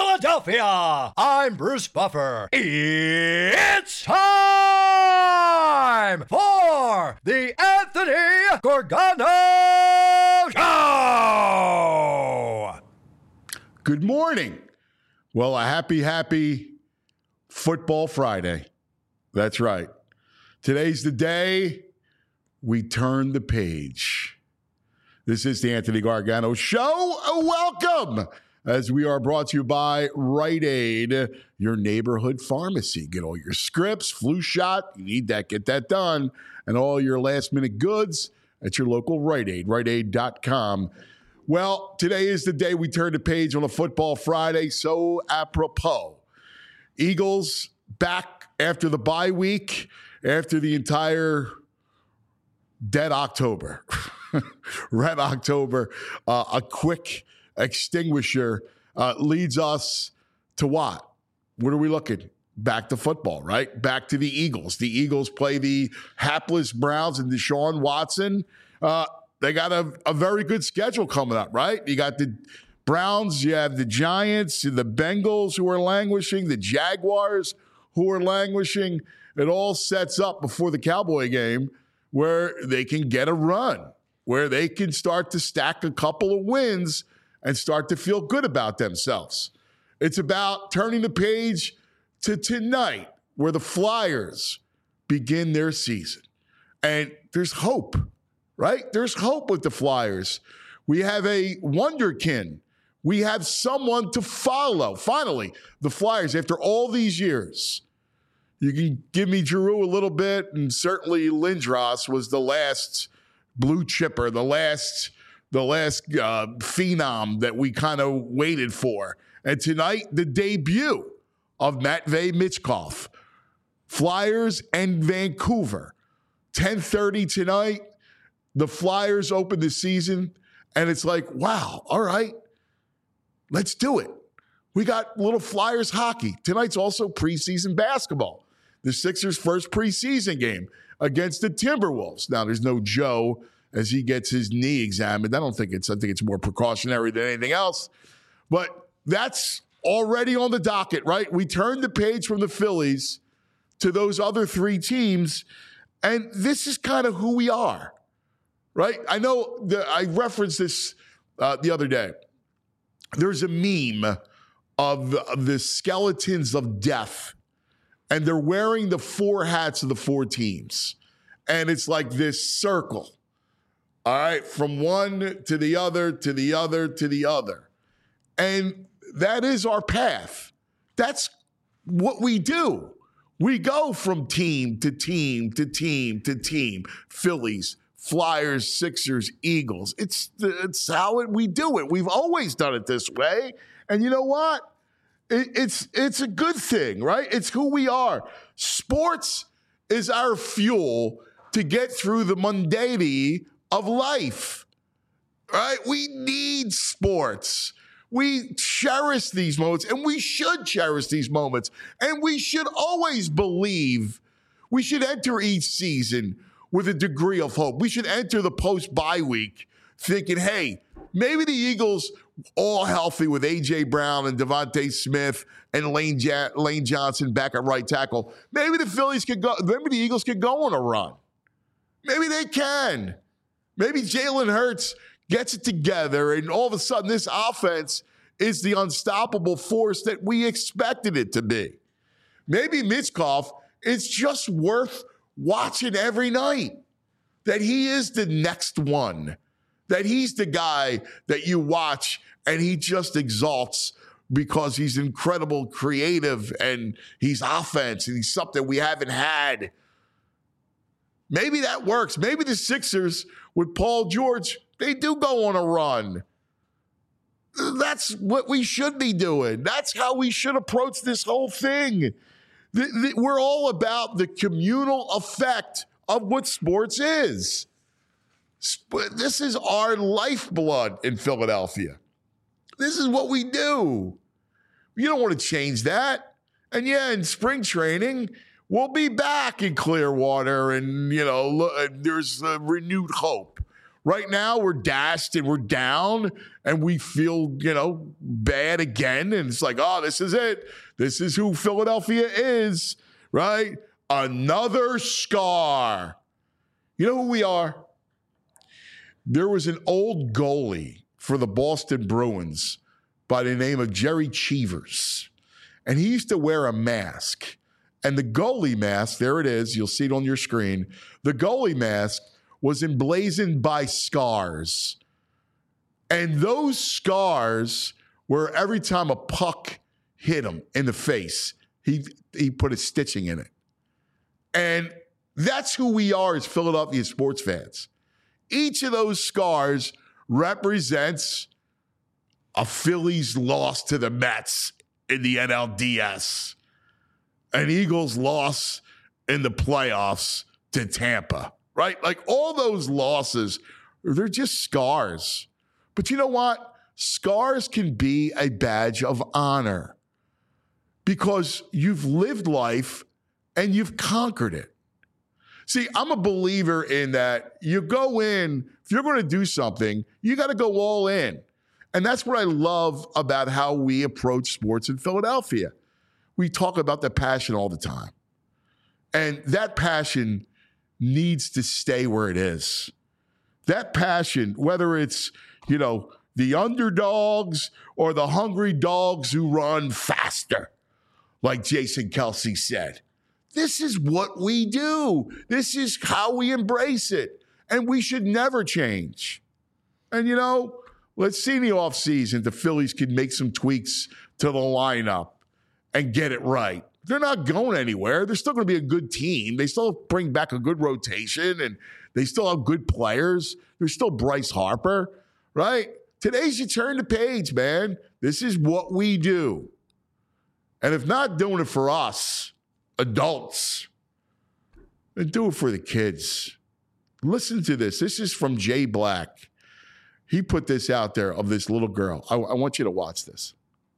Philadelphia. I'm Bruce Buffer. It's time for the Anthony Gorgano Show. Good morning. Well, a happy Football Friday. That's right. Today's the day we turn the page. This is the Anthony Gargano Show. Welcome, as we are brought to you by Rite Aid, your neighborhood pharmacy. Get all your scripts, flu shot, you need that, get that done, and all your last-minute goods at your local Rite Aid, riteaid.com. Well, today is the day we turn the page on a Football Friday, so apropos. Eagles back after the bye week, after the entire dead October. Red October, a quick extinguisher leads us to what? What are we looking? Back to football, right? Back to the Eagles. The Eagles play the hapless Browns and Deshaun Watson. They got a very good schedule coming up, right? You got the Browns, you have the Giants, the Bengals who are languishing, the Jaguars who are languishing. It all sets up before the Cowboy game where they can get a run, where they can start to stack a couple of wins and start to feel good about themselves. It's about turning the page to tonight, where the Flyers begin their season. And there's hope, right? There's hope with the Flyers. We have a wonderkin. We have someone to follow. Finally, the Flyers, after all these years. You can give me Giroux a little bit, and certainly Lindros was the last blue chipper, the last phenom that we kind of waited for. And tonight, the debut of Matvei Michkov. Flyers and Vancouver. 10:30 tonight. The Flyers open the season, and it's like, wow, all right, let's do it. We got little Flyers hockey. Tonight's also preseason basketball. The Sixers' first preseason game against the Timberwolves. Now, there's no Joe as he gets his knee examined. I think it's more precautionary than anything else. But that's already on the docket, right? We turned the page from the Phillies to those other three teams, and this is kind of who we are, right? I know I referenced this the other day. There's a meme of the skeletons of death, and they're wearing the four hats of the four teams. And it's like this circle, all right, from one to the other, to the other, to the other. And that is our path. That's what we do. We go from team to team to team to team. Phillies, Flyers, Sixers, Eagles. It's how we do it. We've always done it this way. And you know what? It's a good thing, right? It's who we are. Sports is our fuel to get through the mundanity of life, right? We need sports. We cherish these moments, and we should cherish these moments. And we should always believe. We should enter each season with a degree of hope. We should enter the post-bye week thinking, hey, maybe the Eagles, all healthy with A.J. Brown and Devontae Smith and Lane Johnson back at right tackle, maybe the Phillies could go. Maybe the Eagles could go on a run. Maybe they can. Maybe Jalen Hurts gets it together, and all of a sudden this offense is the unstoppable force that we expected it to be. Maybe Michkov is just worth watching every night, that he is the next one, that he's the guy that you watch and he just exalts because he's incredible creative and he's offense and he's something we haven't had. Maybe that works. Maybe the Sixers with Paul George, they do go on a run. That's what we should be doing. That's how we should approach this whole thing. We're all about the communal effect of what sports is. This is our lifeblood in Philadelphia. This is what we do. You don't want to change that. And yeah, in spring training, we'll be back in Clearwater and, there's renewed hope. Right now, we're dashed and we're down and we feel, bad again. And it's like, oh, this is it. This is who Philadelphia is, right? Another scar. You know who we are? There was an old goalie for the Boston Bruins by the name of Jerry Cheevers. And he used to wear a mask. And the goalie mask, there it is, you'll see it on your screen. The goalie mask was emblazoned by scars. And those scars were every time a puck hit him in the face, he put a stitching in it. And that's who we are as Philadelphia sports fans. Each of those scars represents a Phillies loss to the Mets in the NLDS, an Eagles loss in the playoffs to Tampa, right? Like all those losses, they're just scars. But you know what? Scars can be a badge of honor because you've lived life and you've conquered it. See, I'm a believer in that you go in, if you're going to do something, you got to go all in. And that's what I love about how we approach sports in Philadelphia. We talk about the passion all the time. And that passion needs to stay where it is. That passion, whether it's, the underdogs or the hungry dogs who run faster, like Jason Kelce said. This is what we do. This is how we embrace it. And we should never change. And, let's see in the offseason the Phillies can make some tweaks to the lineup and get it right. They're not going anywhere. They're still going to be a good team. They still bring back a good rotation, and they still have good players. There's still Bryce Harper, right? Today's you turn the page, man. This is what we do. And if not doing it for us, adults, then do it for the kids. Listen to this. This is from Jay Black. He put this out there of this little girl. I want you to watch this.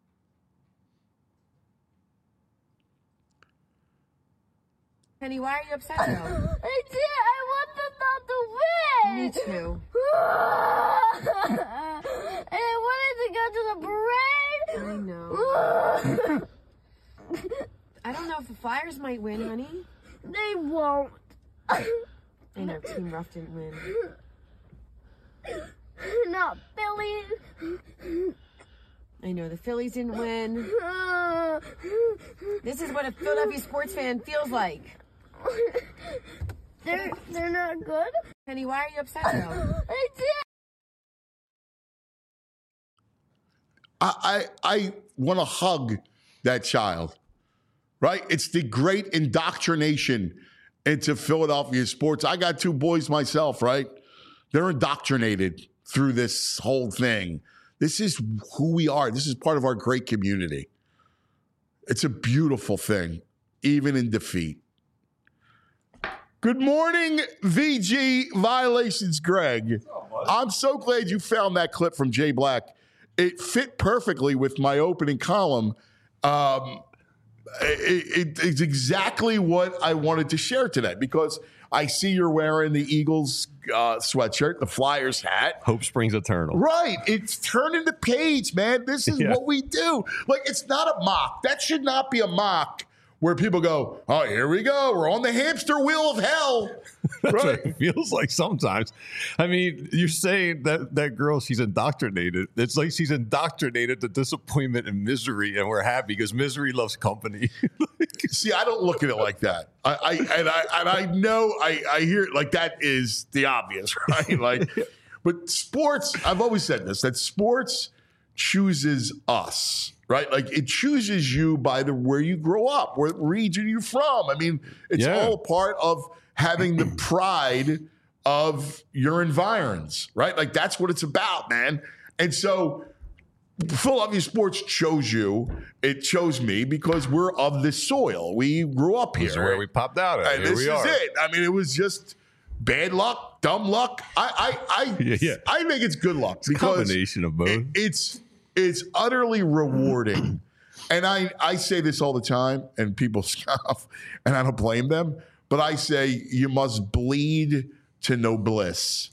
Penny, why are you upset though? I want them not to win. Me too. And I wanted to go to the parade. I know. I don't know if the Flyers might win, honey. They won't. I know Team Ruff didn't win. Not Phillies. I know the Phillies didn't win. This is what a Philadelphia sports fan feels like. They're not good. Penny, why are you upset though? I did. I want to hug that child, right? It's the great indoctrination into Philadelphia sports. I got two boys myself, right? They're indoctrinated through this whole thing. This is who we are. This is part of our great community. It's a beautiful thing, even in defeat. Good morning, VG Violations, Greg. I'm so glad you found that clip from Jay Black. It fit perfectly with my opening column. It's exactly what I wanted to share today because I see you're wearing the Eagles sweatshirt, the Flyers hat. Hope springs eternal. Right. It's turning the page, man. This is what we do. Like, it's not a mock. That should not be a mock where people go, oh, here we go. We're on the hamster wheel of hell. That's right. what it feels like sometimes. I mean, you're saying that girl, she's indoctrinated. It's like she's indoctrinated to disappointment and misery, and we're happy because misery loves company. See, I don't look at it like that. I know I hear it like that is the obvious, right? Like, but sports, I've always said this, that sports chooses us, right? Like it chooses you by where you grow up, what region you're from. I mean, it's all part of having the pride of your environs, right? Like that's what it's about, man. And so Philadelphia sports chose you. It chose me because we're of this soil. We grew up here. This is where we popped out at. And this is it. I mean, it was just bad luck, dumb luck. I think it's good luck because combination of both. It's utterly rewarding. And I say this all the time, and people scoff, and I don't blame them. But I say you must bleed to know bliss.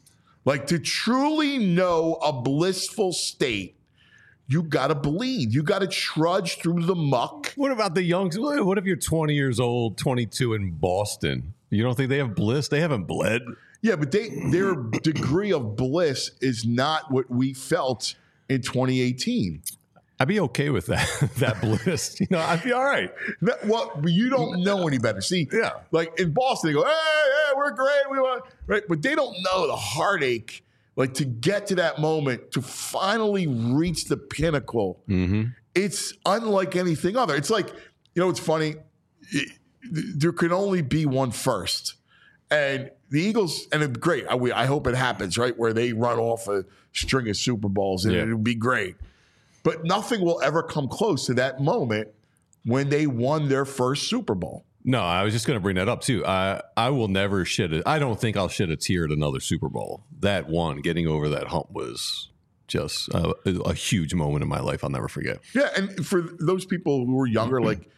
Like, to truly know a blissful state, you got to bleed. You got to trudge through the muck. What about the young? What if you're 20 years old, 22 in Boston? You don't think they have bliss? They haven't bled. Yeah, but their degree of bliss is not what we felt in 2018. I'd be okay with that bliss. I'd be all right. No, well, you don't know any better. See, Yeah. like in Boston, they go, hey, we're great. We want, right? But they don't know the heartache, like to get to that moment, to finally reach the pinnacle. Mm-hmm. It's unlike anything other. It's like, it's funny. There can only be one first. And the Eagles, and it's great. I hope it happens, right? Where they run off a string of Super Bowls, and it would be great. But nothing will ever come close to that moment when they won their first Super Bowl. No, I was just going to bring that up too. I will never shed it. I don't think I'll shed a tear at another Super Bowl. That one, getting over that hump, was just a huge moment in my life. I'll never forget. Yeah, and for those people who are younger, like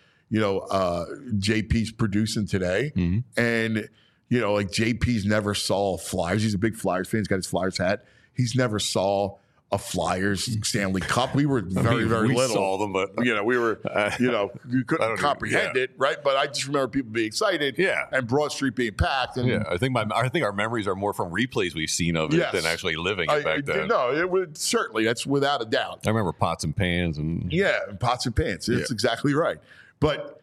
JP's producing today, and like JP's never saw Flyers. He's a big Flyers fan. He's got his Flyers hat. He's never saw a Flyers Stanley Cup. We were very little. We saw them, but we were, you couldn't comprehend it, right? But I just remember people being excited, and Broad Street being packed. And I think our memories are more from replays we've seen of it than actually living it back then. No, it would certainly. That's without a doubt. I remember pots and pans and pots and pans. That's exactly right. But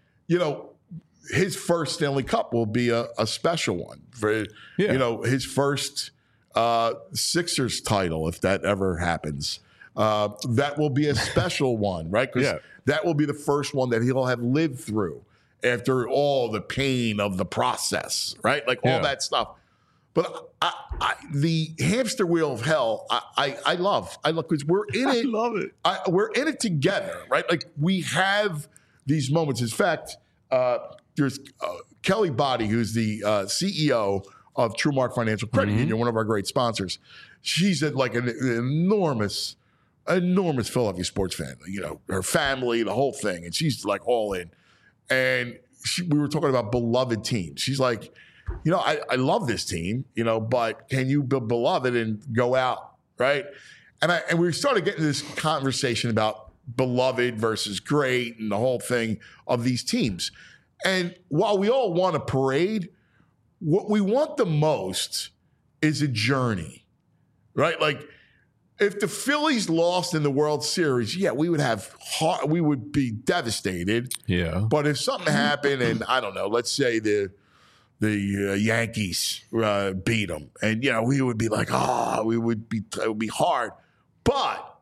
his first Stanley Cup will be a special one for his first Sixers title, if that ever happens. That will be a special one, right? Because that will be the first one that he'll have lived through after all the pain of the process, right? Like all that stuff. But the hamster wheel of hell, I love because we're in it. I love it. We're in it together, right? Like we have these moments. In fact, there's Kelly Body, who's the CEO of TrueMark Financial Credit Union, one of our great sponsors. She's like an enormous Philadelphia sports fan. Her family, the whole thing, and she's like all in. And we were talking about beloved teams. She's like, I love this team, but can you be beloved and go out, right? And we started getting this conversation about beloved versus great and the whole thing of these teams. And while we all want a parade, what we want the most is a journey, right? Like if the Phillies lost in the World Series, we would be devastated. Yeah. But if something happened and I don't know, let's say the Yankees beat them, and we would be like, it would be hard. But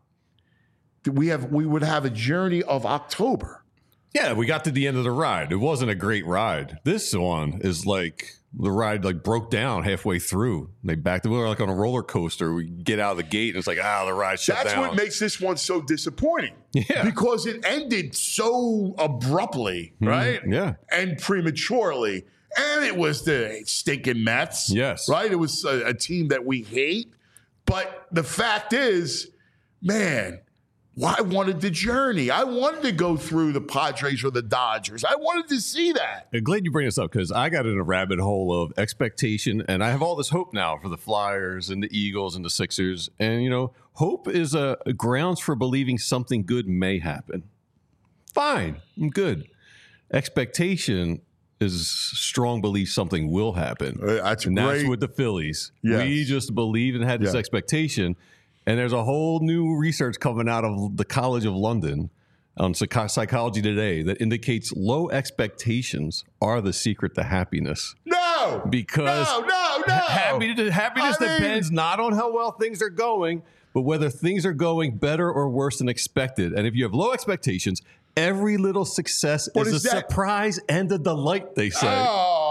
we would have a journey of October. Yeah, we got to the end of the ride. It wasn't a great ride. This one is like the ride broke down halfway through. They backed. We were like on a roller coaster. We get out of the gate and it's like, the ride shut down. That's what makes this one so disappointing. Yeah. Because it ended so abruptly, right? Yeah. And prematurely. And it was the stinking Mets. Yes. Right? It was a team that we hate. But the fact is, man, I wanted the journey. I wanted to go through the Padres or the Dodgers. I wanted to see that. I'm glad you bring this up because I got in a rabbit hole of expectation, and I have all this hope now for the Flyers and the Eagles and the Sixers. And, hope is a grounds for believing something good may happen. Fine. I'm good. Expectation is strong belief something will happen. That's with the Phillies. Yes. We just believed and had this expectation. And there's a whole new research coming out of the College of London on Psychology Today that indicates low expectations are the secret to happiness. No! Because no! Happiness depends not on how well things are going, but whether things are going better or worse than expected. And if you have low expectations, every little success is a surprise and a delight, they say.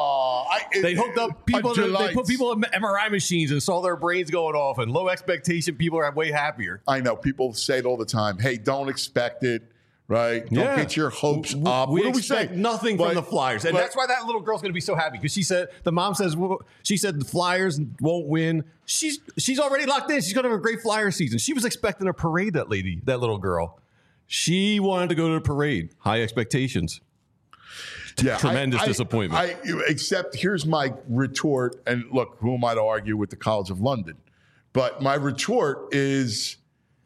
They hooked up people. They put people in MRI machines and saw their brains going off. And low expectation people are way happier. I know people say it all the time. Hey, don't expect it. Right? Don't get your hopes up. We expect nothing from the Flyers, and that's why that little girl's going to be so happy because the mom says she said the Flyers won't win. She's already locked in. She's going to have a great Flyer season. She was expecting a parade. That little girl, she wanted to go to the parade. High expectations. Yeah, tremendous disappointment. Except here's my retort, and look, who am I to argue with the College of London? But my retort is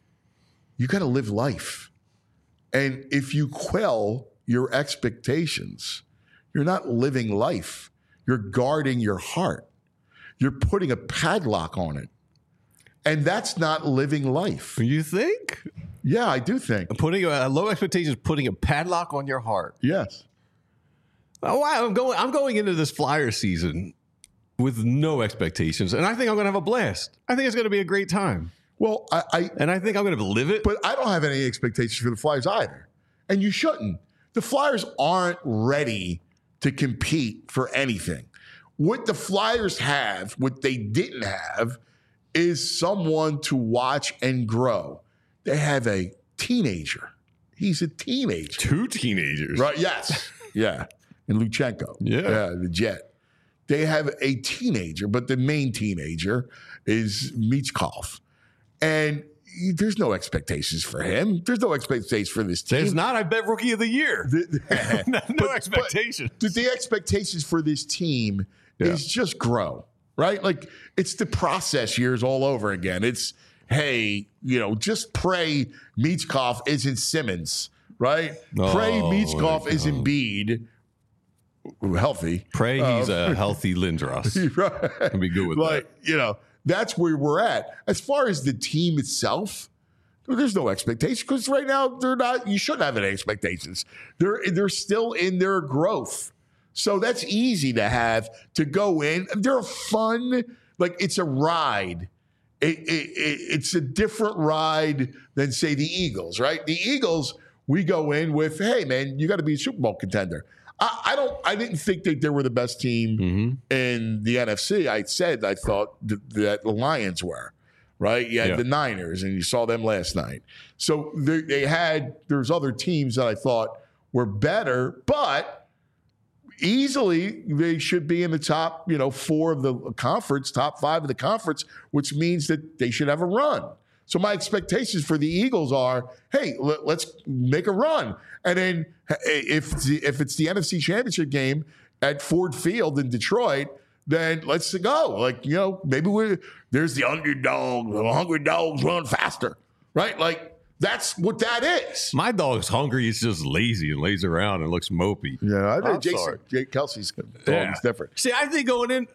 you got to live life. And if you quell your expectations, you're not living life. You're guarding your heart. You're putting a padlock on it. And that's not living life. You think? Yeah, I do think. Putting low expectations, putting a padlock on your heart. Yes. Oh, wow, I'm going into this Flyer season with no expectations, and I think I'm going to have a blast. I think it's going to be a great time. Well, I think I'm going to live it. But I don't have any expectations for the Flyers either. And you shouldn't. The Flyers aren't ready to compete for anything. What the Flyers have, what they didn't have, is someone to watch and grow. They have a teenager. He's a teenager. 2 teenagers. Right, yes. Yeah. And Luchenko. Yeah. The Jet. They have a teenager, but the main teenager is Michkov. And there's no expectations for him. There's no expectations for this team. There's not, I bet, Rookie of the Year. No expectations. But the expectations for this team is just grow, right? Like, it's the process years all over again. It's, hey, just pray Michkov isn't Simmons, right? Pray Michkov isn't Embiid. Healthy. Pray he's a healthy Lindros. Right. Can be good with that. That's where we're at. As far as the team itself, there's no expectation because right now they're not. You shouldn't have any expectations. They're still in their growth, so that's easy to have to go in. They're fun. Like, it's a ride. It's a different ride than, say, the Eagles. Right? The Eagles, we go in with, hey man, you got to be a Super Bowl contender. I didn't think that they were the best team in the NFC. I thought that the Lions were, right? You had the Niners, and you saw them last night. So there's other teams that I thought were better, but easily they should be in the top, 4 of the conference, top 5 of the conference, which means that they should have a run. So my expectations for the Eagles are, hey, let's make a run. And then if it's the NFC Championship game at Ford Field in Detroit, then let's go. Like, maybe there's the underdog. The hungry dogs run faster, right? Like, that's what that is. My dog's hungry. He's just lazy and lays around and looks mopey. Yeah, I think Jake Kelsey's dog is different. See, I think going in,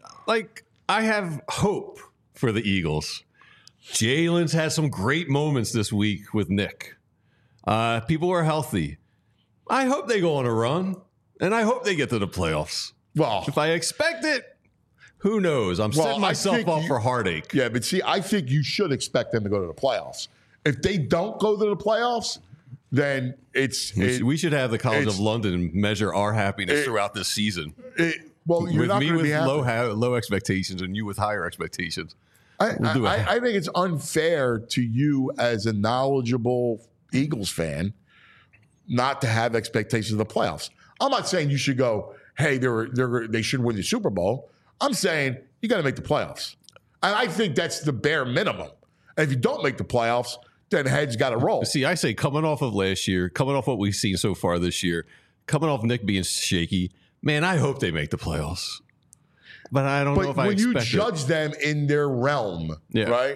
I have hope for the Eagles. Jalen's had some great moments this week with Nick. People are healthy. I hope they go on a run, and I hope they get to the playoffs. Well, if I expect it, who knows? I'm setting myself up for heartache. Yeah, but see, I think you should expect them to go to the playoffs. If they don't go to the playoffs, then we should have the College of London measure our happiness throughout this season. You're not going to be happy. Low expectations and you with higher expectations. I think it's unfair to you as a knowledgeable Eagles fan not to have expectations of the playoffs. I'm not saying you should go, hey, they should win the Super Bowl. I'm saying you got to make the playoffs. And I think that's the bare minimum. And if you don't make the playoffs, then heads got to roll. See, I say coming off of last year, coming off what we've seen so far this year, coming off Nick being shaky, man, I hope they make the playoffs. But I don't know if I expect it. When you judge them in their realm, right,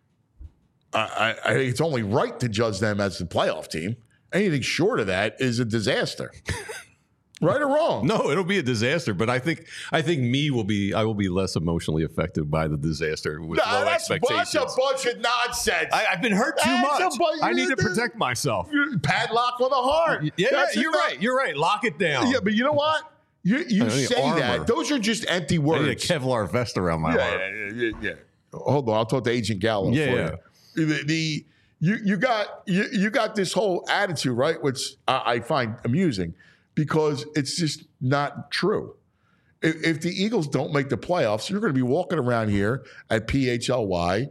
I think it's only right to judge them as the playoff team. Anything short of that is a disaster. Right or wrong? No, it'll be a disaster. But I think I will be less emotionally affected by the disaster with low expectations. That's a bunch of nonsense. I've been hurt too much. I need to protect myself. Padlock on the heart. Yeah, you're right. You're right. Lock it down. Yeah, but you know what? You say armor. That. Those are just empty words. I need a Kevlar vest around my heart. Yeah. Hold on. I'll talk to Agent Gallo for you. You got this whole attitude, right, which I find amusing because it's just not true. If the Eagles don't make the playoffs, you're going to be walking around here at PHLY,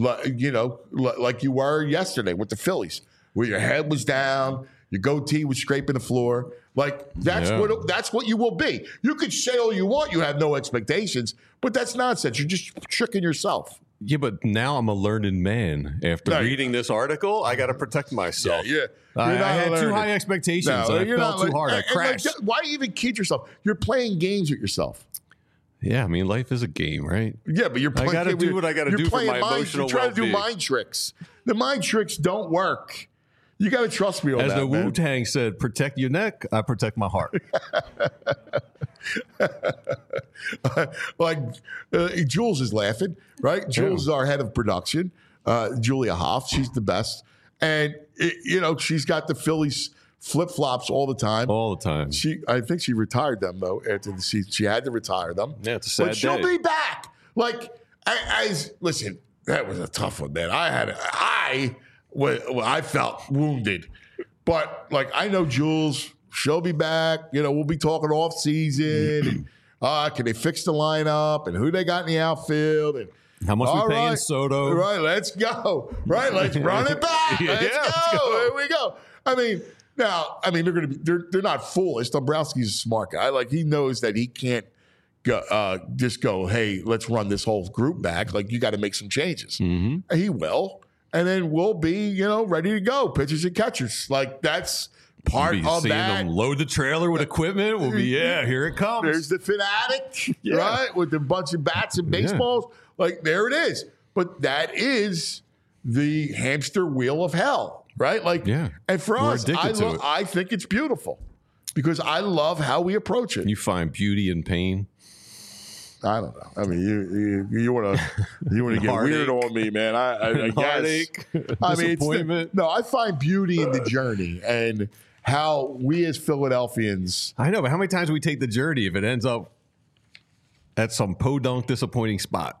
like you were yesterday with the Phillies, where your head was down, your goatee was scraping the floor. Like, that's what you will be. You could say all you want, you have no expectations, but that's nonsense. You're just tricking yourself. Yeah, but now I'm a learned man. After reading this article, I got to protect myself. Yeah. I had too high expectations. I felt too hard. I crashed. Why even kid yourself? You're playing games with yourself. Yeah, I mean, life is a game, right? Yeah, but you're playing. I got to do what I got to do for my emotional You're trying to do well-being. mind tricks. The mind tricks don't work. You got to trust me on As that, the man. Wu-Tang said, protect your neck, I protect my heart. Like Jules is laughing, right? Jules is our head of production. Julia Hoff, she's the best, and she's got the Phillies flip-flops all the time. All the time. I think she retired them though after the season. She had to retire them. Yeah, it's a sad but she'll day. be back. Like, listen, that was a tough one, man. I felt wounded, but like I know Jules. She'll be back. We'll be talking off season. And, can they fix the lineup and who they got in the outfield and How much we paying Soto? Right, let's go. Right, let's run it back. Let's go. Here we go. They're not foolish. Dombrowski's a smart guy. Like he knows that he can't just go, hey, let's run this whole group back. Like you got to make some changes. Mm-hmm. He will, and then we'll be ready to go. Pitchers and catchers. Like that's part of that. Them load the trailer with equipment. We'll be here it comes. There's the fanatic, right, with a bunch of bats and baseballs. Yeah. Like there it is. But that is the hamster wheel of hell, right? Like, and for us, I think it's beautiful because I love how we approach it. You find beauty in pain. I don't know. I mean, you want to get weird on me, man. I guess. Disappointment. I find beauty in the journey and how we as Philadelphians. I know, but how many times do we take the journey if it ends up at some podunk disappointing spot?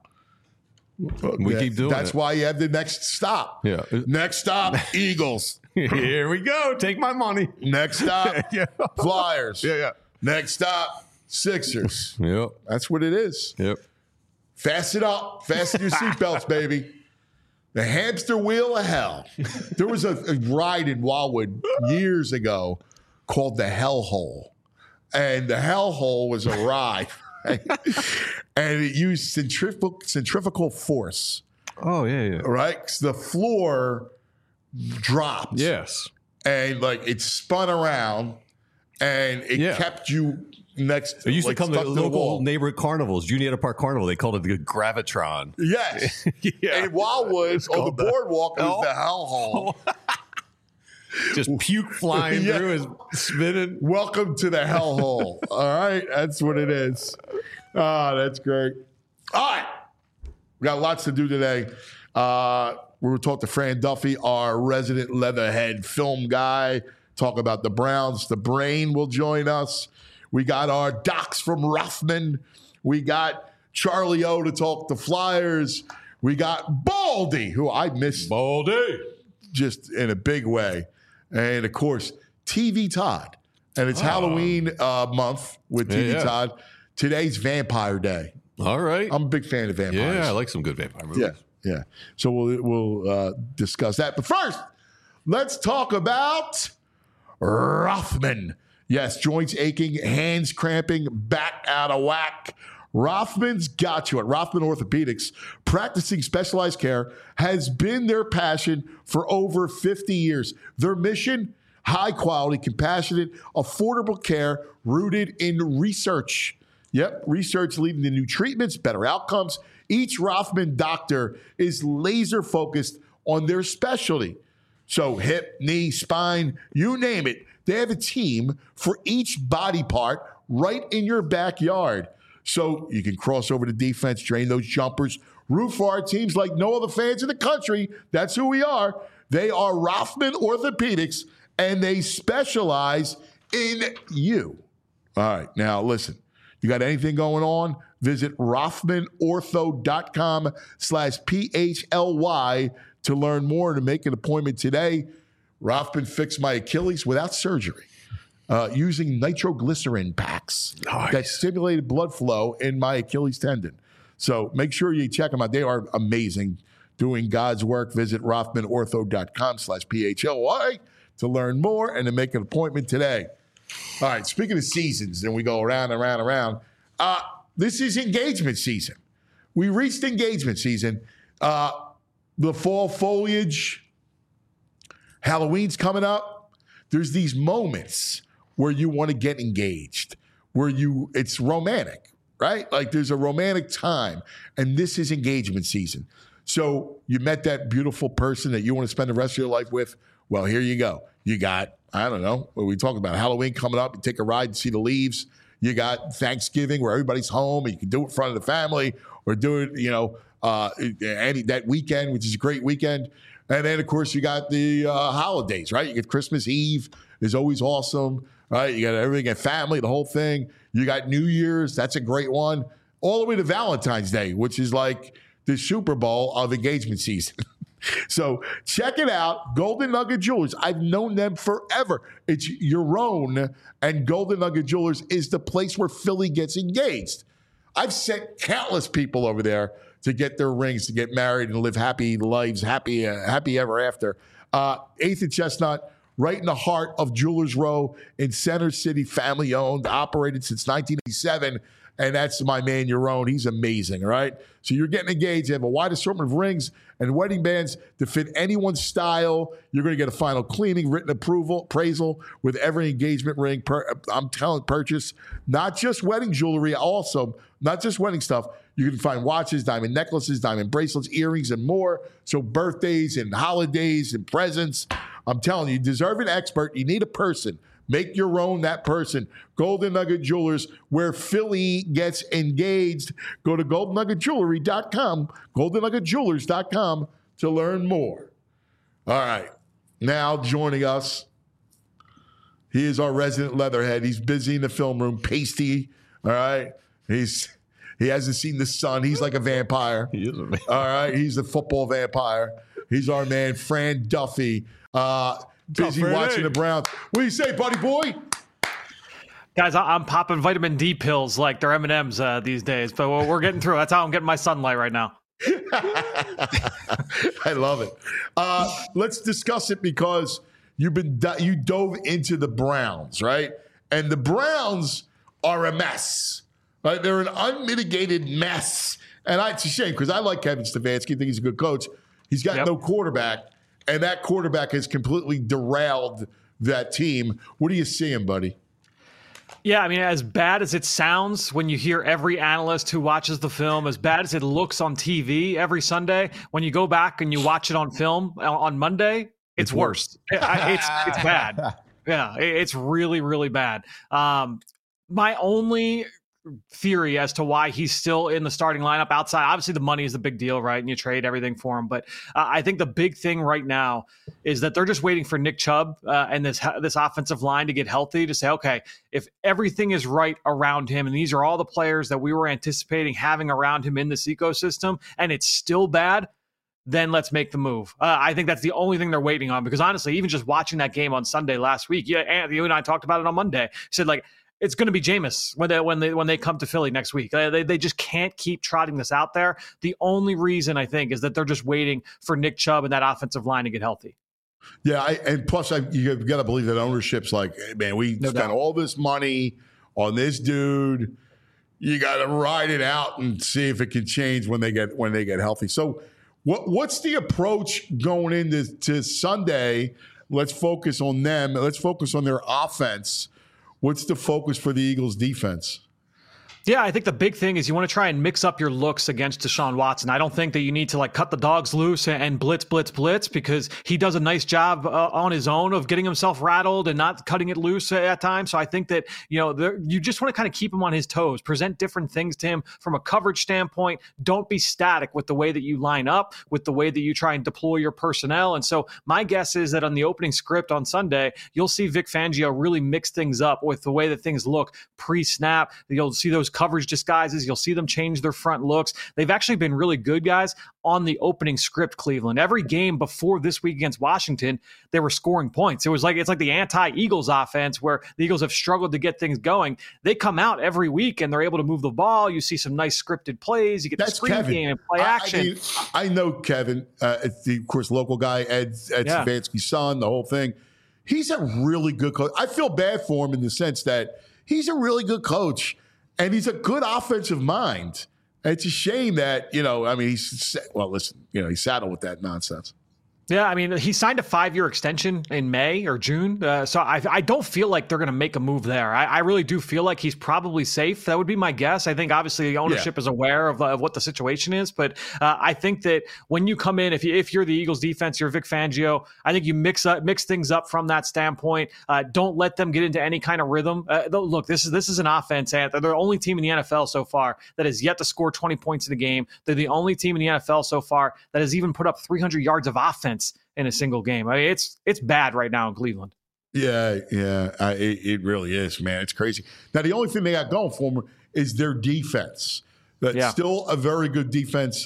We keep doing That's why you have the next stop. Yeah. Next stop, Eagles. Here we go. Take my money. Next stop, Flyers. Yeah. Next stop, Sixers. Yep. That's what it is. Yep. Fasten up. Fasten your seatbelts, baby. The hamster wheel of hell. There was a ride in Wildwood years ago called the Hell Hole. And the Hell Hole was a ride. Right? And it used centrifugal force. Oh, yeah. Right? So the floor dropped. Yes. And like it spun around and it kept you next. It used to come to the local wall. neighborhood carnivals, Juniata Park Carnival. They called it the Gravitron. Yes. Yeah. And Wildwood on the boardwalk was the Hell Hole. Just puke flying through and spinning. Welcome to the Hell Hole. All right. That's what it is. Oh, that's great. All right. We got lots to do today. We will talk to Fran Duffy, our resident Leatherhead film guy, talk about the Browns. The Brain will join us. We got our docs from Rothman. We got Charlie O to talk the Flyers. We got Baldy, who I missed. Baldy. Just in a big way. And, of course, TV Todd. And it's Halloween month with TV Todd. Today's Vampire Day. All right. I'm a big fan of vampires. Yeah, I like some good vampire movies. Yeah. So we'll discuss that. But first, let's talk about Rothman. Yes, joints aching, hands cramping, back out of whack. Rothman's got you. At Rothman Orthopedics, practicing specialized care has been their passion for over 50 years. Their mission, high quality, compassionate, affordable care rooted in research. Yep, research leading to new treatments, better outcomes. Each Rothman doctor is laser focused on their specialty. So hip, knee, spine, you name it. They have a team for each body part right in your backyard. So you can cross over to defense, drain those jumpers, root for our teams like no other fans in the country. That's who we are. They are Rothman Orthopedics, and they specialize in you. All right, now listen. You got anything going on? Visit RothmanOrtho.com/PHLY to learn more and to make an appointment today. Rothman fixed my Achilles without surgery using nitroglycerin packs that stimulated blood flow in my Achilles tendon. So make sure you check them out. They are amazing. Doing God's work. Visit RothmanOrtho.com/PHLY to learn more and to make an appointment today. All right, speaking of seasons, then we go around and around. This is engagement season. We reached engagement season. The fall foliage, Halloween's coming up. There's these moments where you want to get engaged, where it's romantic, right? Like there's a romantic time, and this is engagement season. So you met that beautiful person that you want to spend the rest of your life with. Well, here you go. You got, I don't know, what we talking about, Halloween coming up. You take a ride and see the leaves. You got Thanksgiving where everybody's home and you can do it in front of the family or do it, that weekend, which is a great weekend. And then, of course, you got the holidays, right? You get Christmas Eve is always awesome, right? You got everything at family, the whole thing. You got New Year's. That's a great one. All the way to Valentine's Day, which is like the Super Bowl of engagement season. So check it out, Golden Nugget Jewelers. I've known them forever. It's your own, and Golden Nugget Jewelers is the place where Philly gets engaged. I've sent countless people over there to get their rings, to get married and live happy lives, happy ever after. 8th and Chestnut, right in the heart of Jewelers Row in Center City, family owned, operated since 1987. And that's my man, Yaron. He's amazing, all right? So you're getting engaged. You have a wide assortment of rings and wedding bands to fit anyone's style. You're going to get a final cleaning, written appraisal with every engagement ring. Purchase. Not just wedding jewelry, also, not just wedding stuff. You can find watches, diamond necklaces, diamond bracelets, earrings, and more. So birthdays and holidays and presents. I'm telling you, you deserve an expert. You need a person. Make your own that person. Golden Nugget Jewelers, where Philly gets engaged. Go to goldennuggetjewelry.com, goldennuggetjewelers.com to learn more. All right. Now joining us, he is our resident leatherhead. He's busy in the film room, pasty. All right. He hasn't seen the sun. He's like a vampire. He is a vampire. All right. He's a football vampire. He's our man, Fran Duffy. Busy watching the Browns. What do you say, buddy boy? Guys, I'm popping vitamin D pills like they're M&Ms these days, but we're getting through. That's how I'm getting my sunlight right now. I love it. Let's discuss it because you dove into the Browns, right? And the Browns are a mess. Right? They're an unmitigated mess. And it's a shame because I like Kevin Stefanski. I think he's a good coach. He's got no quarterback. And that quarterback has completely derailed that team. What do you see him, buddy? Yeah, I mean, as bad as it sounds when you hear every analyst who watches the film, as bad as it looks on TV every Sunday, when you go back and you watch it on film on Monday, it's worse. It's bad. Yeah, it's really, really bad. My only theory as to why he's still in the starting lineup outside. Obviously, the money is the big deal, right? And you trade everything for him. But I think the big thing right now is that they're just waiting for Nick Chubb and this offensive line to get healthy to say, okay, if everything is right around him, and these are all the players that we were anticipating having around him in this ecosystem, and it's still bad, then let's make the move. I think that's the only thing they're waiting on. Because honestly, even just watching that game on Sunday last week, Anthony, you and I talked about it on Monday. Said like, it's going to be Jameis when they come to Philly next week. They just can't keep trotting this out there. The only reason I think is that they're just waiting for Nick Chubb and that offensive line to get healthy. Yeah, and plus you've got to believe that ownership's like, hey, man, we spent all this money on this dude. You got to ride it out and see if it can change when they get healthy. So, what's the approach going into Sunday? Let's focus on them. Let's focus on their offense. What's the focus for the Eagles defense? Yeah, I think the big thing is you want to try and mix up your looks against Deshaun Watson. I don't think that you need to like cut the dogs loose and blitz because he does a nice job on his own of getting himself rattled and not cutting it loose at times. So I think that, you just want to kind of keep him on his toes, present different things to him from a coverage standpoint. Don't be static with the way that you line up, with the way that you try and deploy your personnel. And so my guess is that on the opening script on Sunday, you'll see Vic Fangio really mix things up with the way that things look pre-snap. You'll see those coverage disguises. You'll see them change their front looks. They've actually been really good, guys, on the opening script, Cleveland. Every game before this week against Washington, they were scoring points. It's like the anti-Eagles offense where the Eagles have struggled to get things going. They come out every week and they're able to move the ball. You see some nice scripted plays. You get the screen game and play action. I know Kevin, of course, local guy, Ed Stefanski's son, the whole thing. He's a really good coach. I feel bad for him in the sense that he's a really good coach. And he's a good offensive mind. And it's a shame that, he's saddled with that nonsense. Yeah, I mean, he signed a 5-year extension in May or June. So I don't feel like they're going to make a move there. I really do feel like he's probably safe. That would be my guess. I think obviously the ownership is aware of what the situation is. But I think that when you come in, if you're the Eagles defense, you're Vic Fangio, I think you mix things up from that standpoint. Don't let them get into any kind of rhythm. Look, this is an offense. And they're the only team in the NFL so far that has yet to score 20 points in a game. They're the only team in the NFL so far that has even put up 300 yards of offense in a single game. I mean, it's bad right now in Cleveland. Yeah, it really is, man. It's crazy. Now, the only thing they got going for them is their defense. That's still a very good defense.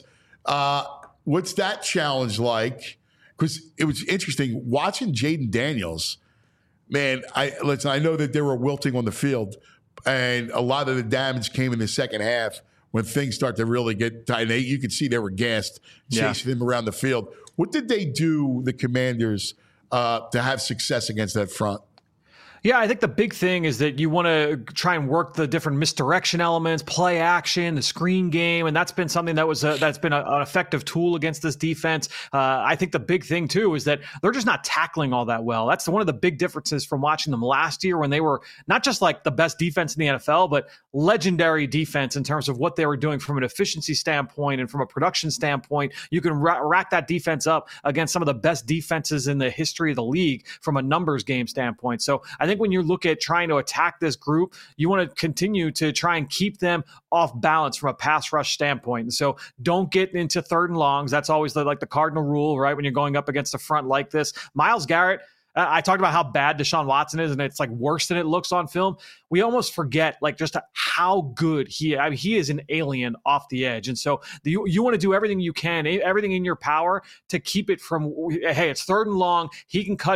What's that challenge like? Because it was interesting watching Jaden Daniels. Man, I know that they were wilting on the field, and a lot of the damage came in the second half when things start to really get tight. You could see they were gassed chasing him around the field. What did they do, the Commanders, to have success against that front? Yeah, I think the big thing is that you want to try and work the different misdirection elements, play action, the screen game, and that's been something that's been an effective tool against this defense. I think the big thing too is that they're just not tackling all that well. That's one of the big differences from watching them last year when they were not just like the best defense in the NFL, but legendary defense in terms of what they were doing from an efficiency standpoint and from a production standpoint. You can rack that defense up against some of the best defenses in the history of the league from a numbers game standpoint. So I think when you look at trying to attack this group, you want to continue to try and keep them off balance from a pass rush standpoint. And so don't get into 3rd and longs. That's always the cardinal rule, right? When you're going up against a front like this. Myles Garrett, I talked about how bad Deshaun Watson is, and it's like worse than it looks on film. We almost forget like just how good he is an alien off the edge. And so you want to do everything you can, everything in your power to keep it from, hey, it's 3rd and long. He can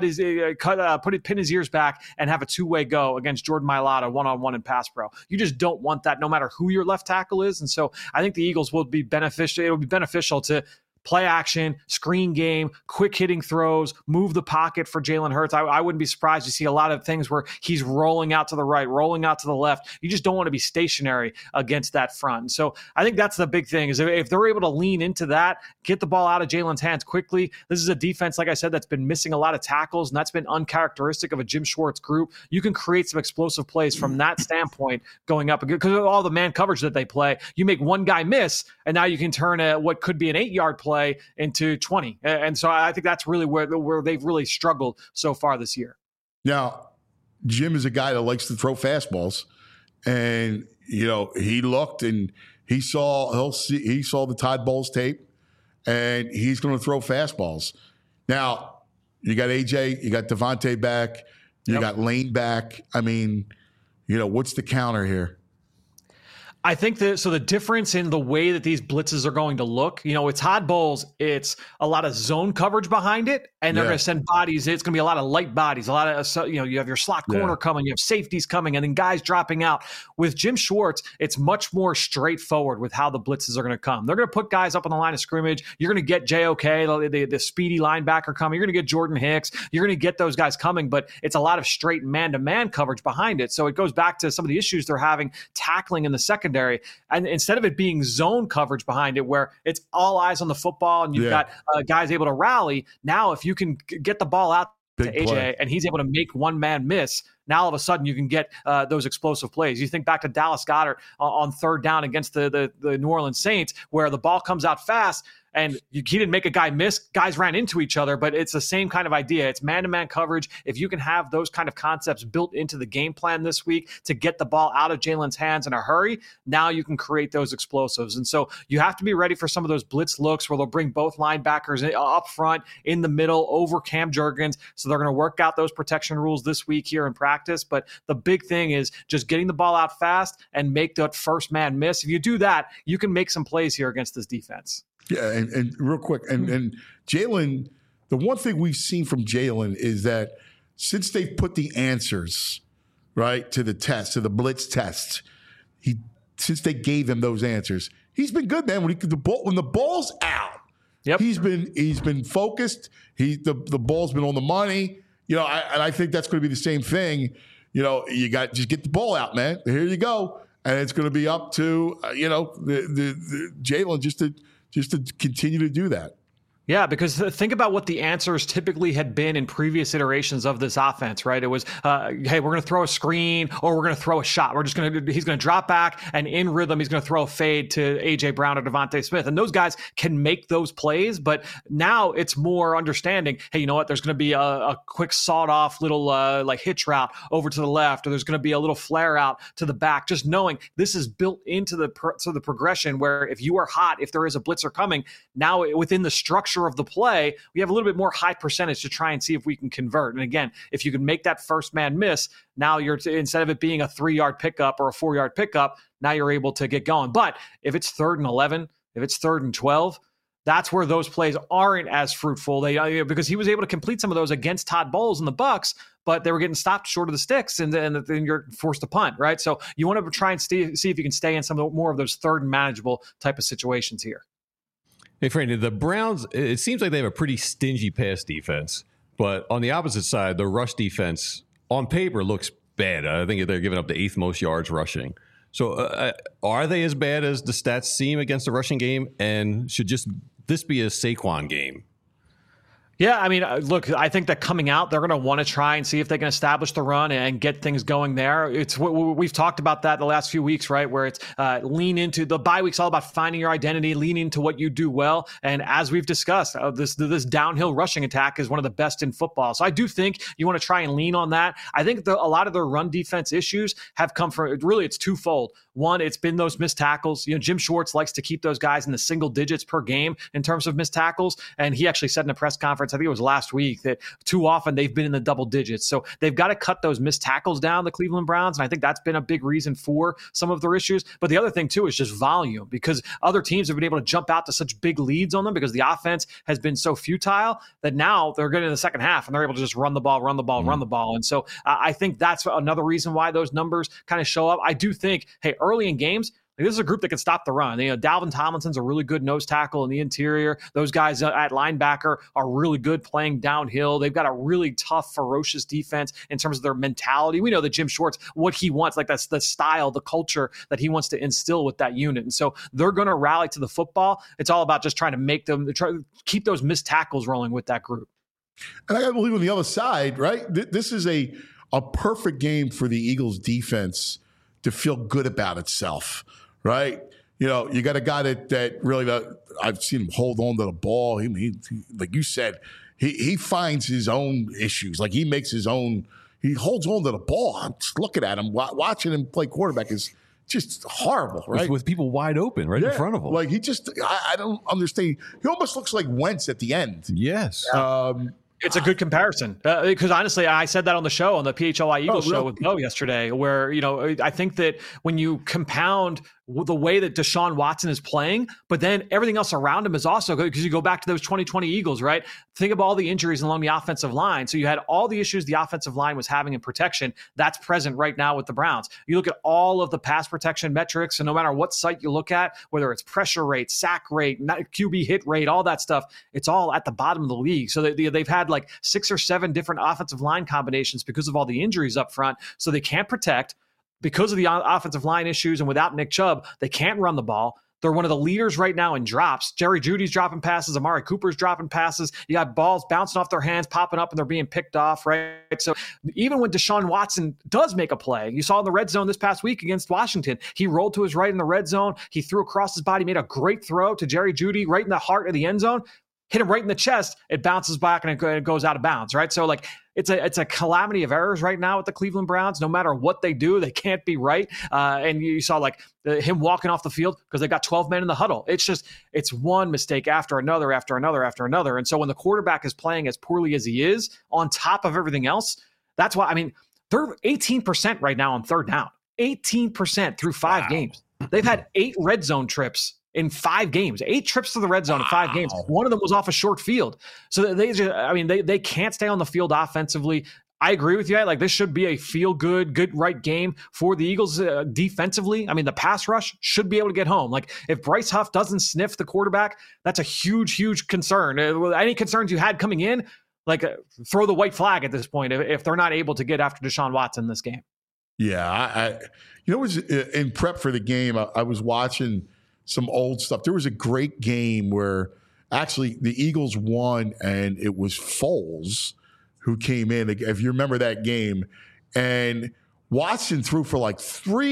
pin his ears back and have a 2-way go against Jordan Mailata one-on-one in pass pro. You just don't want that no matter who your left tackle is. And so I think the Eagles will be beneficial. It will be beneficial to play action, screen game, quick hitting throws, move the pocket for Jalen Hurts. I wouldn't be surprised to see a lot of things where he's rolling out to the right, rolling out to the left. You just don't want to be stationary against that front. And so I think that's the big thing is if they're able to lean into that, get the ball out of Jalen's hands quickly. This is a defense, like I said, that's been missing a lot of tackles, and that's been uncharacteristic of a Jim Schwartz group. You can create some explosive plays from that standpoint going up because of all the man coverage that they play. You make one guy miss, and now you can turn what could be an 8-yard play into 20. And so I think that's really where they've really struggled so far this year. Now, Jim is a guy that likes to throw fastballs, and he looked and he saw the Todd Bowles tape, and he's going to throw fastballs. Now, you got AJ, you got Devontae back, you got Lane back. I mean, what's the counter here? I think the difference in the way that these blitzes are going to look, with Todd Bowles, it's a lot of zone coverage behind it, and they're going to send bodies. It's going to be a lot of light bodies, a lot of, you have your slot corner coming, you have safeties coming, and then guys dropping out. With Jim Schwartz, it's much more straightforward with how the blitzes are going to come. They're going to put guys up on the line of scrimmage. You're going to get JOK, the speedy linebacker coming. You're going to get Jordan Hicks. You're going to get those guys coming, but it's a lot of straight man-to-man coverage behind it. So it goes back to some of the issues they're having tackling in the secondary. And instead of it being zone coverage behind it, where it's all eyes on the football and you've got guys able to rally, now if you can get the ball out to AJ and he's able to make one man miss, now all of a sudden you can get those explosive plays. You think back to Dallas Goedert on 3rd down against the New Orleans Saints, where the ball comes out fast and he didn't make a guy miss. Guys ran into each other, but it's the same kind of idea. It's man-to-man coverage. If you can have those kind of concepts built into the game plan this week to get the ball out of Jalen's hands in a hurry, now you can create those explosives. And so you have to be ready for some of those blitz looks where they'll bring both linebackers up front, in the middle, over Cam Jurgens. So they're going to work out those protection rules this week here in practice. But the big thing is just getting the ball out fast and make that first man miss. If you do that, you can make some plays here against this defense. Yeah, and real quick, and Jalen, the one thing we've seen from Jalen is that since they've put the answers, right, to the test, to the blitz test, since they gave him those answers, he's been good, man. When the ball's out, he's been focused. The ball's been on the money. And I think that's going to be the same thing. You got just get the ball out, man. Here you go, and it's going to be up to the Jalen just to continue to do that. Yeah, because think about what the answers typically had been in previous iterations of this offense, right? It was, hey, we're going to throw a screen or we're going to throw a shot. He's going to drop back and in rhythm, he's going to throw a fade to A.J. Brown or Devontae Smith. And those guys can make those plays. But now it's more understanding, hey, you know what? There's going to be a quick sawed off little like hitch route over to the left, or there's going to be a little flare out to the back. Just knowing this is built into the progression where if you are hot, if there is a blitzer coming, now within the structure of the play, we have a little bit more high percentage to try and see if we can convert. And again, if you can make that first man miss, now you're instead of it being a 3-yard pickup or a 4-yard pickup, now you're able to get going. But if it's 3rd and 11, if it's 3rd and 12, that's where those plays aren't as fruitful. Because he was able to complete some of those against Todd Bowles and the Bucs, but they were getting stopped short of the sticks, and then you're forced to punt, right? So you want to try and see if you can stay in some more of those 3rd and manageable type of situations here. Hey, Franny, the Browns, it seems like they have a pretty stingy pass defense, but on the opposite side, the rush defense on paper looks bad. I think they're giving up the 8th most yards rushing. So are they as bad as the stats seem against the rushing game, and should this be a Saquon game? Yeah, I mean, look, I think that coming out, they're going to want to try and see if they can establish the run and get things going there. It's we've talked about that the last few weeks, right? Where it's lean into the bye week's all about finding your identity, lean into what you do well. And as we've discussed, this downhill rushing attack is one of the best in football. So I do think you want to try and lean on that. I think a lot of their run defense issues have come from, really, it's twofold. One, it's been those missed tackles. Jim Schwartz likes to keep those guys in the single digits per game in terms of missed tackles. And he actually said in a press conference, I think it was last week, that too often they've been in the double digits. So they've got to cut those missed tackles down, the Cleveland Browns. And I think that's been a big reason for some of their issues. But the other thing, too, is just volume, because other teams have been able to jump out to such big leads on them because the offense has been so futile that now they're getting in the second half and they're able to just run the ball. And so I think that's another reason why those numbers kind of show up. I do think, hey, early in games, this is a group that can stop the run. Dalvin Tomlinson's a really good nose tackle in the interior. Those guys at linebacker are really good playing downhill. They've got a really tough, ferocious defense in terms of their mentality. We know that Jim Schwartz, what he wants, like that's the style, the culture that he wants to instill with that unit. And so they're going to rally to the football. It's all about just trying to try to keep those missed tackles rolling with that group. And I got to believe on the other side, right? This is a perfect game for the Eagles defense to feel good about itself. Right, you got a guy that really I've seen him hold on to the ball. He like you said, he finds his own issues. Like he makes his own. He holds on to the ball. I'm just looking at him, watching him play quarterback is just horrible, right? With people wide open right in front of him. Like I don't understand. He almost looks like Wentz at the end. Yes. It's a good comparison because honestly, I said that on the show, on the PHLI Eagles show with Bo yesterday, where, I think that when you compound the way that Deshaun Watson is playing, but then everything else around him is also good, because you go back to those 2020 Eagles, right? Think of all the injuries along the offensive line. So you had all the issues the offensive line was having in protection. That's present right now with the Browns. You look at all of the pass protection metrics, and no matter what site you look at, whether it's pressure rate, sack rate, QB hit rate, all that stuff, it's all at the bottom of the league. So they've had like 6 or 7 different offensive line combinations because of all the injuries up front. So they can't protect. Because of the offensive line issues, and without Nick Chubb, they can't run the ball. They're one of the leaders right now in drops. Jerry Jeudy's dropping passes. Amari Cooper's dropping passes. You got balls bouncing off their hands, popping up, and they're being picked off, right? So even when Deshaun Watson does make a play, you saw in the red zone this past week against Washington, he rolled to his right in the red zone. He threw across his body, made a great throw to Jerry Jeudy right in the heart of the end zone. Hit him right in the chest, it bounces back and it goes out of bounds, right? So like it's a calamity of errors right now with the Cleveland Browns. No matter what they do, they can't be right. And you saw like him walking off the field because they got 12 men in the huddle. It's one mistake after another. And so when the quarterback is playing as poorly as he is, on top of everything else, that's why, they're 18% right now on third down. 18% through 5 games. They've had 8 red zone trips in 5 games, 8 trips to the red zone in 5 games. One of them was off a short field. So they can't stay on the field offensively. I agree with you. Like this should be a good right game for the Eagles defensively. The pass rush should be able to get home. Like if Bryce Huff doesn't sniff the quarterback, that's a huge concern. Any concerns you had coming in, like throw the white flag at this point if they're not able to get after Deshaun Watson this game. Yeah, it was in prep for the game. I was watching some old stuff. There was a great game where Actually, the Eagles won, and it was Foles who came in. If you remember that game, and Watson threw for like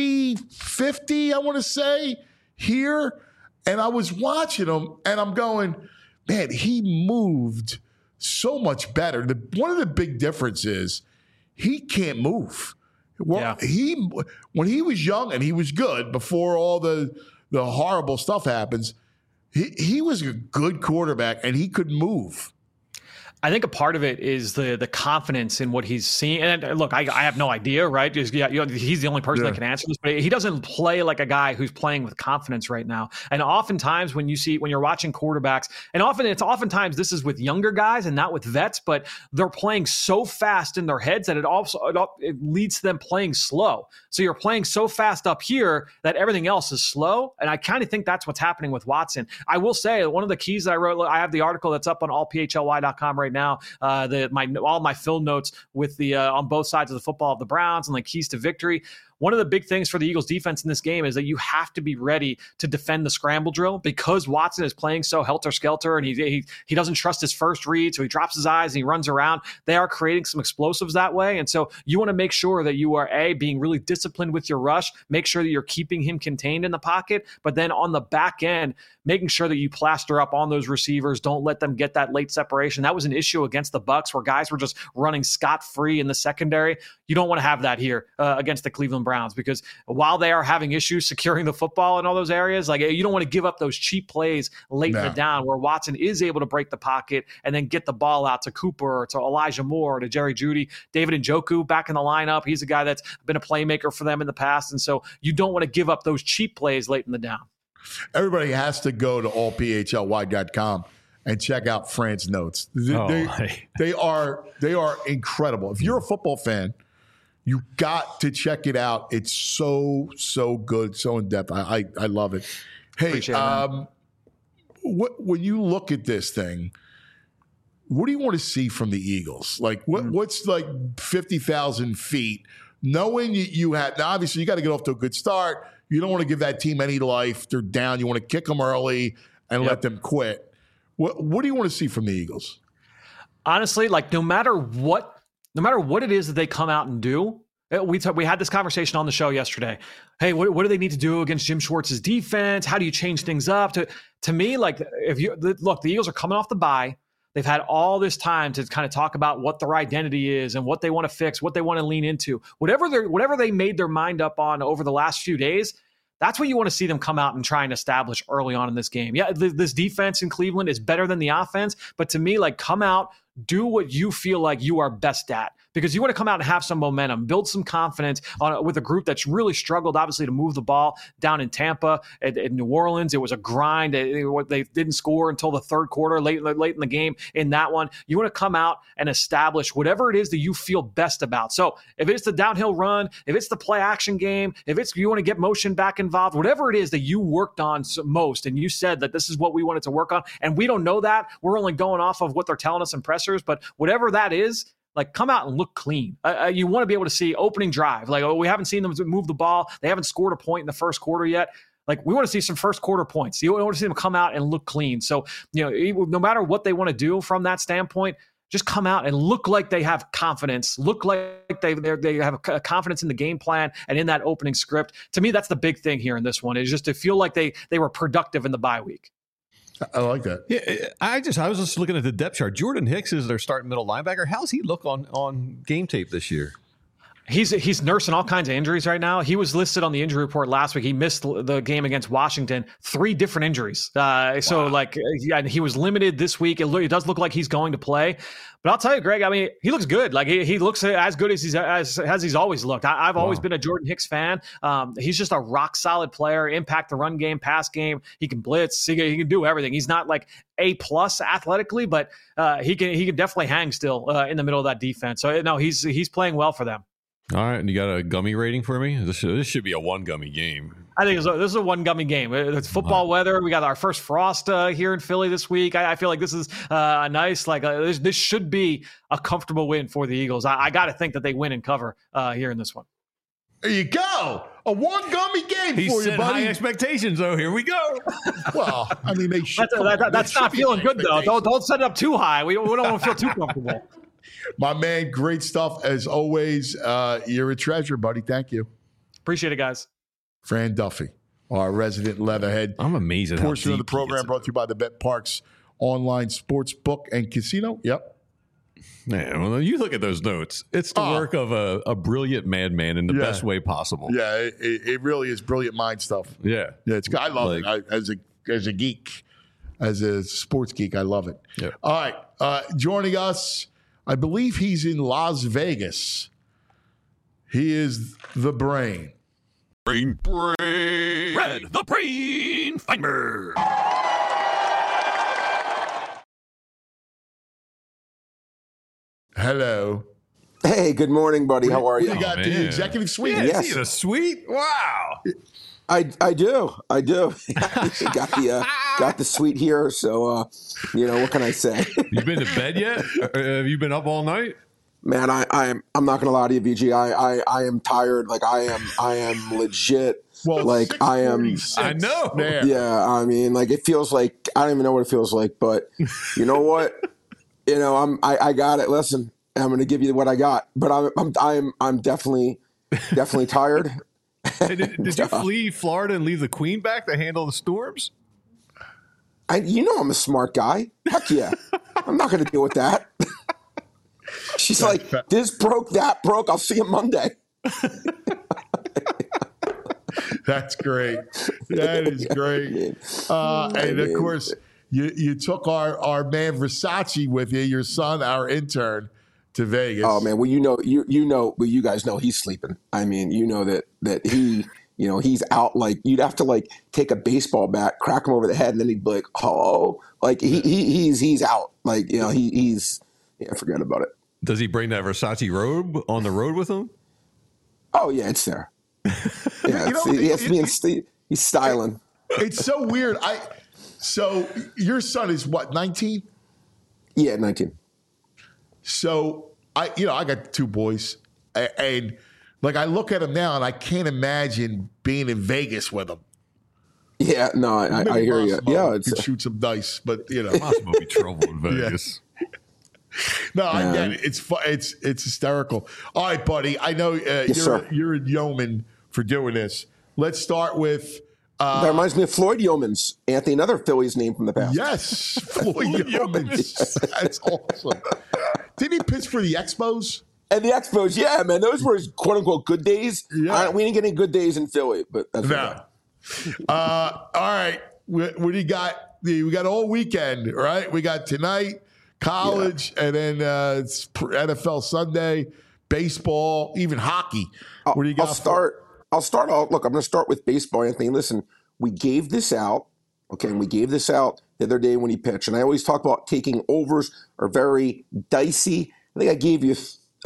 350, I want to say, here. And I was watching him, and I'm going, man, he moved so much better. One of the big differences, he can't move. Well, when he was young and he was good before all the horrible stuff happens, he was a good quarterback and he could move. I think a part of it is the confidence in what he's seeing. And look, I have no idea, right? He's the only person that can answer this, but he doesn't play like a guy who's playing with confidence right now. And oftentimes when you're watching quarterbacks, and oftentimes this is with younger guys and not with vets, but they're playing so fast in their heads that it leads to them playing slow. So you're playing so fast up here that everything else is slow. And I kind of think that's what's happening with Watson. I will say one of the keys that I wrote, I have the article that's up on allphly.com right now, all my film notes with the on both sides of the football of the Browns and like keys to victory. One of the big things for the Eagles defense in this game is that you have to be ready to defend the scramble drill because Watson is playing so helter-skelter and he doesn't trust his first read, so he drops his eyes and he runs around. They are creating some explosives that way, and so you want to make sure that you are, being really disciplined with your rush, make sure that you're keeping him contained in the pocket, but then on the back end, making sure that you plaster up on those receivers, don't let them get that late separation. That was an issue against the Bucs where guys were just running scot-free in the secondary. You don't want to have that here against the Cleveland Browns because while they are having issues securing the football in all those areas, like you don't want to give up those cheap plays late in the down where Watson is able to break the pocket and then get the ball out to Cooper, or to Elijah Moore, or to Jerry Jeudy. David Njoku back in the lineup. He's a guy that's been a playmaker for them in the past, and so you don't want to give up those cheap plays late in the down. Everybody has to go to allphly.com and check out Fran's notes. They are incredible. If you're a football fan, you got to check it out. It's so good, so in depth. I love it. Hey, when you look at this thing, what do you want to see from the Eagles? Like what's like 50,000 feet, knowing you had, now obviously you got to get off to a good start. You don't want to give that team any life. They're down. You want to kick them early and let them quit. What do you want to see from the Eagles? Honestly, like no matter what it is that they come out and do, we had this conversation on the show yesterday. Hey, what do they need to do against Jim Schwartz's defense? How do you change things up? To me, like the Eagles are coming off the bye. They've had all this time to kind of talk about what their identity is and what they want to fix, what they want to lean into. Whatever they made their mind up on over the last few days, that's what you want to see them come out and try and establish early on in this game. Yeah, this defense in Cleveland is better than the offense, but to me, like come out, do what you feel like you are best at. Because you want to come out and have some momentum, build some confidence with a group that's really struggled, obviously, to move the ball down in Tampa. In New Orleans, it was a grind. They didn't score until the third quarter, late in the game in that one. You want to come out and establish whatever it is that you feel best about. So if it's the downhill run, if it's the play action game, if it's you want to get motion back involved, whatever it is that you worked on most, and you said that this is what we wanted to work on, and we don't know that. We're only going off of what they're telling us in pressers, but whatever that is, like, come out and look clean. You want to be able to see opening drive. Like, we haven't seen them move the ball. They haven't scored a point in the first quarter yet. Like, we want to see some first quarter points. You want to see them come out and look clean. So, no matter what they want to do from that standpoint, just come out and look like they have confidence, look like they have a confidence in the game plan and in that opening script. To me, that's the big thing here in this one, is just to feel like they were productive in the bye week. I like that. Yeah, I was just looking at the depth chart. Jordan Hicks is their starting middle linebacker. How's he look on game tape this year? He's nursing all kinds of injuries right now. He was listed on the injury report last week. He missed the game against Washington, 3 different injuries. So he was limited this week. It does look like he's going to play. But I'll tell you, Greg, I mean, he looks good. Like he looks as good as he's always looked. I've always been a Jordan Hicks fan. He's just a rock solid player, impact the run game, pass game. He can blitz. He can do everything. He's not like A+ athletically, but he can definitely hang still in the middle of that defense. So no, he's playing well for them. All right, and you got a gummy rating for me? This should be a 1 gummy game. I think this is a 1 gummy game. It's football weather. We got our first frost here in Philly this week. I feel like this is nice. Like this should be a comfortable win for the Eagles. I got to think that they win and cover here in this one. There you go. A one gummy game He for you, set buddy. high expectations. Oh, here we go. Well, I mean, they should. That's not feeling good though. Don't set it up too high. We don't want to feel too comfortable. My man, great stuff as always. You're a treasure, buddy. Thank you. Appreciate it, guys. Fran Duffy, our resident leatherhead. I'm amazed at how Portion of the deep he program gets brought to you by the Bet Parks online sports book and casino. Yep. Man, well, you look at those notes. It's the work of a brilliant madman in the best way possible. Yeah, it really is brilliant mind stuff. Yeah. Yeah, I love it. As a geek, as a sports geek, I love it. Yeah. All right. Joining us, I believe he's in Las Vegas. He is the brain. Red the Brain Feinberg. Hello. Hey, good morning, buddy. How are you? You got the executive suite. Yeah, Yes. is he the suite? Wow. I do. Got the suite here. So, what can I say? You been to bed yet? Have you been up all night? Man, I'm not gonna lie to you, VG. I am tired. Like I am legit. Well, like I am. 6:46 I know. there. Yeah, I mean, like it feels like I don't even know what it feels like. But you know what? I got it. Listen, I'm going to give you what I got. But I'm definitely tired. Hey, did you flee Florida and leave the Queen back to handle the storms? I'm a smart guy. Heck yeah. I'm not going to deal with that. She's like, this broke, that broke. I'll see you Monday. That's great. That is great. And of course, you took our man Versace with you, your son, our intern, to Vegas. Oh man, well you guys know he's sleeping. I mean, that he, he's out. Like you'd have to like take a baseball bat, crack him over the head, and then he'd be like, oh, like he's out. Like he's forget about it. Does he bring that Versace robe on the road with him? Oh yeah, it's there. Yeah, he's styling. It's so weird. So your son is what, 19? Yeah, 19. So I got two boys, and like I look at him now, and I can't imagine being in Vegas with them. Yeah, no, I hear you. Yeah, could shoot some dice, but Possible to be trouble in Vegas. No, I get it. It's hysterical. All right, buddy. I know you're a yeoman for doing this. Let's start with. That reminds me of Floyd Yeomans, Anthony, another Phillies name from the past. Yes, Floyd Yeomans. That's awesome. Did he pitch for the Expos? And the Expos, yeah, man. Those were his quote unquote good days. Yeah. We didn't get any good days in Philly, but that's No. All right. What do you got? We got all weekend, right? We got tonight, college, and then it's NFL Sunday, baseball, even hockey. What do you got? Look, I'm going to start with baseball, Anthony. Listen, we gave this out, okay, and we gave this out the other day when he pitched. And I always talk about taking overs are very dicey. I think I gave you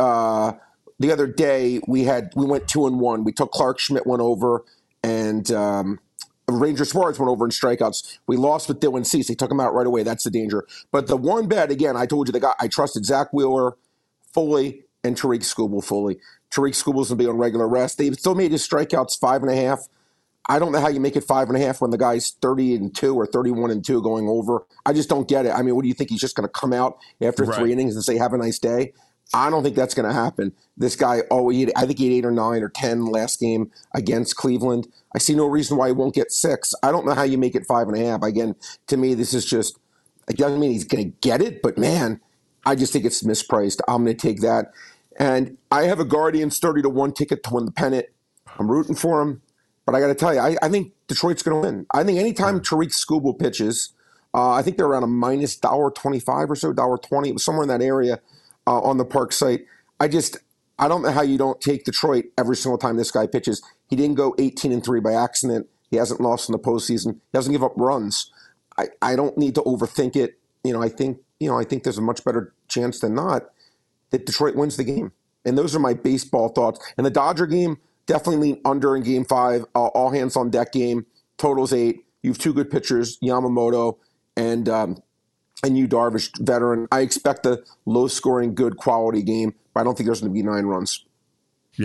the other day we went 2-1. We took Clark Schmidt went over, and Ranger Suarez went over in strikeouts. We lost with Dylan Cease. They took him out right away. That's the danger. But the one bet, again, I told you the guy I trusted Zach Wheeler fully and Tariq Skubal fully. Tariq Skubal's going to be on regular rest. They still made his strikeouts 5.5. I don't know how you make it 5.5 when the guy's 30-2 or 31-2 going over. I just don't get it. I mean, what do you think? He's just going to come out after 3 innings and say, have a nice day? I don't think that's going to happen. This guy, I think he had 8 or 9 or 10 last game against Cleveland. I see no reason why he won't get 6. I don't know how you make it 5.5. Again, to me, this is just, it doesn't mean he's going to get it, but man, I just think it's mispriced. I'm going to take that. And I have a Guardians 30-1 ticket to win the pennant. I'm rooting for him. But I got to tell you, I think Detroit's going to win. I think anytime Tariq Skubal pitches, I think they're around a minus $1.25 or so, $1.20, somewhere in that area on the park site. I don't know how you don't take Detroit every single time this guy pitches. He didn't go 18-3 by accident. He hasn't lost in the postseason. He doesn't give up runs. I don't need to overthink it. I think there's a much better chance than not that Detroit wins the game. And those are my baseball thoughts. And the Dodger game, definitely lean under in Game 5. All hands on deck game. Totals 8. You have 2 good pitchers, Yamamoto and Yu Darvish, veteran. I expect a low-scoring, good quality game, but I don't think there's going to be 9 runs. Yeah.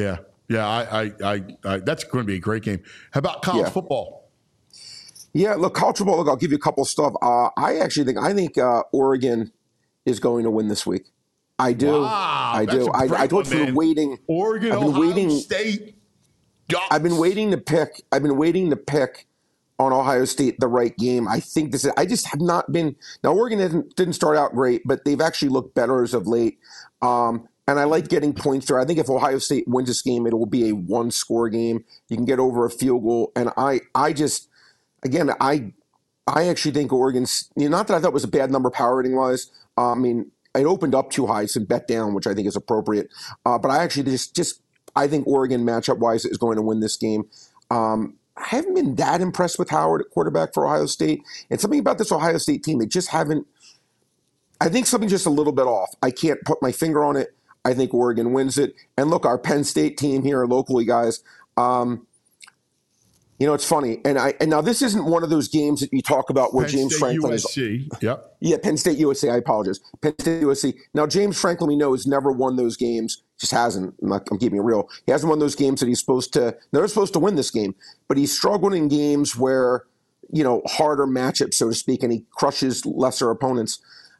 Yeah, I that's going to be a great game. How about college football? Yeah, look, college football. Look, I'll give you a couple of stuff. I think Oregon is going to win this week. I do. Wow, I do. I told you waiting. Oregon, Ohio State. Ducks. I've been waiting to pick on Ohio State the right game. I think this is. I just have not been. Now Oregon didn't start out great, but they've actually looked better as of late. And I like getting points there. I think if Ohio State wins this game, it will be a one-score game. You can get over a field goal. And I actually think Oregon's, not that I thought it was a bad number power rating wise. It opened up too high, so bet down, which I think is appropriate. But I actually I think Oregon matchup wise is going to win this game. I haven't been that impressed with Howard at quarterback for Ohio State. And something about this Ohio State team, they just haven't. I think something's just a little bit off. I can't put my finger on it. I think Oregon wins it. And look, our Penn State team here locally, guys. It's funny. And now this isn't one of those games that you talk about where Penn James State Franklin USC. is. Yep. Yeah, Penn State USC. I apologize. Penn State USC. Now James Franklin, we know, has never won those games. Just hasn't. I'm keeping it real. He hasn't won those games that he's supposed to. They're supposed to win this game, but he's struggled in games where harder matchups, so to speak, and he crushes lesser opponents.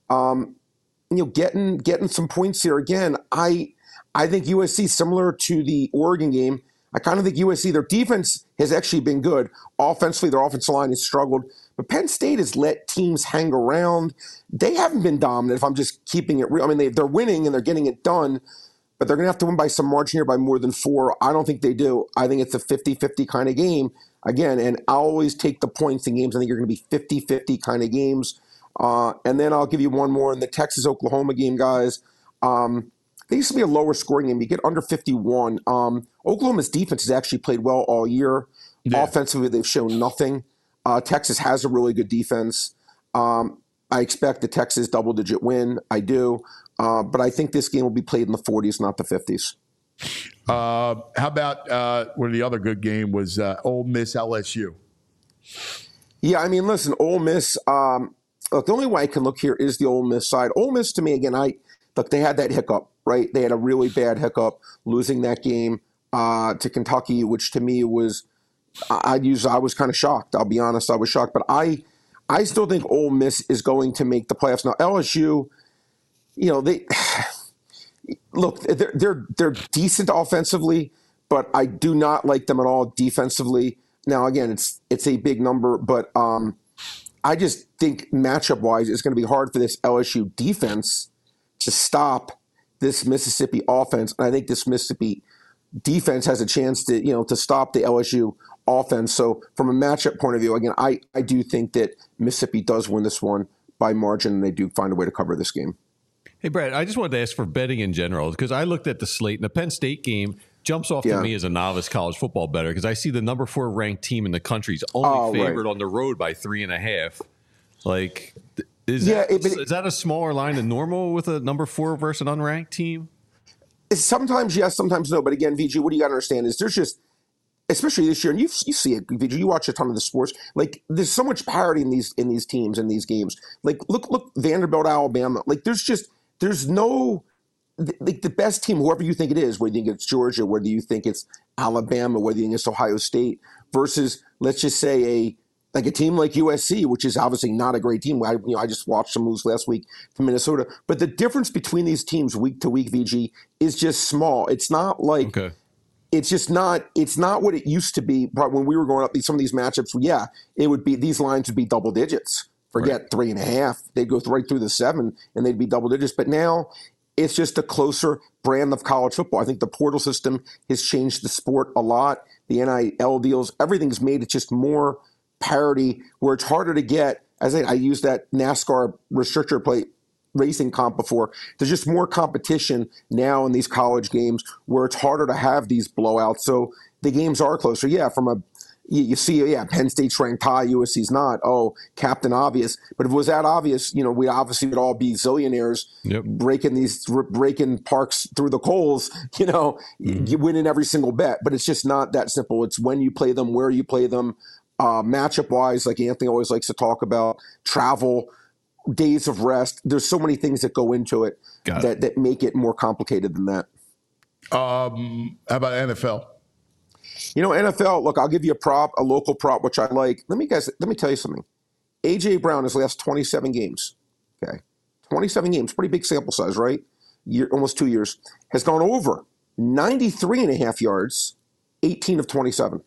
Getting some points here again. I think USC, similar to the Oregon game, I kind of think USC, their defense has actually been good. Offensively, their offensive line has struggled. But Penn State has let teams hang around. They haven't been dominant, if I'm just keeping it real. They're winning and they're getting it done, but they're going to have to win by some margin here by more than 4. I don't think they do. I think it's a 50-50 kind of game. Again, and I always take the points in games. I think you're going to be 50-50 kind of games. And then I'll give you one more in the Texas-Oklahoma game, guys. They used to be a lower scoring game. You get under 51. Oklahoma's defense has actually played well all year. Yeah. Offensively, they've shown nothing. Texas has a really good defense. I expect the Texas double-digit win. I do. But I think this game will be played in the 40s, not the 50s. How about one of the other good game was Ole Miss LSU? Yeah, listen, Ole Miss. Look, the only way I can look here is the Ole Miss side. Ole Miss, to me, again, they had that hiccup, right? They had a really bad hiccup losing that game to Kentucky, which to me was, I was kind of shocked. I'll be honest, I was shocked. But I still think Ole Miss is going to make the playoffs. Now, LSU, they're decent offensively, but I do not like them at all defensively. Now, again, it's a big number, but I just think matchup-wise, it's going to be hard for this LSU defense to stop this Mississippi offense. And I think this Mississippi defense has a chance to stop the LSU offense. So from a matchup point of view, again, I do think that Mississippi does win this one by margin, and they do find a way to cover this game. Hey, Brad, I just wanted to ask for betting in general, because I looked at the slate, and the Penn State game jumps off to me as a novice college football bettor, because I see the number 4 ranked team in the country is only favored on the road by 3.5. Like, is that a smaller line than normal with a number 4 versus an unranked team? Sometimes yes, sometimes no. But again, VG, what do you got to understand is there's just, especially this year, and you see it, VG, you watch a ton of the sports. Like, there's so much parity in these teams in these games. Like, look, Vanderbilt, Alabama. Like, there's no. The best team, whoever you think it is, whether you think it's Georgia, whether you think it's Alabama, whether you think it's Ohio State, versus, let's just say, a team like USC, which is obviously not a great team. I just watched them lose last week to Minnesota. But the difference between these teams week to week, VG, is just small. It's not like it's just not. It's not what it used to be. When we were going up some of these matchups, it would be, these lines would be double digits. Forget 3.5; they'd go right through the 7, and they'd be double digits. But now, it's just a closer brand of college football. I think the portal system has changed the sport a lot. The NIL deals, everything's made it just more parity, where it's harder to get. As I used that NASCAR restrictor plate racing comp before. There's just more competition now in these college games where it's harder to have these blowouts. So the games are closer. Yeah, you see, Penn State's ranked high, USC's not. Oh, Captain Obvious. But if it was that obvious, we obviously would all be zillionaires breaking parks through the coals, you winning every single bet. But it's just not that simple. It's when you play them, where you play them, matchup-wise, like Anthony always likes to talk about, travel, days of rest. There's so many things that go into it that make it more complicated than that. How about NFL? NFL, look, I'll give you a local prop, which I like. Let me tell you something. A.J. Brown, his last 27 games, okay? 27 games, pretty big sample size, right? Almost 2 years, has gone over 93.5 yards, 18 of 27.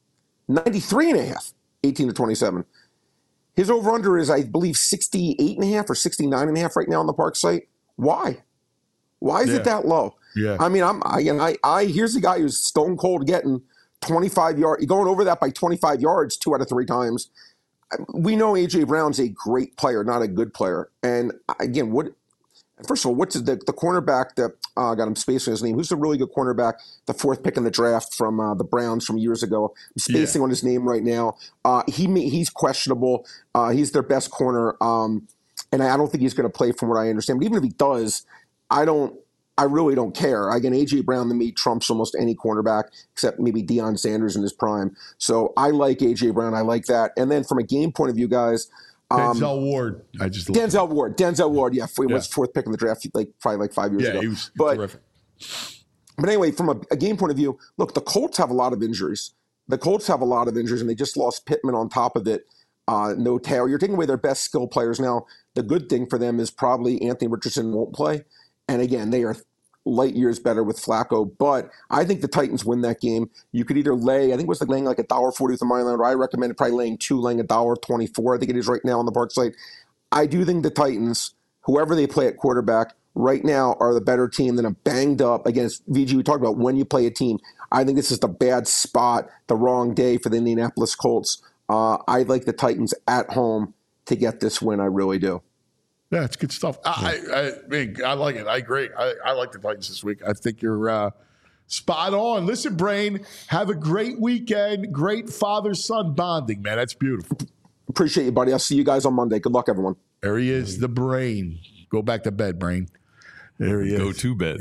93.5, 18 of 27. His over-under is, I believe, 68.5 or 69.5 right now on the Park site. Why? Why is it that low? Yeah. I mean, here's the guy who's stone cold getting 25 yards, going over that by 25 yards 2 out of 3 times. We know A.J. Brown's a great player, not a good player. And again, first of all, what's the cornerback that got him spacing his name? Who's the really good cornerback, the 4th pick in the draft from the Browns from years ago? I'm spacing on his name right now. He's questionable. He's their best corner. And I don't think he's going to play from what I understand. But even if he does, I really don't care. Again, A.J. Brown to me trumps almost any cornerback except maybe Deion Sanders in his prime. So I like A.J. Brown. I like that. And then from a game point of view, guys. Denzel Ward. Denzel Ward. Yeah. He was 4th pick in the draft probably 5 years ago. Yeah, he was terrific. But anyway, from a game point of view, look, the Colts have a lot of injuries. And they just lost Pittman on top of it. No Taylor. You're taking away their best skill players. Now, the good thing for them is probably Anthony Richardson won't play. And again, they are light years better with Flacco. But I think the Titans win that game. You could either lay, I think it was laying like $1.40 with the money line, or I recommended probably laying $1.24. I think it is right now on the Park site. I do think the Titans, whoever they play at quarterback, right now are the better team than a banged up against VG. We talked about when you play a team. I think this is the bad spot, the wrong day for the Indianapolis Colts. I like the Titans at home to get this win. I really do. Yeah, it's good stuff. I like it. I agree. I like the Titans this week. I think you're spot on. Listen, Brain, have a great weekend. Great father-son bonding, man. That's beautiful. Appreciate you, buddy. I'll see you guys on Monday. Good luck, everyone. There he is, the Brain. Go back to bed, Brain. There he is. Go to bed.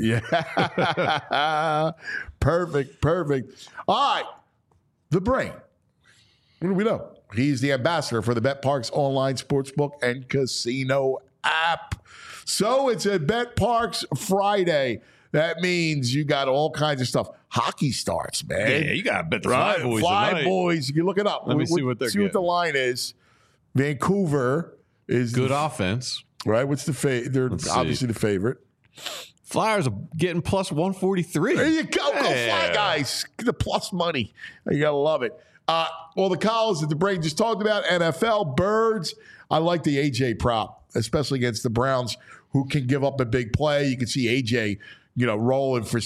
Yeah. Perfect. All right. The Brain. What do we know? He's the ambassador for the BetParx online sportsbook and casino app. So it's a BetParx Friday. That means you got all kinds of stuff. Hockey starts, man. Yeah, you got to bet the Fly Boys Fly Boys. You can look it up. Let me see what they're See what the line is. Vancouver is good offense. Right? What's the favorite? They're obviously the favorite. Flyers are getting plus 143. There you go. Go Fly, guys. Get the plus money. You got to love it. Well, the college that the Brain just talked about, NFL, Birds. I like the AJ prop, especially against the Browns, who can give up a big play. You can see AJ, rolling for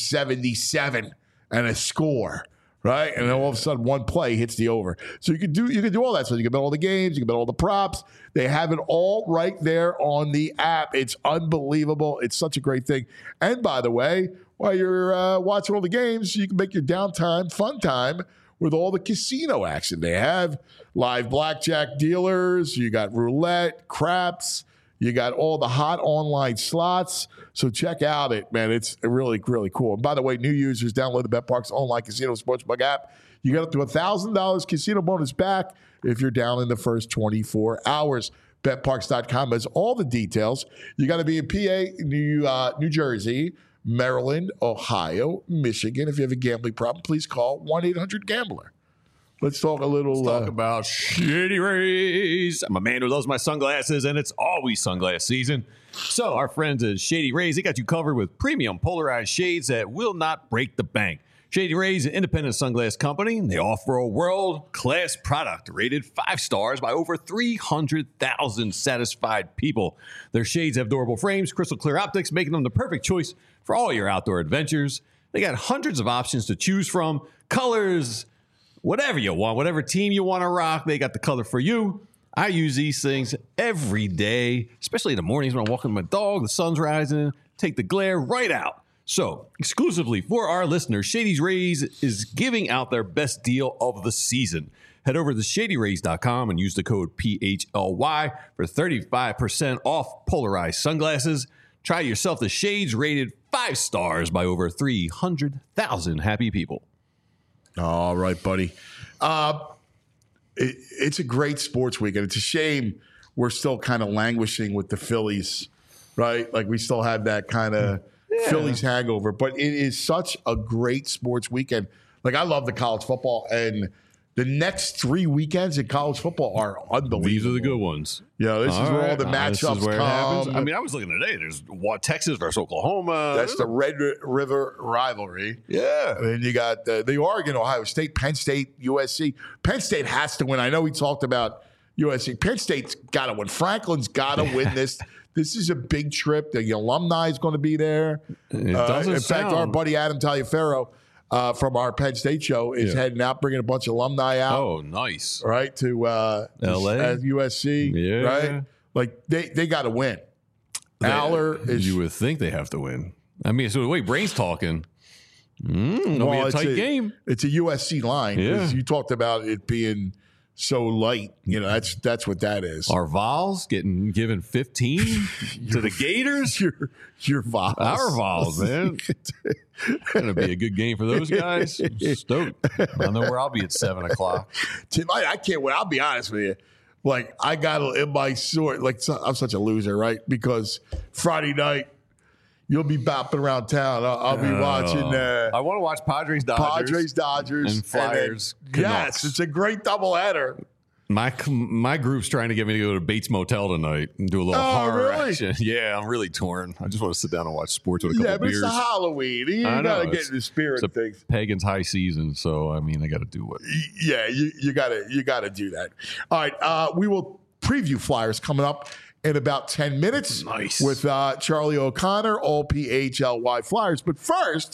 77 and a score, right? And then all of a sudden, one play hits the over. So you can do all that. So you can bet all the games, you can bet all the props. They have it all right there on the app. It's unbelievable. It's such a great thing. And by the way, while you're watching all the games, you can make your downtime fun time with all the casino action. They have live blackjack dealers. You got roulette, craps. You got all the hot online slots. So check out it, man. It's really, really cool. And by the way, new users, download the BetParx online casino sportsbook app. You get up to $1,000 casino bonus back if you're down in the first 24 hours. BetParx.com has all the details. You got to be in PA, New Jersey, Maryland, Ohio, Michigan. If you have a gambling problem, please call 1-800-GAMBLER. Let's talk about Shady Rays. I'm a man who loves my sunglasses, and it's always sunglass season. So our friends at Shady Rays, they got you covered with premium polarized shades that will not break the bank. Shady Rays, an independent sunglass company, they offer a world-class product rated 5 stars by over 300,000 satisfied people. Their shades have durable frames, crystal clear optics, making them the perfect choice for all your outdoor adventures. They got hundreds of options to choose from, colors, whatever you want, whatever team you want to rock, they got the color for you. I use these things every day, especially in the mornings when I'm walking my dog, the sun's rising, take the glare right out. So, exclusively for our listeners, Shady Rays is giving out their best deal of the season. Head over to shadyrays.com and use the code PHLY for 35% off polarized sunglasses. Try yourself the shades rated 5 stars by over 300,000 happy people. All right, buddy. It's a great sports weekend. It's a shame we're still kind of languishing with the Phillies, right? Like we still have that kind of Phillies hangover. But it is such a great sports weekend. Like, I love the college football, and the next 3 weekends in college football are unbelievable. These are the good ones. Yeah, this is where all the matchups come. I mean, I was looking today. There's Texas versus Oklahoma. That's the Red River rivalry. Yeah. And then you got the Oregon, Ohio State, Penn State, USC. Penn State has to win. I know we talked about USC. Penn State's got to win. Franklin's got to win this. This is a big trip. The alumni is going to be there. In fact, our buddy Adam Taliaferro from our Penn State show is heading out, bringing a bunch of alumni out. Oh, nice. Right, to L.A. At USC. Yeah. Right? Like, they got to win. Aller is... You would think they have to win. I mean, so the way Brain's talking, it'll be a tight game. It's a USC line because you talked about it being so light. You know, that's what that is. Our Vols given 15 to the Gators. Your Vols. Our Vols, man. Going to be a good game for those guys. Stoked. I know where I'll be at 7 o'clock. Tonight, I can't wait. I'll be honest with you. Like, I got in my sort. Like, I'm such a loser, right? Because Friday night, you'll be bopping around town. I'll be watching. I want to watch Padres, Dodgers, and Flyers. Yes, it's a great doubleheader. My group's trying to get me to go to Bates Motel tonight and do a little horror action. Yeah, I'm really torn. I just want to sit down and watch sports with a couple beers. Yeah, but it's Halloween. You got to get in the spirit of things. Pagan's high season, so I mean, I got to do what. Yeah, you got to do that. All right, we will preview Flyers coming up in about 10 minutes. Nice. With Charlie O'Connor, all PHLY Flyers. But first,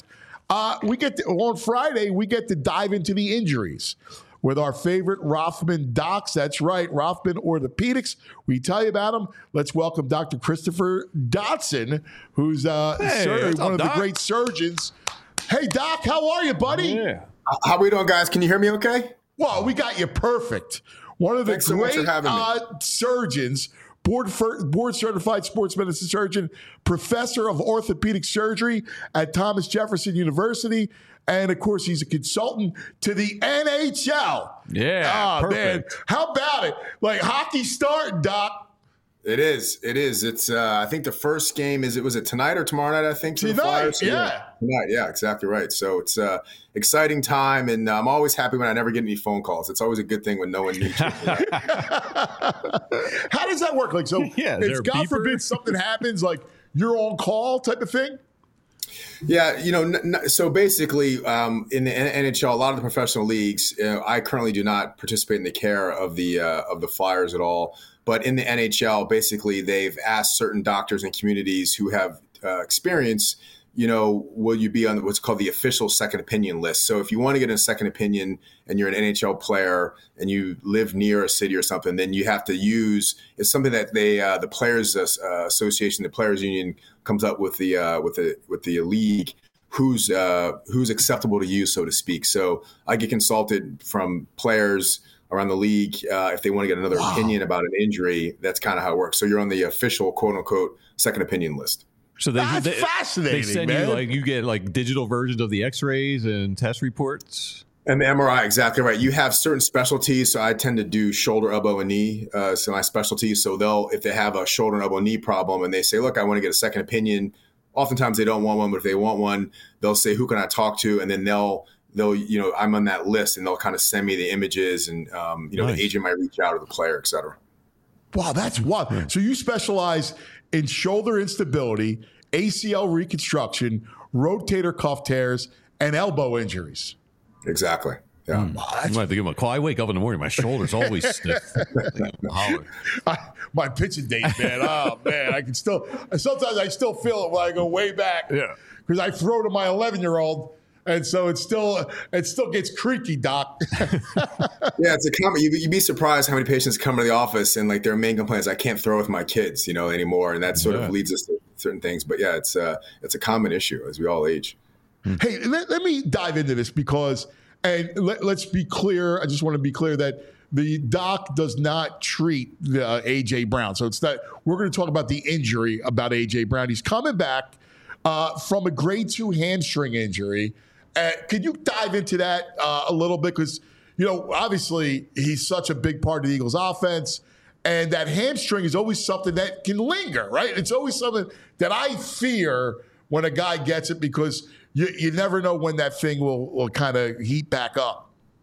on Friday, we get to dive into the injuries with our favorite Rothman docs. That's right, Rothman Orthopedics. We tell you about them. Let's welcome Dr. Christopher Dotson, who's one of the great surgeons. Hey, Doc, how are you, buddy? Yeah. How are we doing, guys? Can you hear me okay? Well, we got you perfect. One of the great surgeons, board-certified sports medicine surgeon, professor of orthopedic surgery at Thomas Jefferson University. And, of course, he's a consultant to the NHL. Yeah, perfect. Man. How about it? Like, hockey's starting, Doc. It is. It's, I think the first game was it tonight or tomorrow night, I think? Tonight, Tonight, yeah, exactly right. So it's an exciting time, and I'm always happy when I never get any phone calls. It's always a good thing when no one needs you. How does that work? Like, so if God forbid something happens, like you're on call type of thing? Yeah, so basically in the NHL, a lot of the professional leagues, I currently do not participate in the care of the Flyers at all. But in the NHL, basically, they've asked certain doctors and communities who have experience, will you be on what's called the official second opinion list? So if you want to get a second opinion and you're an NHL player and you live near a city or something, then you have to use – it's something that the Players Association, the Players Union comes up with the league who's acceptable to use, so to speak. So I get consulted from players – around the league, if they want to get another opinion about an injury. That's kind of how it works. So you're on the official quote unquote second opinion list. So that's fascinating. They send you get digital versions of the X-rays and test reports. And the MRI, exactly right. You have certain specialties. So I tend to do shoulder, elbow, and knee. So my specialty. So if they have a shoulder, elbow, knee problem, and they say, "Look, I want to get a second opinion." Oftentimes they don't want one, but if they want one, they'll say, "Who can I talk to?" And then they'll I'm on that list, and they'll kind of send me the images, and nice. The agent might reach out, or the player, et cetera. Wow, that's wild. Yeah. So you specialize in shoulder instability, ACL reconstruction, rotator cuff tears, and elbow injuries. Exactly. Yeah. You might have to give him a call. I wake up in the morning, my shoulder's always stiff. My pitching days, man. Oh man, sometimes I still feel it when I go way back. Yeah. Because I throw to my 11-year-old. And so it still gets creaky, Doc. Yeah, it's a common. You'd be surprised how many patients come to the office and their main complaint is I can't throw with my kids, anymore, and that sort of leads us to certain things. But yeah, it's a common issue as we all age. Hey, let me dive into this because, and let's be clear. I just want to be clear that the doc does not treat the A.J. Brown. So it's that we're going to talk about the injury about A.J. Brown. He's coming back from a grade 2 hamstring injury. Could you dive into that a little bit? Because, obviously he's such a big part of the Eagles offense, and that hamstring is always something that can linger, right? It's always something that I fear when a guy gets it because you never know when that thing will kind of heat back up.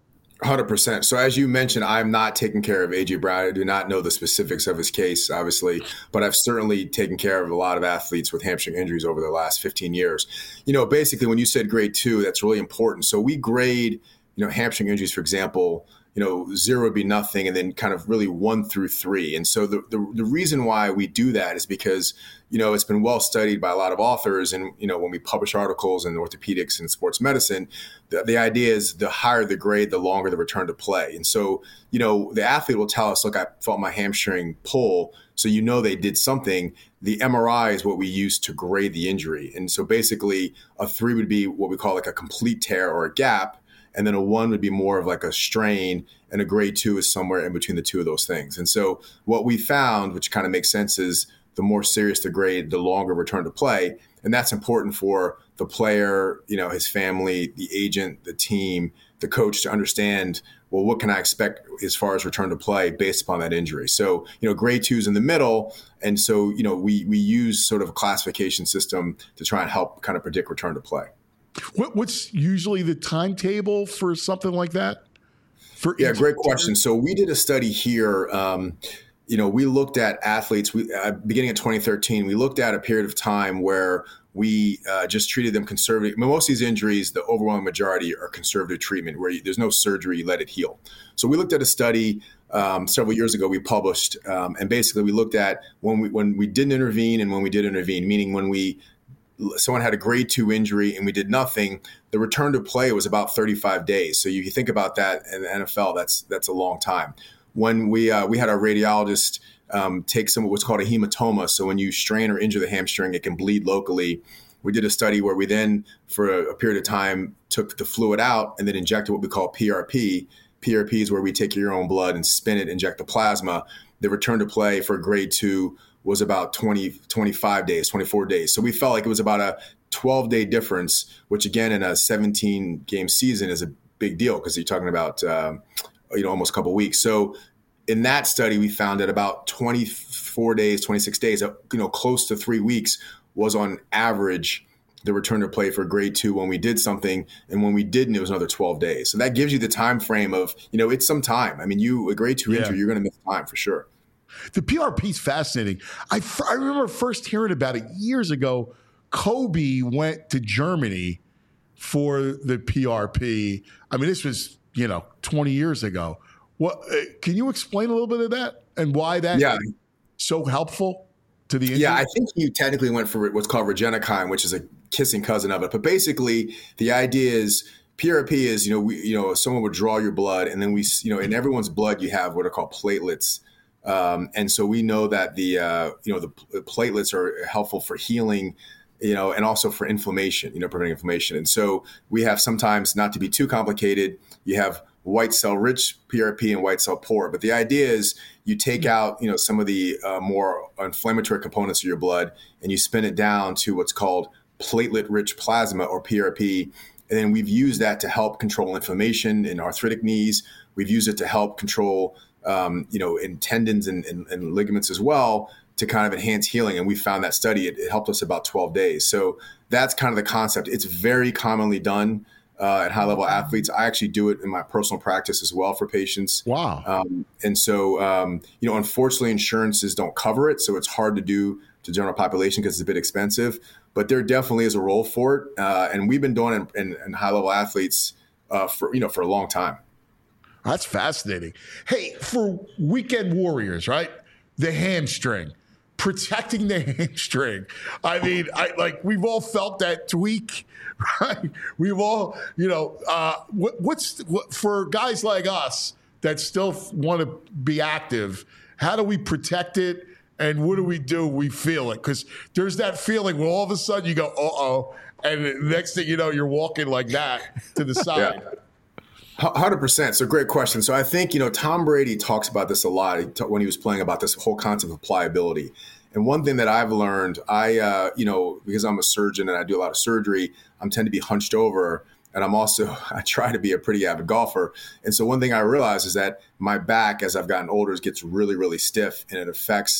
100%. So as you mentioned, I'm not taking care of A.J. Brown. I do not know the specifics of his case, obviously, but I've certainly taken care of a lot of athletes with hamstring injuries over the last 15 years. Basically, when you said grade 2, that's really important. So we grade, hamstring injuries, for example, 0 would be nothing, and then kind of really 1 through 3. And so the reason why we do that is because, it's been well studied by a lot of authors. And, when we publish articles in orthopedics and sports medicine, the idea is the higher the grade, the longer the return to play. And so, the athlete will tell us, look, I felt my hamstring pull. So, they did something. The MRI is what we use to grade the injury. And so basically a 3 would be what we call like a complete tear or a gap. And then a 1 would be more of like a strain, and a grade 2 is somewhere in between the two of those things. And so what we found, which kind of makes sense, is the more serious the grade, the longer return to play. And that's important for the player, his family, the agent, the team, the coach to understand, well, what can I expect as far as return to play based upon that injury? So, grade 2 is in the middle. And so, we use sort of a classification system to try and help kind of predict return to play. What's usually the timetable for something like that? Great question. So we did a study here. We looked at athletes. Beginning in 2013, we looked at a period of time where we just treated them conservative. Most of these injuries, the overwhelming majority, are conservative treatment where there's no surgery, you let it heal. So we looked at a study several years ago we published, and basically we looked at when we didn't intervene and when we did intervene, meaning when someone had a grade 2 injury and we did nothing, the return to play was about 35 days. So you think about that in the NFL, that's a long time. When we had our radiologist take some of what's called a hematoma. So when you strain or injure the hamstring, it can bleed locally. We did a study where we then, for a period of time, took the fluid out and then injected what we call PRP. PRP is where we take your own blood and spin it, inject the plasma. The return to play for grade 2 was about 25 days, 24 days. So we felt like it was about a 12-day difference, which again, in a 17-game season is a big deal because you're talking about, almost a couple of weeks. So in that study, we found that about 24 days, 26 days, close to 3 weeks was on average the return to play for grade 2 when we did something. And when we didn't, it was another 12 days. So that gives you the time frame of, it's some time. I mean, a grade 2 injury, you're going to miss time for sure. The PRP is fascinating. I remember first hearing about it years ago. Kobe went to Germany for the PRP. I mean, this was, 20 years ago. What can you explain a little bit of that and why that is so helpful to the injury? Yeah, I think you technically went for what's called Regenikine, which is a kissing cousin of it. But basically, the idea is PRP is, someone would draw your blood, and then in everyone's blood, you have what are called platelets. And so we know that the platelets are helpful for healing, and also for inflammation, preventing inflammation. And so we have sometimes, not to be too complicated, you have white cell rich PRP and white cell poor. But the idea is you take out, some of the more inflammatory components of your blood and you spin it down to what's called platelet rich plasma or PRP. And then we've used that to help control inflammation in arthritic knees. We've used it to help control in tendons and ligaments as well, to kind of enhance healing. And we found that study, it helped us about 12 days. So that's kind of the concept. It's very commonly done at high-level athletes. I actually do it in my personal practice as well for patients. Wow. And so, unfortunately, insurances don't cover it. So it's hard to do to the general population because it's a bit expensive. But there definitely is a role for it. And we've been doing it in high-level athletes for a long time. That's fascinating. Hey, for weekend warriors, right? The hamstring, protecting the hamstring. I mean, we've all felt that tweak, right? We've all, for guys like us that still want to be active, how do we protect it? And what do? We feel it. Because there's that feeling where all of a sudden you go, uh-oh. And the next thing you know, you're walking like that to the side. Yeah. 100%. So great question. So I think, Tom Brady talks about this a lot when he was playing, about this whole concept of pliability. And one thing that I've learned, because I'm a surgeon and I do a lot of surgery, I tend to be hunched over. And I try to be a pretty avid golfer. And so one thing I realized is that my back, as I've gotten older, gets really, really stiff, and it affects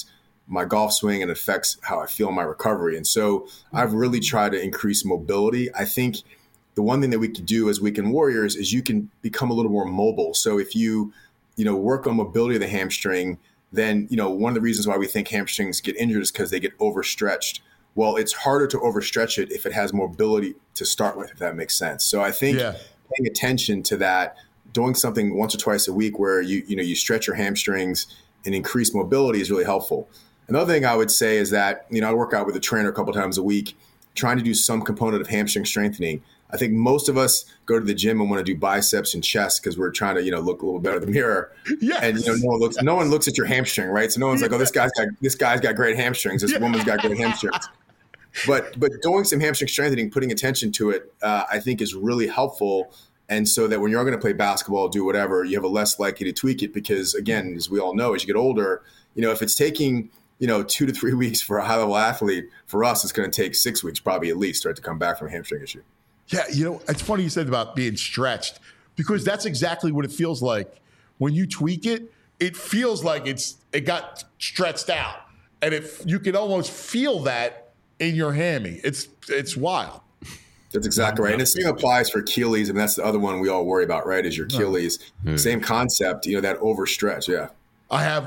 my golf swing and it affects how I feel in my recovery. And so I've really tried to increase mobility. I think the one thing that we can do as weekend warriors is you can become a little more mobile. So if you work on mobility of the hamstring, then, one of the reasons why we think hamstrings get injured is because they get overstretched. Well, it's harder to overstretch it if it has mobility to start with, if that makes sense. So I think paying attention to that, doing something once or twice a week where you stretch your hamstrings and increase mobility is really helpful. Another thing I would say is that, I work out with a trainer a couple times a week, trying to do some component of hamstring strengthening. I think most of us go to the gym and want to do biceps and chest because we're trying to, look a little better in the mirror. Yes. And no one looks at your hamstring, right? So no one's like, oh, this guy's got great hamstrings. This woman's got great hamstrings. But doing some hamstring strengthening, putting attention to it, I think is really helpful. And so that when you're going to play basketball, do whatever, you have a less likely to tweak it because, again, as we all know, as you get older, if it's taking 2 to 3 weeks for a high-level athlete, for us, it's going to take 6 weeks probably at least, right, to come back from a hamstring issue. Yeah, it's funny you said about being stretched because that's exactly what it feels like. When you tweak it, it feels like it got stretched out. And you can almost feel that in your hammy. It's wild. That's exactly right. And the same applies for Achilles. And that's the other one we all worry about, right, is your Achilles. Same concept, that overstretch, yeah. I have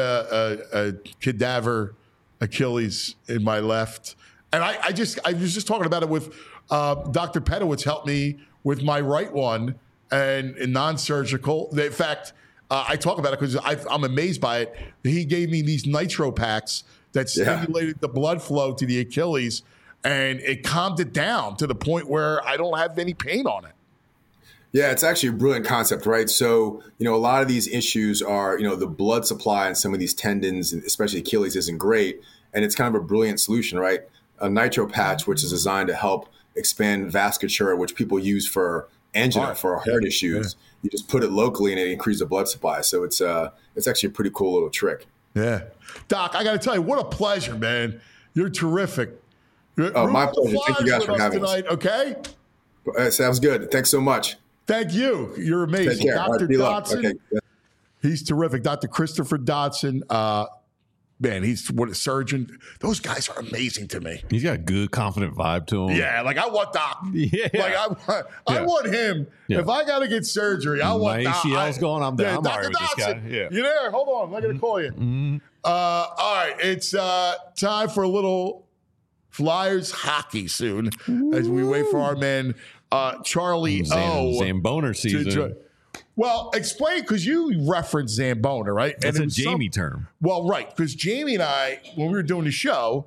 a cadaver Achilles in my left. And I was just talking about it with Dr. Pedowitz helped me with my right one and non-surgical. In fact, I talk about it because I'm amazed by it. He gave me these nitro packs that stimulated the blood flow to the Achilles, and it calmed it down to the point where I don't have any pain on it. Yeah, it's actually a brilliant concept, right? So, a lot of these issues are, the blood supply in some of these tendons, especially Achilles, isn't great. And it's kind of a brilliant solution, right? A nitro patch, which is designed to help expand vasculature, which people use for angina, for heart issues. Yeah. You just put it locally and it increases the blood supply. So it's actually a pretty cool little trick. Yeah. Doc, I got to tell you, what a pleasure, man. You're terrific. My pleasure. Thank you guys for having us. Okay? Sounds good. Thanks so much. Thank you. You're amazing. Take care. Dr. Dodson. Okay. He's terrific. Dr. Christopher Dodson. Man, he's a surgeon. Those guys are amazing to me. He's got a good, confident vibe to him. Yeah, like I want Doc. Yeah. Like I want him. Yeah. If I got to get surgery, I want Doc. My ACL's going, I'm down. Yeah, I'm all right with this guy. Yeah. You there? Hold on. I'm going to call you. Mm-hmm. All right. It's time for a little Flyers hockey soon as we wait for our man, Charlie O. Zamboner season. Well, explain, because you referenced Zambona, right? That's a Jamie term. Well, right, because Jamie and I, when we were doing the show,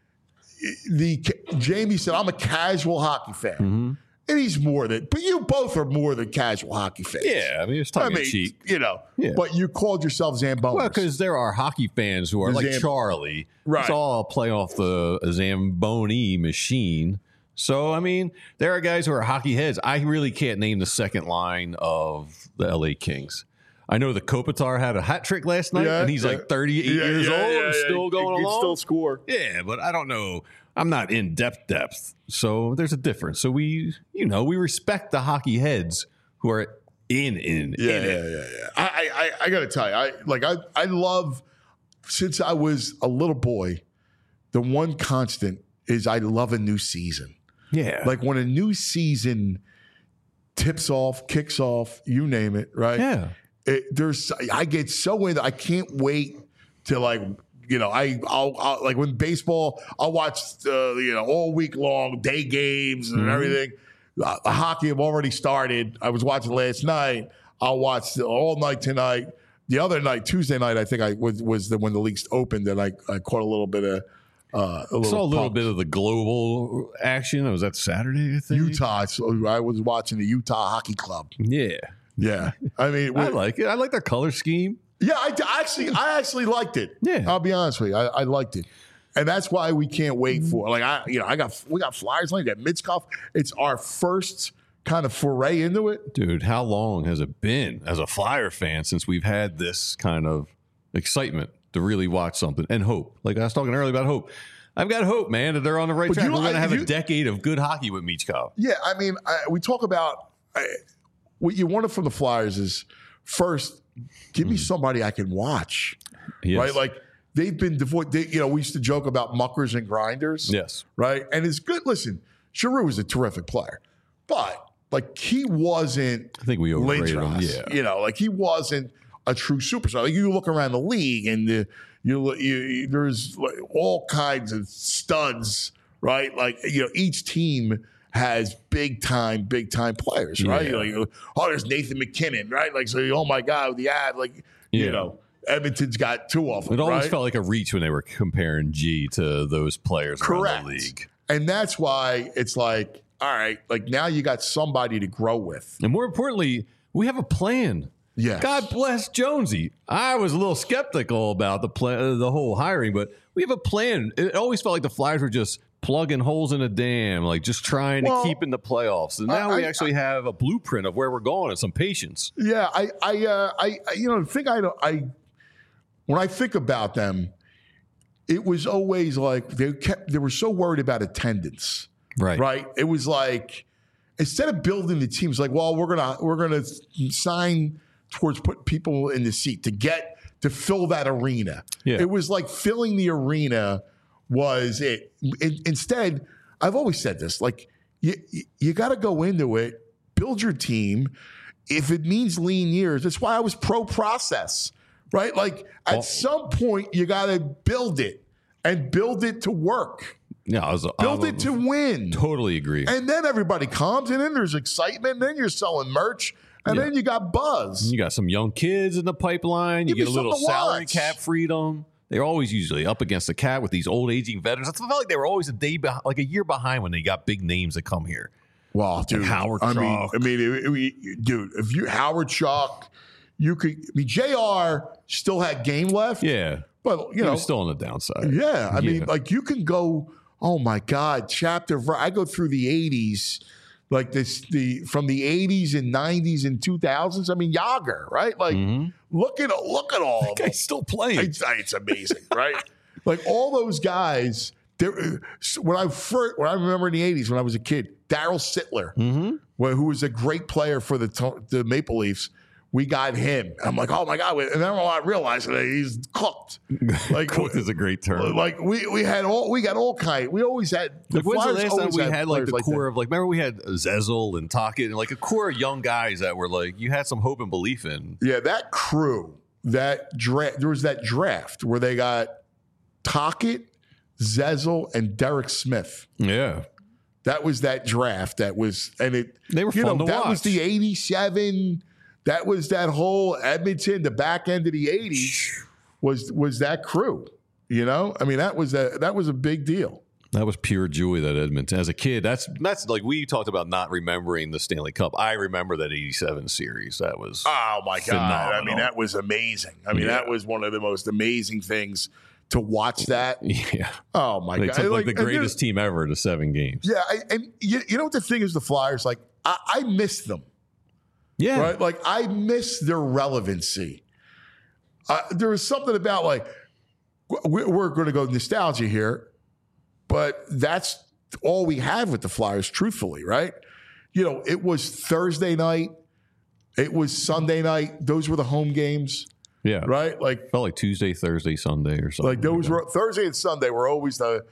Jamie said, I'm a casual hockey fan. Mm-hmm. And he's more than, but you both are more than casual hockey fans. Yeah, I mean, it's tongue in cheek. But you called yourself Zamboni. Well, because there are hockey fans who are like Charlie. Right. It's all play off the Zamboni machine. So, I mean, there are guys who are hockey heads. I really can't name the second line of the LA Kings. I know the Kopitar had a hat trick last night, and he's like 38 years old and still going along. He can still score. Yeah, but I don't know. I'm not in depth. So there's a difference. So we respect the hockey heads who are in it. I got to tell you, I love, since I was a little boy, the one constant is I love a new season. Yeah. Like when a new season tips off, kicks off, you name it, right? Yeah. I get so into, I can't wait to I'll like when baseball, I'll watch all week long day games and everything. Hockey have already started. I was watching last night. I'll watch all night tonight. The other night, Tuesday night, I think when the leagues opened, and I caught a little bit of saw a little bit of the global action. Was that Saturday, I think? Utah. So I was watching the Utah Hockey Club. Yeah. Yeah. I mean, I like it. I like their color scheme. Yeah, I actually liked it. Yeah. I'll be honest with you. I liked it. And that's why we can't wait for we got Flyers like that. Mitchkov. It's our first kind of foray into it. Dude, how long has it been as a Flyer fan since we've had this kind of excitement to really watch something and hope? Like I was talking earlier about hope. I've got hope, man, that they're on the right track. We're going to have a decade of good hockey with Michkov. Yeah, I mean, we talk about what you wanted from the Flyers is first, give me somebody I can watch, right? Like they've been devoid. We used to joke about muckers and grinders. Yes. Right? And it's good. Listen, Giroux was a terrific player, but like he wasn't. I think we overrated him. Lindros. Yeah. Like he wasn't a true superstar. Like you look around the league and there's like all kinds of studs, right? Like, each team has big time players, right? Yeah. Like, there's Nathan McKinnon, right? Like, so, oh my God, the ad, like, Edmonton's got two of them. It always right? felt like a reach when they were comparing G to those players around the league. And that's why it's like, all right, like now you got somebody to grow with. And more importantly, we have a plan. Yes. God bless Jonesy. I was a little skeptical about the whole hiring, but we have a plan. It always felt like the Flyers were just plugging holes in a dam, like just trying to keep in the playoffs. And now we actually have a blueprint of where we're going and some patience. Yeah, when I think about them, it was always like they were so worried about attendance. Right. It was like instead of building the teams, like, well, we're gonna sign towards putting people in the seat to fill that arena. Yeah. It was like filling the arena was it. Instead, I've always said this, like you got to go into it, build your team. If it means lean years, that's why I was pro process, right? Like at some point you got to build it and build it to work. Yeah, build it to win. Totally agree. And then everybody comes, and then there's excitement. And then you're selling merch, and then you got buzz. You got some young kids in the pipeline. You get a little salary cap freedom. They're always usually up against the cap with these old aging veterans. I felt like they were always a year behind when they got big names that come here. Well, dude, like Howard Chalk. Dude, if you Howard Chalk, you could. JR still had game left. Yeah, but he was still on the downside. Yeah, I mean, like you can go. Oh my God, I go through the 80s, like from the 80s and 90s and 2000s. I mean, Yager, right? Like, look at all of them. He's still playing. It's amazing, right? Like all those guys. When I remember in the 80s when I was a kid, Darryl Sittler, who was a great player for the Maple Leafs. We got him. I'm like, oh my God. And then I realized that he's cooked. Like cooked is a great term. Like we got all kinds. We always had when's the last time we had like the core of like, remember we had Zezel and Tocchet and like a core of young guys that were like, you had some hope and belief in. Yeah, that crew, there was that draft where they got Tocchet, Zezel, and Derek Smith. Yeah. That was that draft. They were fun to watch. That was the 87. That was that whole Edmonton, the back end of the 80s was that crew, I mean, that was a big deal. That was pure joy, that Edmonton. As a kid, that's like we talked about not remembering the Stanley Cup. I remember that 87 series. That was oh my God. Phenomenal. I mean, that was amazing. I mean, that was one of the most amazing things to watch that. Yeah. Oh my they God. Took like the greatest team ever to 7 games. Yeah. And you know what the thing is, the Flyers, like I miss them. Yeah. Right? Like, I miss their relevancy. There was something about, like, we're going to go nostalgia here, but that's all we have with the Flyers, truthfully, right? It was Thursday night. It was Sunday night. Those were the home games. Yeah. Right? Like, felt like Tuesday, Thursday, Sunday or something. Like, those were Thursday and Sunday were always the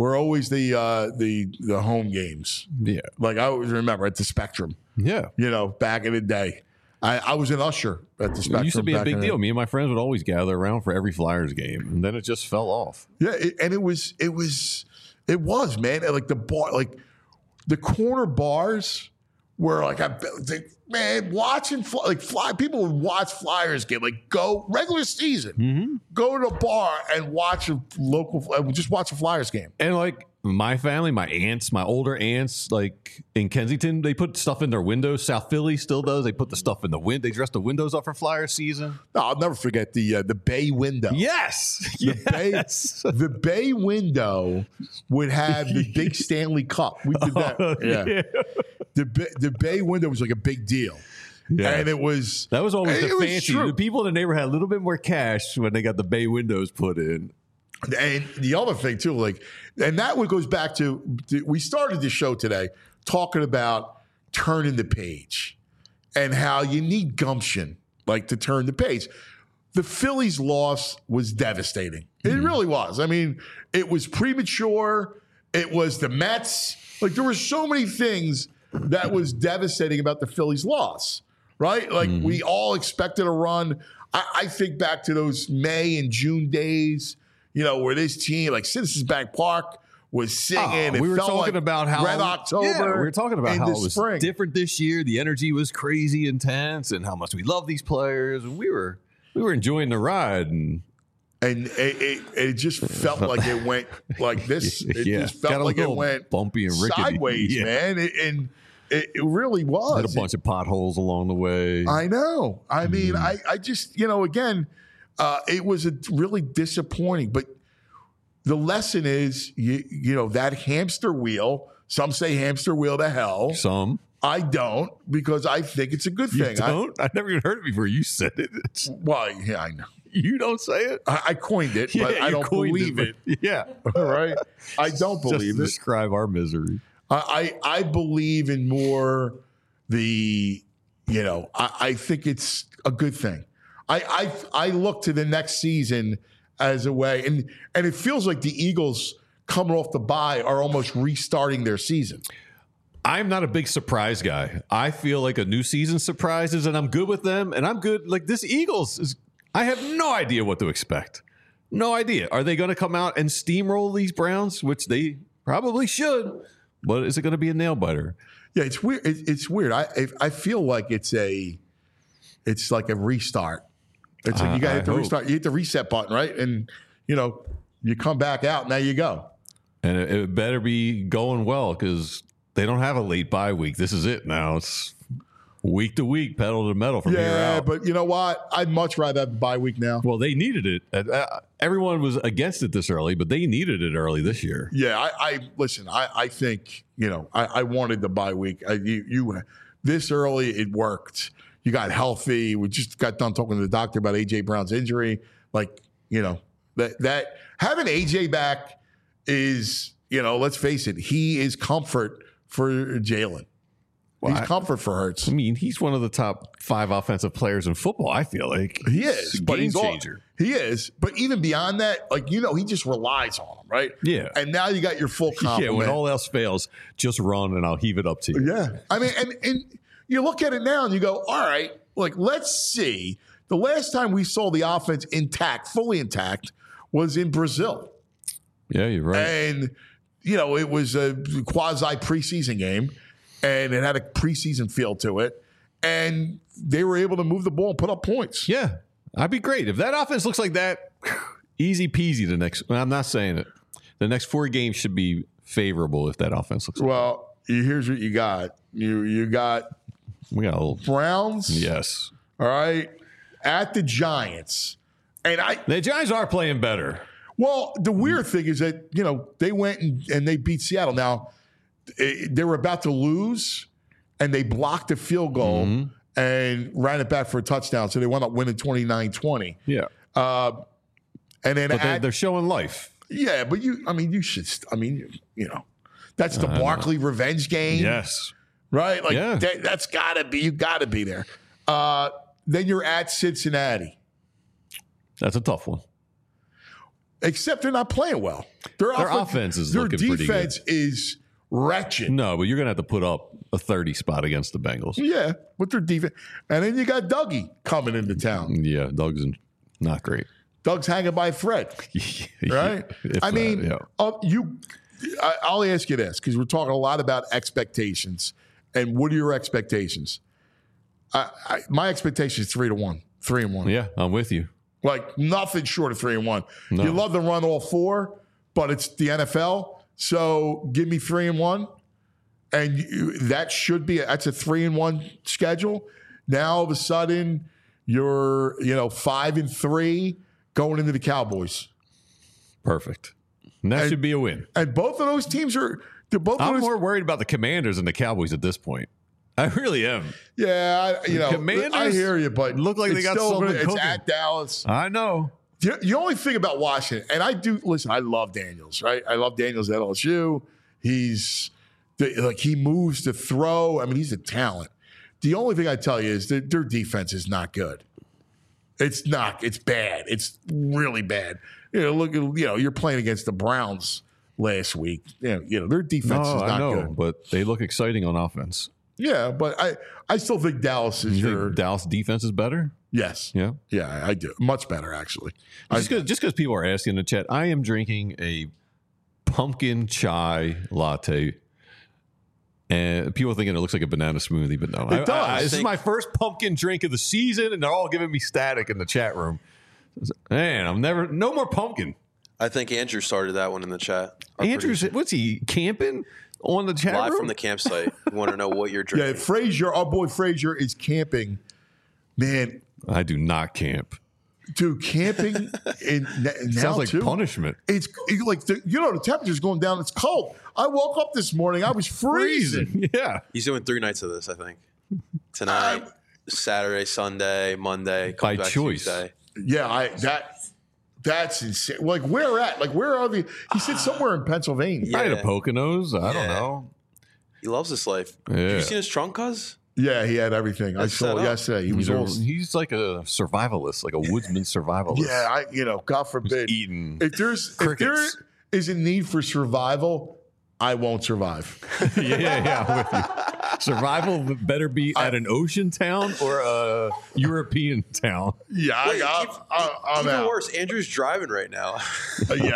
home games. Yeah. Like, I always remember at the Spectrum. Yeah. Back in the day. I was an usher at the Spectrum. It used to be a big deal. Me and my friends would always gather around for every Flyers game, and then it just fell off. Yeah, it was, man. Like the bar, like the corner bars were like, watching people would watch Flyers game, like go regular season, go to the bar and watch just watch a Flyers game, and like. My family, my aunts, my older aunts, like in Kensington, they put stuff in their windows. South Philly still does. They put the stuff in the window. They dress the windows up for Flyer season. No, I'll never forget the bay window. Yes. The bay window would have the big Stanley Cup. We did that. Yeah. The bay window was like a big deal. Yeah. And that was always the fancy. The people in the neighborhood had a little bit more cash when they got the bay windows put in. And the other thing too, and that one goes back to, we started the show today talking about turning the page and how you need gumption, like to turn the page. the Phillies' loss was devastating. It really was. I mean, it was premature. It was the Mets. Like, there were so many things that was devastating about the Phillies' loss, right? Like, we all expected a run. I think back to those May and June days, where this team, like Citizens Bank Park, was singing. We were talking like about how Red October. Yeah, we were talking about how it was spring. different this year. The energy was crazy intense, and how much we love these players. And we were enjoying the ride, and it just felt like it went like this. It just felt like it went bumpy and rickety. Sideways, man. It really was. Had a bunch of potholes along the way. I know. I mean, I just, again, it was really disappointing. But the lesson is, that hamster wheel. Some say hamster wheel to hell. Some. I don't, because I think it's a good thing. You don't? I never even heard it before you said it. Well, yeah, I know. You don't say it? I coined it, but I don't believe it. Yeah. All right. I don't believe it. Describe our misery. I believe in more I think it's a good thing. I look to the next season as a way, and it feels like the Eagles coming off the bye are almost restarting their season. I'm not a big surprise guy. I feel like a new season surprises, and I'm good with them, and I'm good. Like, this Eagles is, I have no idea what to expect. No idea. Are they going to come out and steamroll these Browns, which they probably should, but is it going to be a nail biter? Yeah, it's weird. It's weird. I feel like it's like a restart. It's like you got to hit the restart. You hit the reset button, right? And, you come back out, and there you go. And it better be going well, because they don't have a late bye week. This is it now. It's week to week, pedal to the metal from here out. Yeah, but you know what? I'd much rather have the bye week now. Well, they needed it. Everyone was against it this early, but they needed it early this year. Yeah, listen. I think I wanted the bye week. You this early, it worked. You got healthy. We just got done talking to the doctor about AJ Brown's injury. Like, that having AJ back is, let's face it, he is comfort for Jalen. He's comfort for Hurts. I mean, he's one of the top 5 offensive players in football, I feel like. He is. But he's a game changer. He is. But even beyond that, he just relies on him, right? Yeah. And now you got your full complement. Yeah, when all else fails, just run and I'll heave it up to you. Yeah. I mean, and you look at it now and you go, all right, let's see. The last time we saw the offense intact, fully intact, was in Brazil. Yeah, you're right. And, it was a quasi preseason game, and it had a preseason feel to it. And they were able to move the ball and put up points. Yeah, I'd be great. If that offense looks like that, easy peasy I'm not saying it. The next 4 games should be favorable if that offense looks like that. Well, here's what you got. We got Browns. Yes. All right. At the Giants. And the Giants are playing better. Well, the weird thing is that, they went and they beat Seattle. Now, they were about to lose, and they blocked a field goal and ran it back for a touchdown. So they wound up winning 29-20. Yeah. And then they're showing life. Yeah, but that's the Barkley revenge game. Yes. Right? That's got to be, you got to be there. Then you're at Cincinnati. That's a tough one. Except they're not playing well. Their offense is looking pretty good. Their defense is wretched. No, but you're going to have to put up a 30 spot against the Bengals. Yeah, with their defense. And then you got Dougie coming into town. Yeah, Doug's not great. Doug's hanging by a thread. Right? I'll ask you this, because we're talking a lot about expectations. And what are your expectations? My expectation is 3-1. 3-1. Yeah, I'm with you. Nothing short of 3-1. No. You love to run all 4, but it's the NFL. So give me 3-1. And that's a 3-1 schedule. Now all of a sudden you're 5-3 going into the Cowboys. Perfect. And that should be a win. And both of those teams are. I'm more worried about the Commanders than the Cowboys at this point. I really am. Yeah, Commanders, I hear you, but look like they got something cooking. It's at Dallas. I know. The only thing about Washington, and I love Daniels, right? I love Daniels at LSU. He moves to throw. I mean, he's a talent. The only thing I tell you is that their defense is not good. It's not. It's bad. It's really bad. You're playing against the Browns last week. Their defense is not good, but they look exciting on offense. Yeah, but I still think Dallas is Dallas defense is better. Yes. Yeah. Yeah, I do. Much better, actually. Just because people are asking in the chat, I am drinking a pumpkin chai latte. And people are thinking it looks like a banana smoothie, but no. It does. This is my first pumpkin drink of the season, and they're all giving me static in the chat room. Man, no more pumpkin. I think Andrew started that one in the chat. Andrew's, what's he, camping on the chat room? Live from the campsite. We want to know what you're drinking. Yeah, Frazier, our boy Frazier is camping. Man. I do not camp. Dude, camping sounds like punishment. It's like the temperature's going down. It's cold. I woke up this morning. I was freezing. Yeah, he's doing 3 nights of this. I think tonight, Saturday, Sunday, Monday. By choice. Tuesday. Yeah, that's insane. Like where at? Like where are the? He said somewhere in Pennsylvania. Yeah. Right at Poconos. I don't know. He loves this life. Yeah. Have you seen his trunk, cuz? Yeah, he had everything. I saw yesterday. He's like a survivalist, like a woodsman survivalist. Yeah, God forbid. Eating if there is a need for survival, I won't survive. Yeah, I'm with you. Survival better be at an ocean town or a European town. Yeah, I'm even out. worse. Andrew's driving right now. I'm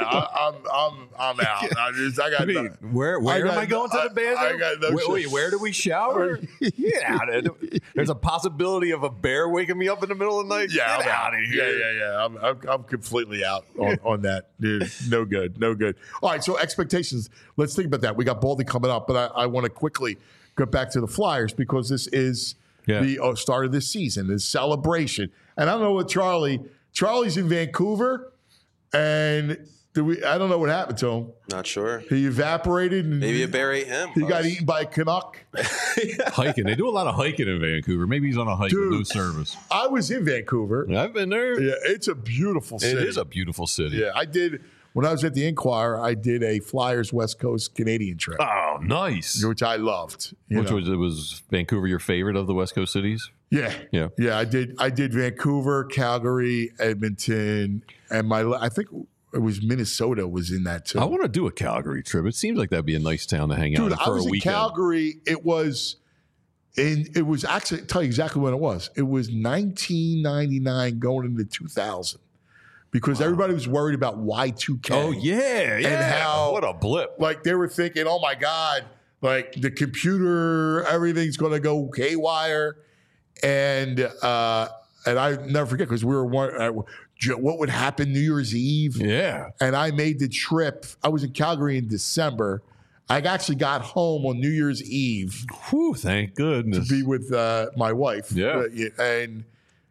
out. Where am I going to the bathroom? Wait, where do we shower? Yeah, there's a possibility of a bear waking me up in the middle of the night. Yeah, Get out of here. Yeah. I'm completely out on that, dude. No good. All right, so expectations. Let's think about that. We got Baldy coming up, but I want to quickly get back to the Flyers because this is the start of this season, this celebration. And I don't know what Charlie's in Vancouver, and I don't know what happened to him. Not sure. He evaporated. And maybe a bear ate him. He got eaten by a Canuck. Hiking. They do a lot of hiking in Vancouver. Maybe he's on a hike with no service. I was in Vancouver. I've been there. Yeah, it's a beautiful city. It is a beautiful city. Yeah, I did. When I was at the Inquirer, I did a Flyers West Coast Canadian trip. Oh, nice. Which I loved. Was Vancouver your favorite of the West Coast cities? Yeah. I did Vancouver, Calgary, Edmonton, and I think it was Minnesota was in that too. I want to do a Calgary trip. It seems like that'd be a nice town to hang out in for a weekend. I was in Calgary. It was actually, I'll tell you exactly when it was. It was 1999 going into 2000. Because everybody was worried about Y2K. Oh, yeah. And how, what a blip. Like, they were thinking, oh, my God, like, the computer, everything's going to go haywire. And I never forget, because we were what would happen New Year's Eve. Yeah. And I made the trip. I was in Calgary in December. I actually got home on New Year's Eve. Whew, thank goodness. To be with my wife. Yeah. And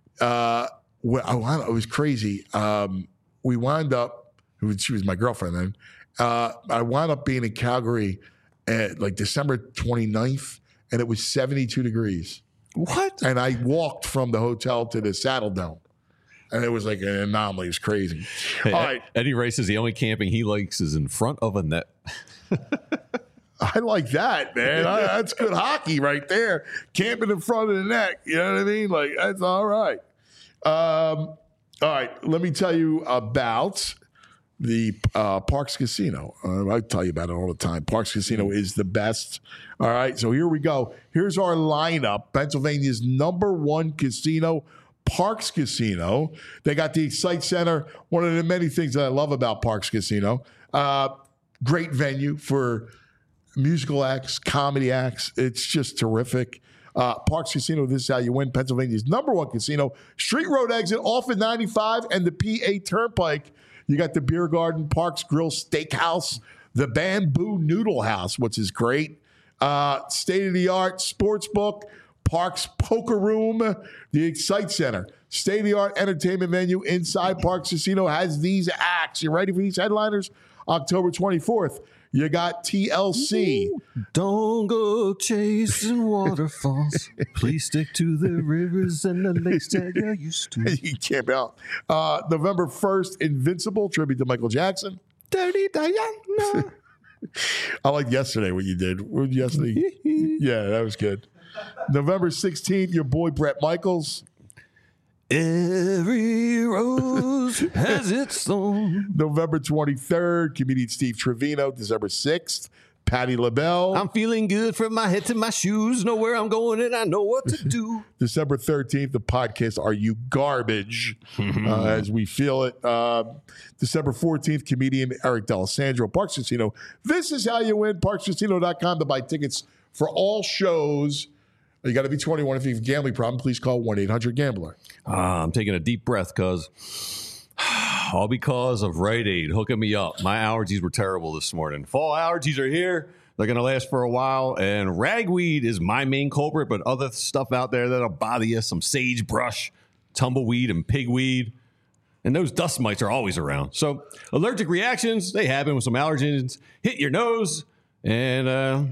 it was crazy. We wound up, she was my girlfriend then. I wound up being in Calgary at like December 29th, and it was 72 degrees. What? And I walked from the hotel to the Saddle Dome. And it was like an anomaly. It was crazy. Hey, all right. Eddie Ray says the only camping he likes is in front of a net. I like that, man. That's good hockey right there. Camping in front of the net. You know what I mean? Like, that's all right. All right, let me tell you about the Parx Casino. I tell you about it all the time. Parx Casino is the best. All right, so here we go. Here's our lineup. Pennsylvania's #1 casino, Parx Casino. They got the Excite Center. One of the many things that I love about Parx Casino. Great venue for musical acts, comedy acts. It's just terrific. Parx Casino, this is how you win. Pennsylvania's #1 casino. Street Road exit off at 95 and the PA Turnpike. You got the Beer Garden, Parx Grill Steakhouse, the Bamboo Noodle House, which is great. State-of-the-art sports book, Parx Poker Room, the Excite Center. State-of-the-art entertainment venue inside Parx Casino has these acts. You ready for these headliners? October 24th. You got TLC. Don't go chasing waterfalls. Please stick to the rivers and the lakes that you're used to. You camp out. November 1st, Invincible, tribute to Michael Jackson. Dirty Diana. I liked yesterday what you did. What yesterday? Yeah, that was good. November 16th, your boy Bret Michaels. Every rose has its thorn. November 23rd, comedian Steve Trevino. December 6th, Patti LaBelle. I'm feeling good from my head to my shoes. Know where I'm going and I know what to do. December 13th, the podcast Are You Garbage? As we feel it. December 14th, comedian Eric D'Alessandro. Parks Casino. This is how you win. ParksCasino.com to buy tickets for all shows. You got to be 21. If you have a gambling problem, please call 1-800-GAMBLER. I'm taking a deep breath because all because of Rite Aid hooking me up. My allergies were terrible this morning. Fall allergies are here. They're going to last for a while. And ragweed is my main culprit, but other stuff out there that'll bother you, some sagebrush, tumbleweed, and pigweed. And those dust mites are always around. So allergic reactions, they happen when some allergens hit your nose and,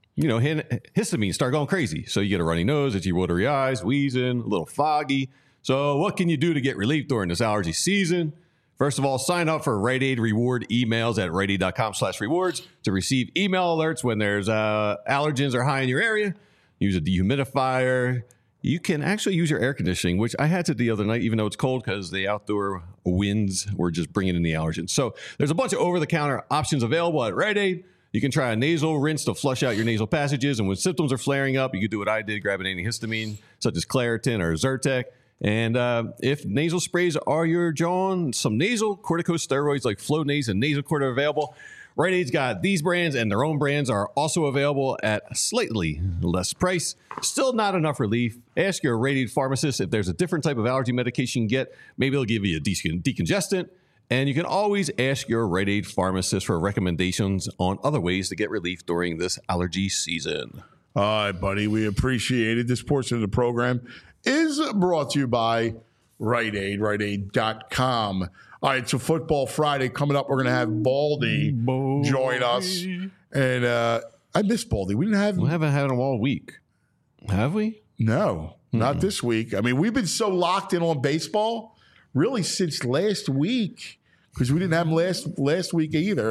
histamine start going crazy. So you get a runny nose, itchy, watery eyes, wheezing, a little foggy. So what can you do to get relief during this allergy season? First of all, sign up for Rite Aid reward emails at riteaid.com/rewards to receive email alerts when there's allergens are high in your area. Use a dehumidifier. You can actually use your air conditioning, which I had to the other night, even though it's cold, because the outdoor winds were just bringing in the allergens. So there's a bunch of over-the-counter options available at Rite Aid. You can try a nasal rinse to flush out your nasal passages. And when symptoms are flaring up, you can do what I did, grab an antihistamine, such as Claritin or Zyrtec. And if nasal sprays are your John, some nasal corticosteroids like Flonase and Nasacort are available. Rite Aid's got these brands, and their own brands are also available at a slightly less price. Still not enough relief. Ask your Rite Aid pharmacist if there's a different type of allergy medication you can get. Maybe they'll give you a decongestant. And you can always ask your Rite Aid pharmacist for recommendations on other ways to get relief during this allergy season. All right, buddy. We appreciate it. This portion of the program is brought to you by Rite Aid, riteaid.com. All right, so Football Friday coming up. We're going to have Baldy join us. And I miss Baldy. We haven't had him all week. Have we? No, not this week. I mean, we've been so locked in on baseball really since last week because we didn't have him last week either.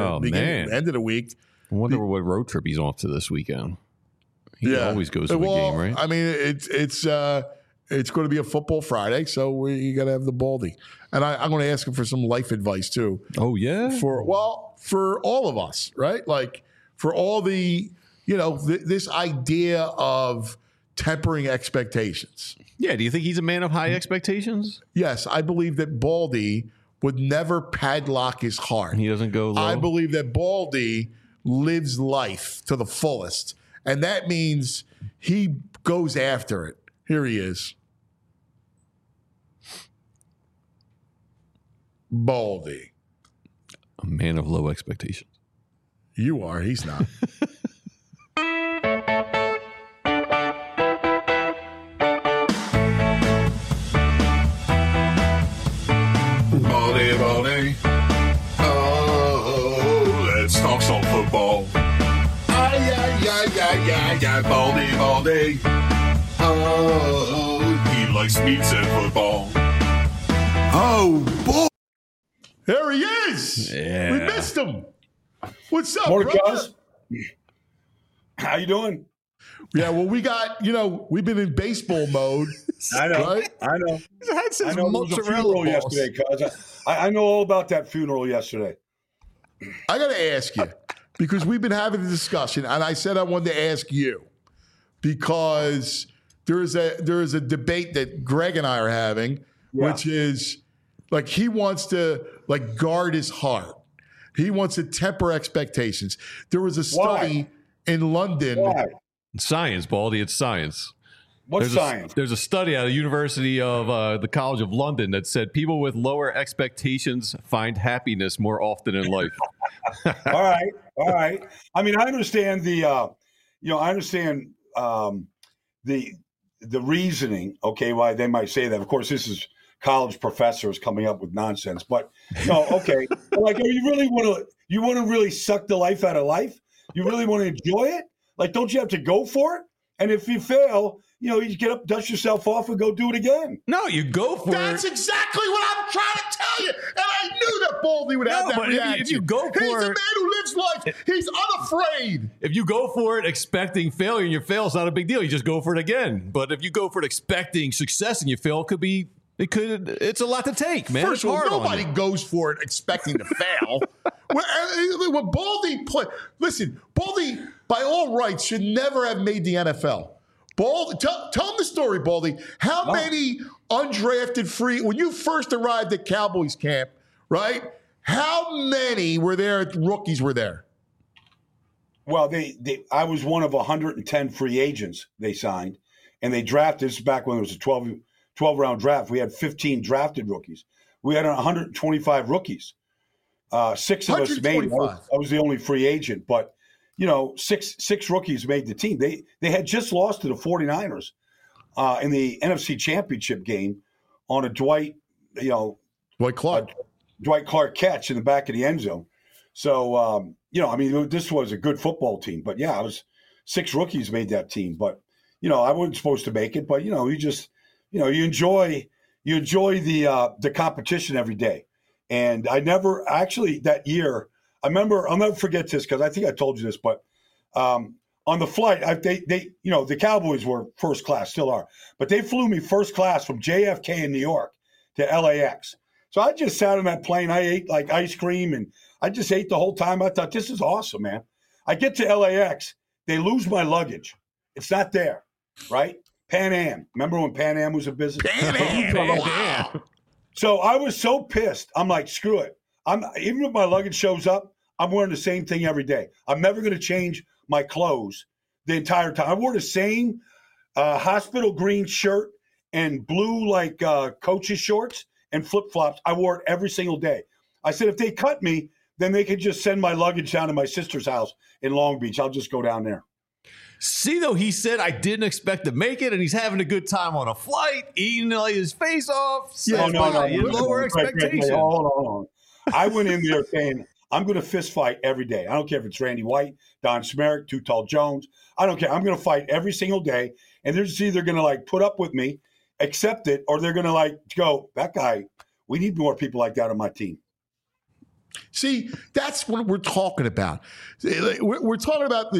End of the week. I wonder what road trip he's off to this weekend. He always goes to a game, right? I mean, it's going to be a Football Friday, so you got to have the Baldy. And I'm going to ask him for some life advice too. Oh yeah, for all of us, right? Like for all the this idea of tempering expectations. Yeah. Do you think he's a man of high expectations? Yes, I believe that Baldy would never padlock his heart. He doesn't go low. I believe that Baldy lives life to the fullest. And that means he goes after it. Here he is. Baldy. A man of low expectations. You are. He's not. Baldy. Oh, let's talk some football. Yeah, Baldy. Oh, he likes meats and football. Oh, boy. There he is. Yeah. We missed him. What's up, Morning, brother? guys. How you doing? Yeah, well, we got, we've been in baseball mode. I know. Right? I know. I There was a funeral yesterday, cuz. I know all about that funeral yesterday. I got to ask you, because we've been having a discussion, and I said I wanted to ask you, because there is a debate that Greg and I are having, which is like he wants to guard his heart. He wants to temper expectations. There was a study in London. Why? Science, Baldy. It's science. What's science? There's a study out of the University of the College of London that said people with lower expectations find happiness more often in life. All right. I mean, I understand the reasoning. Okay, why they might say that. Of course, this is college professors coming up with nonsense. But no, okay. Like, you want to really suck the life out of life? You really want to enjoy it? Like, don't you have to go for it? And if you fail, you get up, dust yourself off, and go do it again. No, you go for it. That's exactly what I'm trying to tell you. And I knew that Baldy would have that but reaction. if you go for He's a it, man who lives life. He's unafraid. If you go for it expecting failure and you fail, it's not a big deal. You just go for it again. But if you go for it expecting success and you fail, it's a lot to take, man. First of all, nobody goes for it expecting to fail. When Baldy Baldy, by all rights, should never have made the NFL. Baldy, tell him the story, Baldy. How many undrafted free, when you first arrived at Cowboys camp, right? How many rookies were there? Well, I was one of 110 free agents they signed, and they drafted. This is back when it was a 12-round draft. We had 15 drafted rookies. We had 125 rookies. 6 of us made. I was the only free agent, but six rookies made the team. They had just lost to the 49ers in the NFC Championship game on a Dwight Clark catch in the back of the end zone. So this was a good football team. But yeah, 6 rookies made that team. But I wasn't supposed to make it. But you enjoy the competition every day. And I never actually that year. I remember, I'll never forget this because I think I told you this, but on the flight, the Cowboys were first class, still are, but they flew me first class from JFK in New York to LAX. So I just sat on that plane. I ate like ice cream and I just ate the whole time. I thought, this is awesome, man. I get to LAX, they lose my luggage. It's not there, right? Pan Am. Remember when Pan Am was a business? Pan Am. Wow. So I was so pissed. I'm like, screw it. Even if my luggage shows up, I'm wearing the same thing every day. I'm never going to change my clothes the entire time. I wore the same hospital green shirt and blue coach's shorts and flip-flops. I wore it every single day. I said, if they cut me, then they could just send my luggage down to my sister's house in Long Beach. I'll just go down there. See, though, he said, I didn't expect to make it, and he's having a good time on a flight, eating his face off. Yeah, lower expectations. Hold on. I went in there saying, I'm going to fist fight every day. I don't care if it's Randy White, Don Smerick, Too Tall Jones. I don't care. I'm going to fight every single day, and they're just either going to put up with me, accept it, or they're going to go, that guy, we need more people like that on my team. See, that's what we're talking about. We're talking about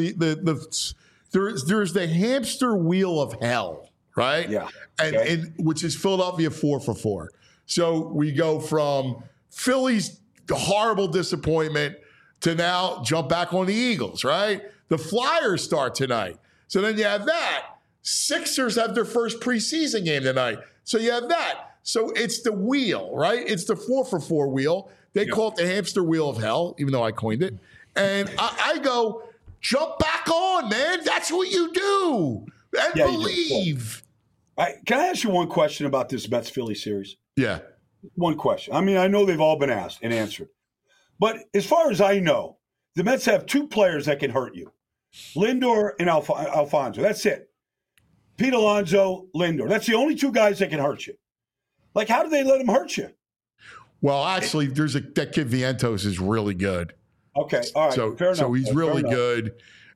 there's the hamster wheel of hell, right? Yeah. And which is Philadelphia 4 for 4. So we go from Philly's horrible disappointment to now jump back on the Eagles, right? The Flyers start tonight. So then you have that. Sixers have their first preseason game tonight. So you have that. So it's the wheel, right? It's the 4 for 4 wheel. They call it the hamster wheel of hell, even though I coined it. And I go, jump back on, man. That's what you do. And believe. Can I ask you one question about this Mets-Philly series? Yeah. One question. I mean, I know they've all been asked and answered. But as far as I know, the Mets have 2 players that can hurt you. Lindor and Alfonso. That's it. Pete Alonso, Lindor. That's the only 2 guys that can hurt you. How do they let them hurt you? Well, actually, that kid Vientos is really good. Okay, all right. Fair enough. So he's really good.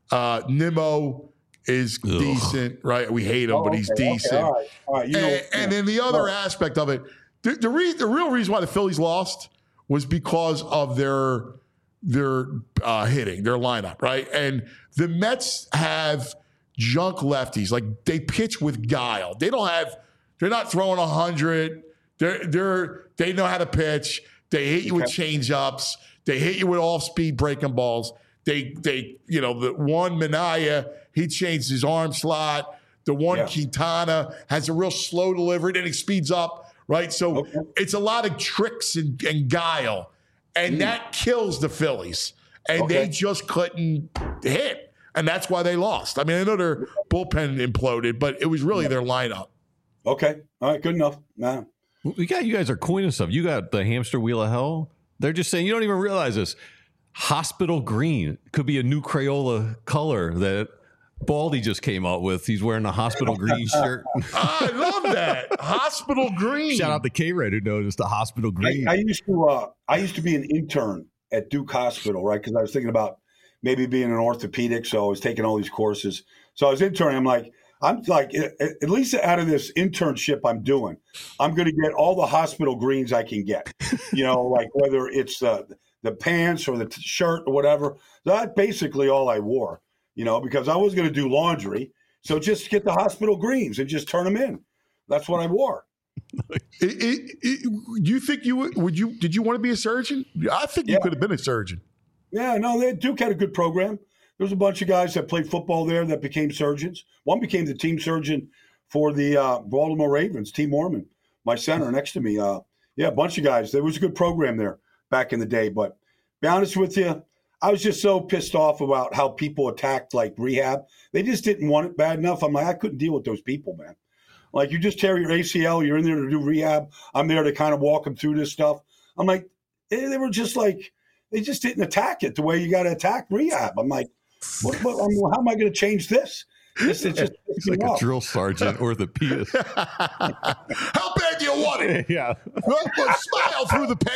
Nimmo is decent, right? We hate him, but he's decent. Okay, all right. And then the other aspect of it, the real reason why the Phillies lost was because of their hitting, their lineup, right? And the Mets have junk lefties. They pitch with guile. They're not throwing 100. They know how to pitch. They hit you with change-ups. They hit you with off-speed breaking balls. The one Minaya, he changed his arm slot. The one Quintana has a real slow delivery, then he speeds up, right? So it's a lot of tricks and guile, and that kills the Phillies. And they just couldn't hit, and that's why they lost. I mean, I know their bullpen imploded, but it was really their lineup. Okay, all right, good enough. Nah. You guys are coining stuff. You got the hamster wheel of hell. They're just saying, you don't even realize this. Hospital green could be a new Crayola color that Baldy just came out with. He's wearing a hospital green shirt. I love that. Hospital green. Shout out to K-Red who noticed the hospital green. I used to be an intern at Duke Hospital, right? Because I was thinking about maybe being an orthopedic, so I was taking all these courses. So I was interning. I'm like, I'm like, at least out of this internship I'm doing, I'm going to get all the hospital greens I can get. Like whether it's the pants or the shirt or whatever. That's basically all I wore, because I was going to do laundry. So just get the hospital greens and just turn them in. That's what I wore. You think did you want to be a surgeon? I think you could have been a surgeon. Yeah, no, Duke had a good program. There was a bunch of guys that played football there that became surgeons. One became the team surgeon for the Baltimore Ravens, T. Mormon, my center next to me. A bunch of guys. There was a good program there back in the day. But be honest with you, I was just so pissed off about how people attacked like rehab. They just didn't want it bad enough. I'm like, I couldn't deal with those people, man. Like, you just tear your ACL, you're in there to do rehab. I'm there to kind of walk them through this stuff. I'm like, they were just like, they just didn't attack it the way you got to attack rehab. I'm like, how am I going to change this? It's just He's like a drill sergeant, orthopedist. How bad do you want it? Yeah. Smile through the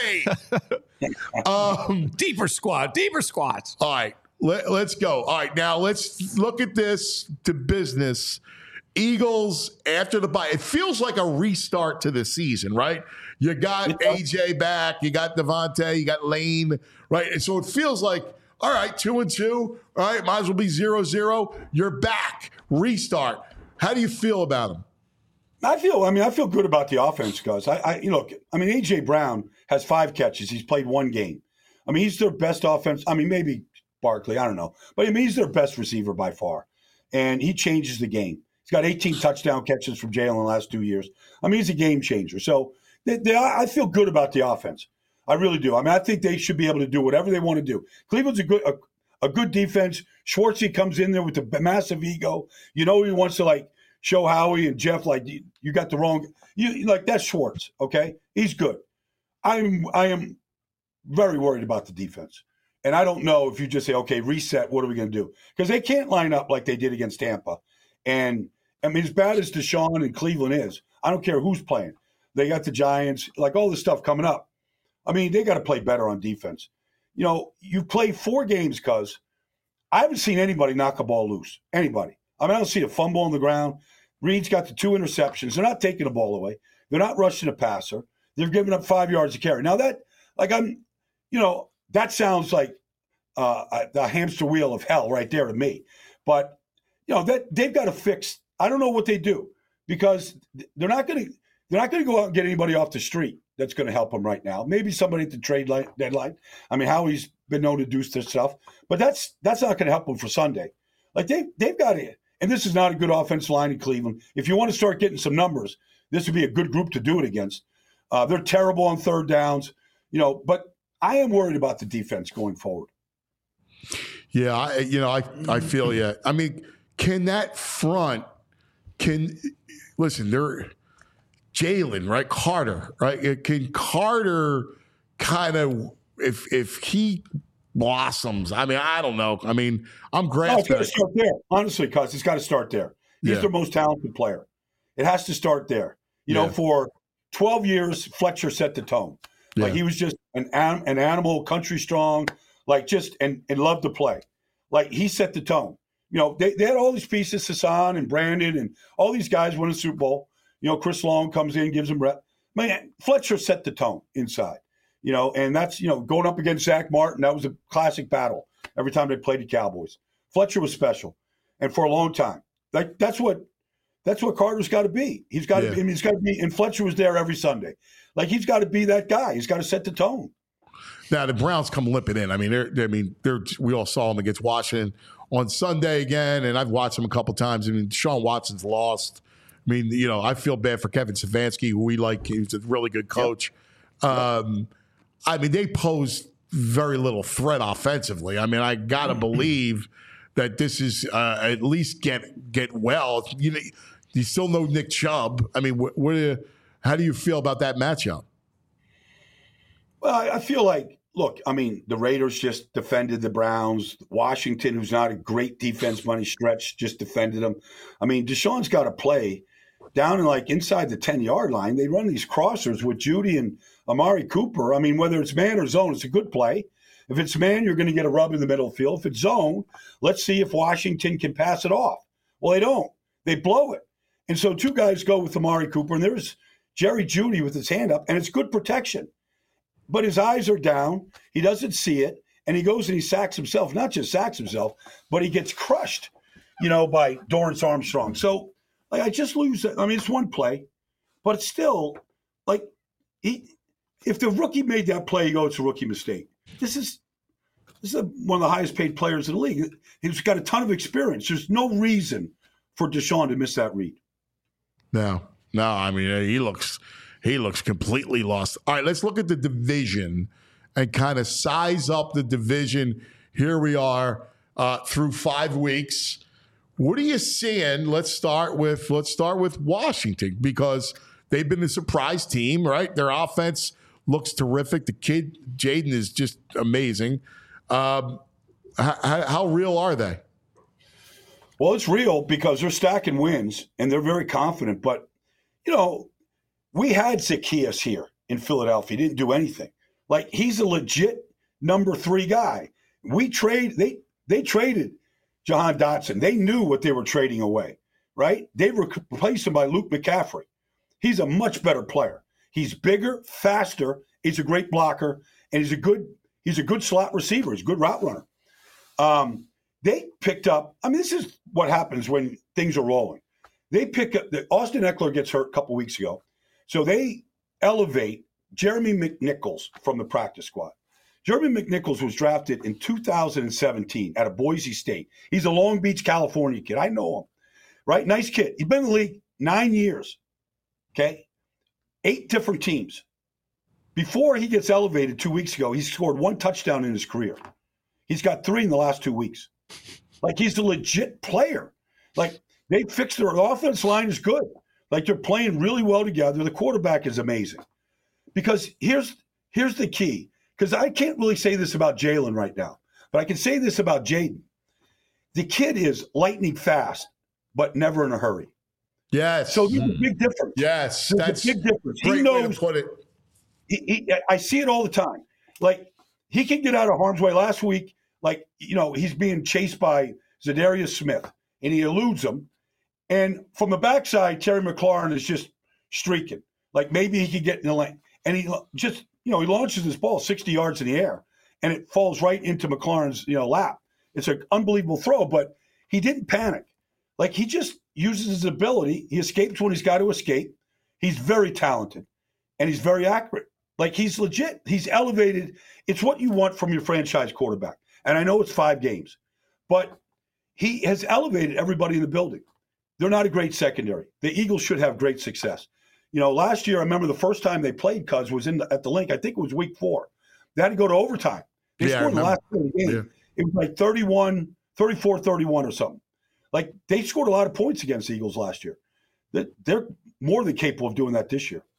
pain. Deeper squats. All right, let's go. All right, now let's look at this to business. Eagles after the bye. It feels like a restart to the season, right? You got AJ back, you got Devontae, you got Lane, right? And so it feels like, all right, 2-2. All right, might as well be 0-0. You're back. Restart. How do you feel about them? I feel good about the offense, guys. AJ Brown has 5 catches. He's played 1 game. He's their best offense. Maybe Barkley, I don't know. But he's their best receiver by far. And he changes the game. He's got 18 touchdown catches from Jalen the last 2 years. He's a game changer. So I feel good about the offense. I really do. I think they should be able to do whatever they want to do. Cleveland's a good defense. Schwartzy comes in there with a massive ego. He wants to show Howie and Jeff you got the wrong. That's Schwartz. Okay, he's good. I am very worried about the defense, and I don't know if you just say, okay, reset. What are we going to do? Because they can't line up like they did against Tampa. And as bad as Deshaun and Cleveland is, I don't care who's playing. They got the Giants, all this stuff coming up. They got to play better on defense. You play 4 games, cuz I haven't seen anybody knock a ball loose. Anybody. I don't see a fumble on the ground. Reed's got the 2 interceptions. They're not taking the ball away. They're not rushing a passer. They're giving up 5 yards a carry. Now that sounds like the hamster wheel of hell right there to me. But that they've got to fix. I don't know what they do, because they're not going to go out and get anybody off the street that's going to help them right now. Maybe somebody at the trade deadline. Howie's been known to do this stuff, but that's not going to help them for Sunday. They've got it. And this is not a good offensive line in Cleveland. If you want to start getting some numbers, this would be a good group to do it against. They're terrible on third downs, but I am worried about the defense going forward. Yeah, I feel you. Can that front listen, they're Jalen, right? Carter, right? Can Carter kind of, if he blossoms, I don't know. I'm grafting. It's got to start there. Honestly, cuz it's got to start there. He's their most talented player. It has to start there. For 12 years, Fletcher set the tone. He was just an animal, country strong, and loved to play. He set the tone. They had all these pieces, Hassan and Brandon and all these guys win a Super Bowl. Chris Long comes in, gives them rep. Fletcher set the tone inside, and that's, going up against Zach Martin. That was a classic battle every time they played the Cowboys. Fletcher was special. And for a long time, that's what Carter's got to be. He's got to, he's got to be, and Fletcher was there every Sunday. He's got to be that guy. He's got to set the tone. Now the Browns come limping in. We all saw them against Washington on Sunday again, and I've watched them a couple times. Deshaun Watson's lost. I feel bad for Kevin Stefanski, who we like. He's a really good coach. Yep. They pose very little threat offensively. I got to believe that this is at least get well. You still know Nick Chubb. How do you feel about that matchup? Well, I feel like, look, the Raiders just defended the Browns. Washington, who's not a great defense by any stretch, just defended them. Deshaun's got to play down in inside the 10-yard line. They run these crossers with Judy and Amari Cooper. Whether it's man or zone, it's a good play. If it's man, you're going to get a rub in the middle of the field. If it's zone, let's see if Washington can pass it off. Well, they don't. they blow it. And so two guys go with Amari Cooper, and there's Jerry Jeudy with his hand up, and it's good protection. But his eyes are down. He doesn't see it, and he goes and he sacks himself. Not just sacks himself, but he gets crushed, by Dorrance Armstrong. So, I just lose it. I mean, it's one play, but it's still, if the rookie made that play, you go, it's a rookie mistake. This is one of the highest paid players in the league. He's got a ton of experience. There's no reason for Deshaun to miss that read. No. I mean, he looks completely lost. All right, let's look at the division and kind of size up the division. Here we are through 5 weeks. What are you seeing? Let's start with Washington, because they've been a surprise team, right? Their offense looks terrific. The kid Jaden is just amazing. How real are they? Well, it's real because they're stacking wins and they're very confident. But, we had Zacchaeus here in Philadelphia. He didn't do anything. He's a legit number 3 guy. They traded Jahan Dotson. They knew what they were trading away, right? They replaced him by Luke McCaffrey. He's a much better player. He's bigger, faster. He's a great blocker, and he's a good slot receiver. He's a good route runner. They picked up. I mean, this is what happens when things are rolling. They pick up. Austin Eckler gets hurt a couple weeks ago, so they elevate Jeremy McNichols from the practice squad. Jeremy McNichols was drafted in 2017 out of Boise State. He's a Long Beach, California kid. I know him, right? Nice kid. He's been in the league 9 years. Okay, 8 different teams. Before he gets elevated 2 weeks ago, he scored 1 touchdown in his career. He's got 3 in the last 2 weeks. He's a legit player. They fixed their offense line is good. They're playing really well together. The quarterback is amazing. Because here's the key. Because I can't really say this about Jalen right now, but I can say this about Jaden. The kid is lightning fast, but never in a hurry. Yes. So there's a big difference. Yes. There's a big difference. Great He knows. way to put it. I see it all the time. He can get out of harm's way. Last week, he's being chased by Zadarius Smith, and he eludes him. And from the backside, Terry McLaurin is just streaking. Maybe he could get in the lane. And he just, he launches this ball 60 yards in the air, and it falls right into McLaurin's, lap. It's an unbelievable throw, but he didn't panic. He just uses his ability. He escapes when he's got to escape. He's very talented, and he's very accurate. He's legit. He's elevated. It's what you want from your franchise quarterback. And I know it's 5 games, but he has elevated everybody in the building. They're not a great secondary. The Eagles should have great success. Last year, I remember the first time they played Cuz was at the Link. I think it was week 4. They had to go to overtime. They scored in the last play of the game. Yeah. It was 34-31 or something. They scored a lot of points against the Eagles last year. They're more than capable of doing that this year.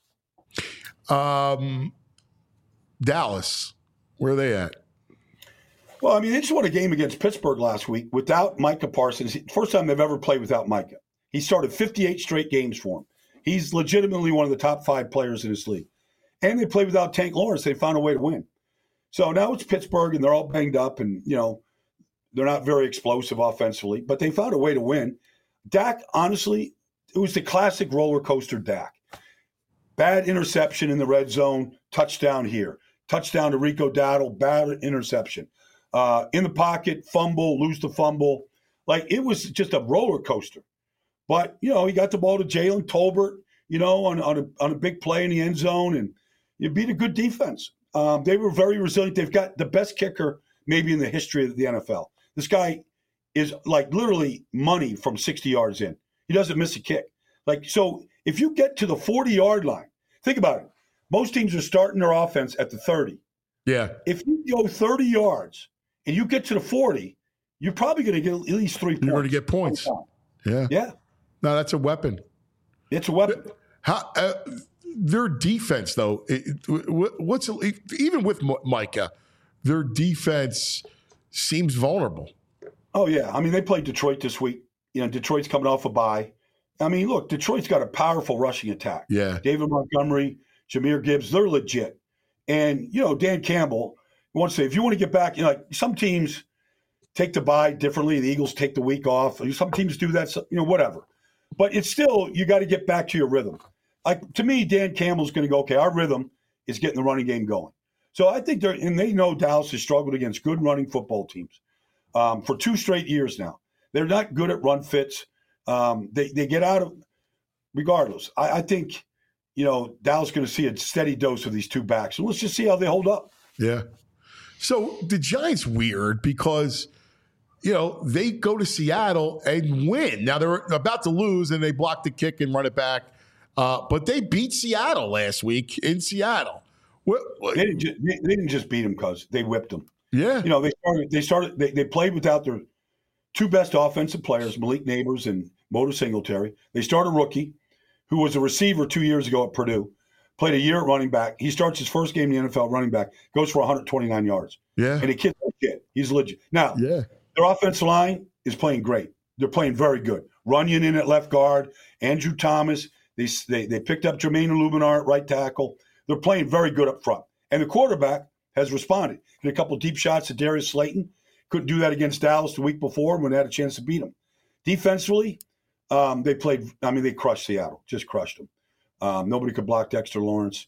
Dallas, where are they at? Well, they just won a game against Pittsburgh last week without Micah Parsons. First time they've ever played without Micah. He started 58 straight games for him. He's legitimately one of the top 5 players in this league. And they played without Tank Lawrence. They found a way to win. So now it's Pittsburgh, and they're all banged up, and, they're not very explosive offensively, but they found a way to win. Dak, honestly, it was the classic roller coaster Dak. Bad interception in the red zone, touchdown here. Touchdown to Rico Dowdle, bad interception. In the pocket, fumble, lose the fumble. It was just a roller coaster. But, he got the ball to Jalen Tolbert, on a big play in the end zone, and you beat a good defense. They were very resilient. They've got the best kicker maybe in the history of the NFL. This guy is literally money from 60 yards in. He doesn't miss a kick. So if you get to the 40-yard line, think about it. Most teams are starting their offense at the 30. Yeah. If you go 30 yards and you get to the 40, you're probably going to get at least 3 points. You're going to get points. Yeah. Yeah. No, that's a weapon. It's a weapon. Their defense, though, even with Micah, their defense seems vulnerable. Oh, yeah. They played Detroit this week. Detroit's coming off a bye. Look, Detroit's got a powerful rushing attack. Yeah. David Montgomery, Jahmyr Gibbs, they're legit. And, Dan Campbell wants to say, if you want to get back, some teams take the bye differently. The Eagles take the week off. Some teams do that, whatever. But it's still, you got to get back to your rhythm. Like, to me, Dan Campbell's going to go, okay, our rhythm is getting the running game going. So I think they know Dallas has struggled against good running football teams for 2 straight years now. They're not good at run fits. They get out of, regardless. I think, Dallas is going to see a steady dose of these 2 backs. And let's just see how they hold up. Yeah. So the Giants weird because, they go to Seattle and win. Now they're about to lose and they block the kick and run it back. But they beat Seattle last week in Seattle. They didn't just beat them because they whipped them. Yeah. They played without their 2 best offensive players, Malik Neighbors and Motor Singletary. They start a rookie who was a receiver 2 years ago at Purdue, played a year at running back. He starts his first game in the NFL running back, goes for 129 yards. Yeah. And the kid's legit. He's legit. Now, yeah. Their offensive line is playing great. They're playing very good. Runyon in at left guard, Andrew Thomas. They picked up Jermaine Illuminar at right tackle. They're playing very good up front. And the quarterback has responded. Hit a couple of deep shots to Darius Slayton. Couldn't do that against Dallas the week before when they had a chance to beat them. Defensively, they crushed Seattle. Just crushed them. Nobody could block Dexter Lawrence.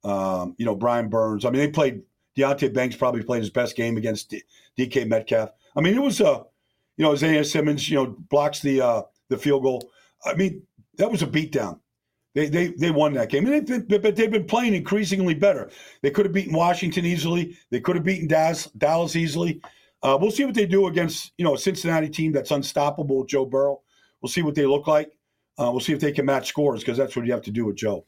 Brian Burns. They played – Deontay Banks probably played his best game against DK Metcalf. It was Isaiah Simmons, blocks the field goal. That was a beatdown. They won that game. But they've been playing increasingly better. They could have beaten Washington easily. They could have beaten Dallas easily. We'll see what they do against, a Cincinnati team that's unstoppable with Joe Burrow. We'll see what they look like. We'll see if they can match scores because that's what you have to do with Joe.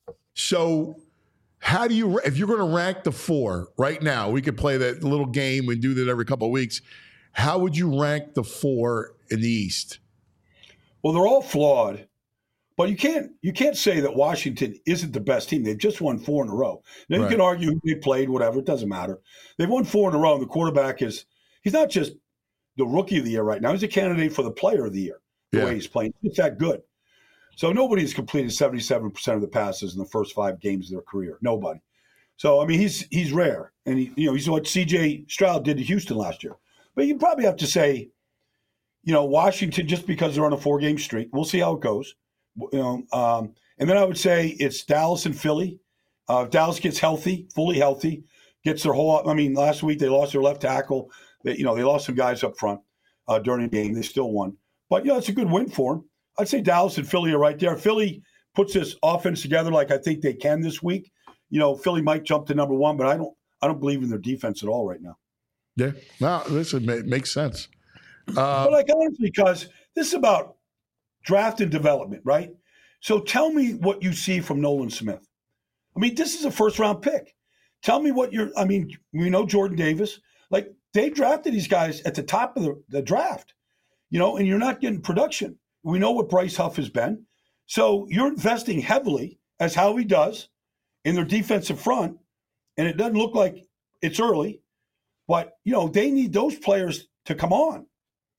So how do you, if you're going to rank the 4 right now, we could play that little game and do that every couple of weeks. How would you rank the 4 in the East? Well, they're all flawed, but you can't say that Washington isn't the best team. They've just won 4 in a row. Now you can argue who they played, whatever. It doesn't matter. They've won 4 in a row, and the quarterback he's not just the rookie of the year right now. He's a candidate for the player of the year, the way he's playing. It's that good. So nobody's completed 77% of the passes in the first 5 games of their career. Nobody. So, he's rare. And, he's what C.J. Stroud did to Houston last year. But you probably have to say, Washington, just because they're on a 4-game streak. We'll see how it goes. And then I would say it's Dallas and Philly. If Dallas gets healthy, fully healthy, gets their whole – last week they lost their left tackle. They lost some guys up front during the game. They still won. But, it's a good win for them. I'd say Dallas and Philly are right there. Philly puts this offense together like I think they can this week. Philly might jump to number 1, but I don't believe in their defense at all right now. Yeah. No, listen, it makes sense. But honestly, because this is about draft and development, right? So tell me what you see from Nolan Smith. This is a first-round pick. Tell me what we know Jordan Davis. They drafted these guys at the top of the draft, and you're not getting production. We know what Bryce Huff has been. So you're investing heavily, as Howie does, in their defensive front, and it doesn't look like it's early. But, they need those players to come on.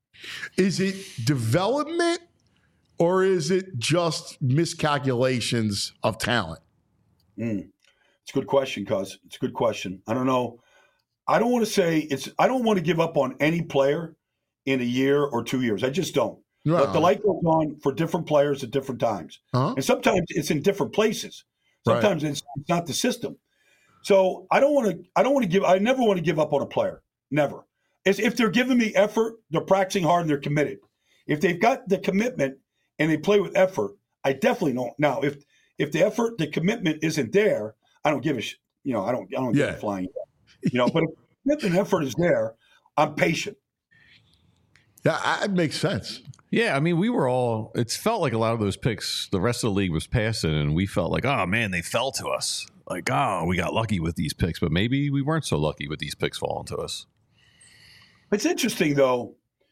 Is it development or is it just miscalculations of talent? It's a good question, Cuz. It's a good question. I don't know. I don't want to say I don't want to give up on any player in a year or 2 years. I just don't. No. But the light goes on for different players at different times. Uh-huh. And sometimes it's in different places. Sometimes it's not the system. So I never want to give up on a player. Never. If they're giving me effort, they're practicing hard and they're committed. If they've got the commitment and they play with effort, I definitely don't. Now, if the effort, the commitment isn't there, I don't give a shit. I don't give a flying. But if commitment and effort is there, I'm patient. Yeah, that makes sense. Yeah, we were all – it felt like a lot of those picks, the rest of the league was passing, and we felt like, oh, man, they fell to us. We got lucky with these picks, but maybe we weren't so lucky with these picks falling to us. It's interesting, though.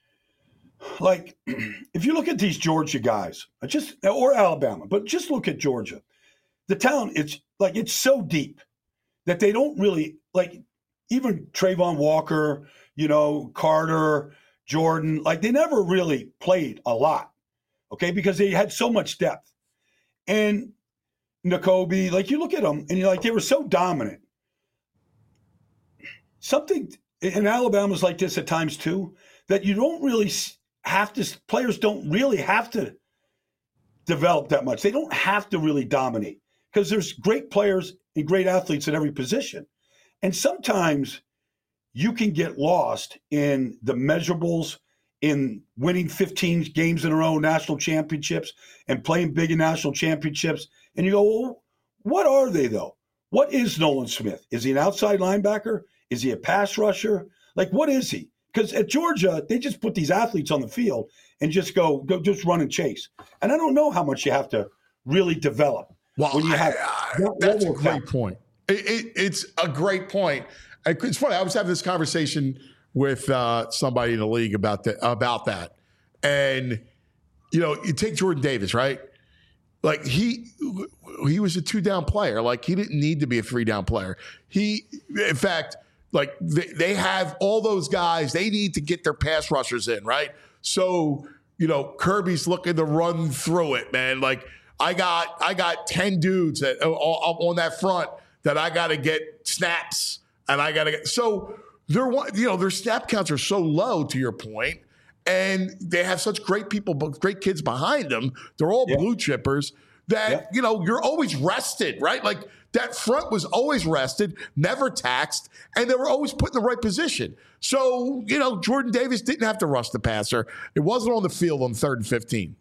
If you look at these Georgia guys, or Alabama, but just look at Georgia. The talent, it's so deep that they don't really – even Trayvon Walker, Carter – Jordan, they never really played a lot, okay, because they had so much depth. And Nakobe, you look at them, and they were so dominant. Something in Alabama's like this at times too, that you don't really have to. Players don't really have to develop that much. They don't have to really dominate because there's great players and great athletes at every position. And sometimes you can get lost in the measurables, in winning 15 games in a row, national championships, and playing big in national championships. And you go, well, what are they, though? What is Nolan Smith? Is he an outside linebacker? Is he a pass rusher? Like, what is he? Because at Georgia, they just put these athletes on the field and just go just run and chase. And I don't know how much you have to really develop. Well, when you have that's a great point. It's a great point. It's funny. I was having this conversation with somebody in the league about that. And, you take Jordan Davis, right? Like, he was a 2-down player. Like, he didn't need to be a 3-down player. In fact, like, they have all those guys. They need to get their pass rushers in, right? So, Kirby's looking to run through it, man. Like, I got 10 dudes that on that front that I got to get snaps, and I got to get so their snap counts are so low, to your point, and they have such great people, great kids behind them. They're all blue chippers that you're always rested, right? Like, that front was always rested, never taxed, and they were always put in the right position. So, Jordan Davis didn't have to rush the passer. It wasn't on the field on 3rd and 15.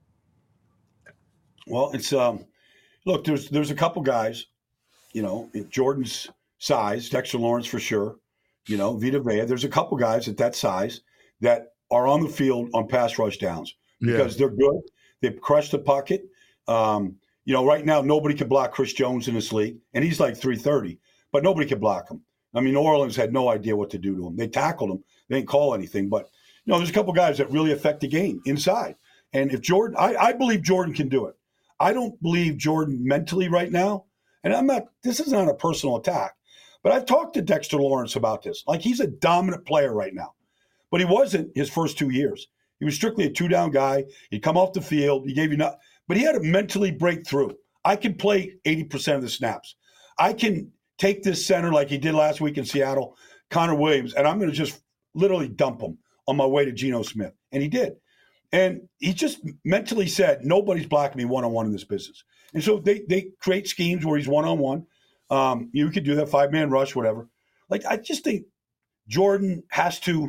Well, it's look, there's a couple guys, at Jordan's size, Dexter Lawrence for sure, Vita Vea. There's a couple guys at that size that are on the field on pass rush downs because they're good. They've crushed the pocket. Right now nobody can block Chris Jones in this league, and he's like 330, but nobody can block him. I mean, New Orleans had no idea what to do to him. They tackled him. They didn't call anything, but there's a couple guys that really affect the game inside. And if Jordan, I believe Jordan can do it. I don't believe Jordan mentally right now, and this is not a personal attack, but I've talked to Dexter Lawrence about this. Like, he's a dominant player right now, but he wasn't his first 2 years. He was strictly a 2-down guy. He'd come off the field. He gave you nothing, but he had to mentally break through. I can play 80% of the snaps. I can take this center like he did last week in Seattle, Connor Williams, and I'm going to just literally dump him on my way to Geno Smith. And he did. And he just mentally said, nobody's blocking me one-on-one in this business. And so they create schemes where he's one-on-one. You could do that 5-man rush, whatever. Like, I just think Jordan has to,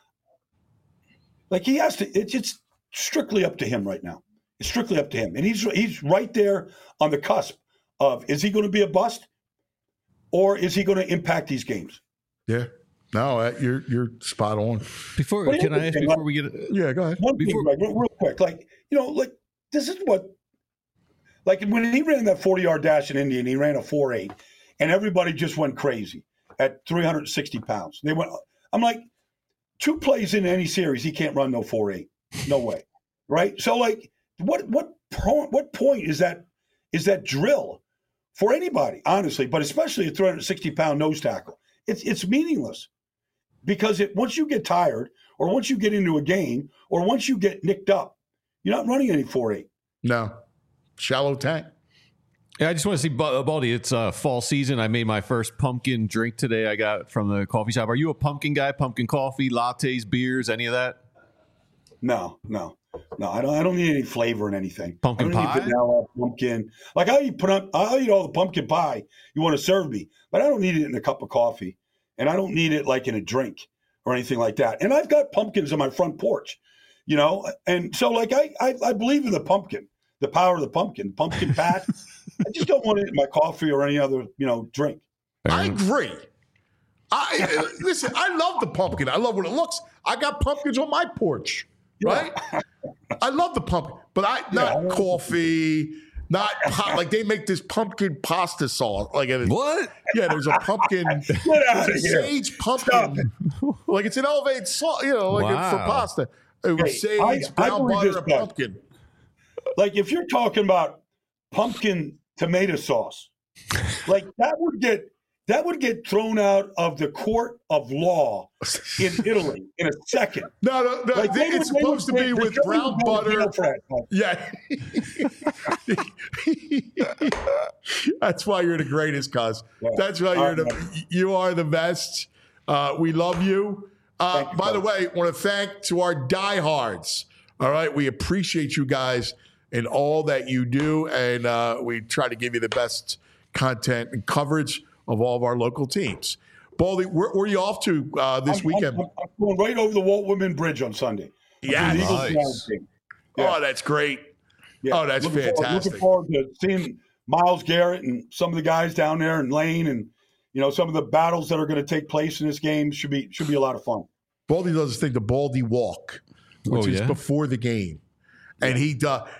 it's strictly up to him right now. It's strictly up to him. And he's right there on the cusp of, is he going to be a bust or is he going to impact these games? Yeah. No, you're spot on. Before we get yeah, go ahead. One thing, real quick, this is what, when he ran that 40-yard dash in Indy and he ran a 4.8, and everybody just went crazy at 360 pounds. I'm like, 2 plays in any series, he can't run no 4.8, no way, right? So what point is that drill for anybody, honestly, but especially a 360-pound nose tackle? It's meaningless. Because once you get tired or once you get into a game or once you get nicked up, you're not running any 4.8. No. Shallow tank. Yeah, I just want to see, Baldy, it's fall season. I made my first pumpkin drink today I got from the coffee shop. Are you a pumpkin guy? Pumpkin coffee, lattes, beers, any of that? No. I don't need any flavor in anything. Pumpkin I don't pie? need vanilla, pumpkin. I'll eat all the pumpkin pie you want to serve me, but I don't need it in a cup of coffee. And I don't need it like in a drink or anything like that. And I've got pumpkins on my front porch, and so I believe in the pumpkin, the power of the pumpkin patch. I just don't want it in my coffee or any other, drink. I agree. Listen, I love the pumpkin. I love what it looks. I got pumpkins on my porch, right? I love the pumpkin, but not coffee. Not hot, like they make this pumpkin pasta sauce. What? Yeah, there's a pumpkin, sage pumpkin. Like it's an elevated sauce, for pasta. It was sage, brown butter, and pumpkin. Like if you're talking about pumpkin tomato sauce, like that would get thrown out of the court of law in Italy in a second. No. It's supposed to be with brown butter. Yeah. That's why you're the greatest, cuz. That's why you are the best. We love you. By the way, I want to thank to our diehards. All right. We appreciate you guys in all that you do, and we try to give you the best content and coverage of all of our local teams. Baldy, where are you off to this weekend? I'm going right over the Walt Whitman Bridge on Sunday. Yeah, nice. Oh, that's great. Yeah. Oh, that's fantastic. Looking forward to seeing Myles Garrett and some of the guys down there, and Lane, and some of the battles that are going to take place in this game should be a lot of fun. Baldy does this thing, the Baldy Walk, which is before the game, and he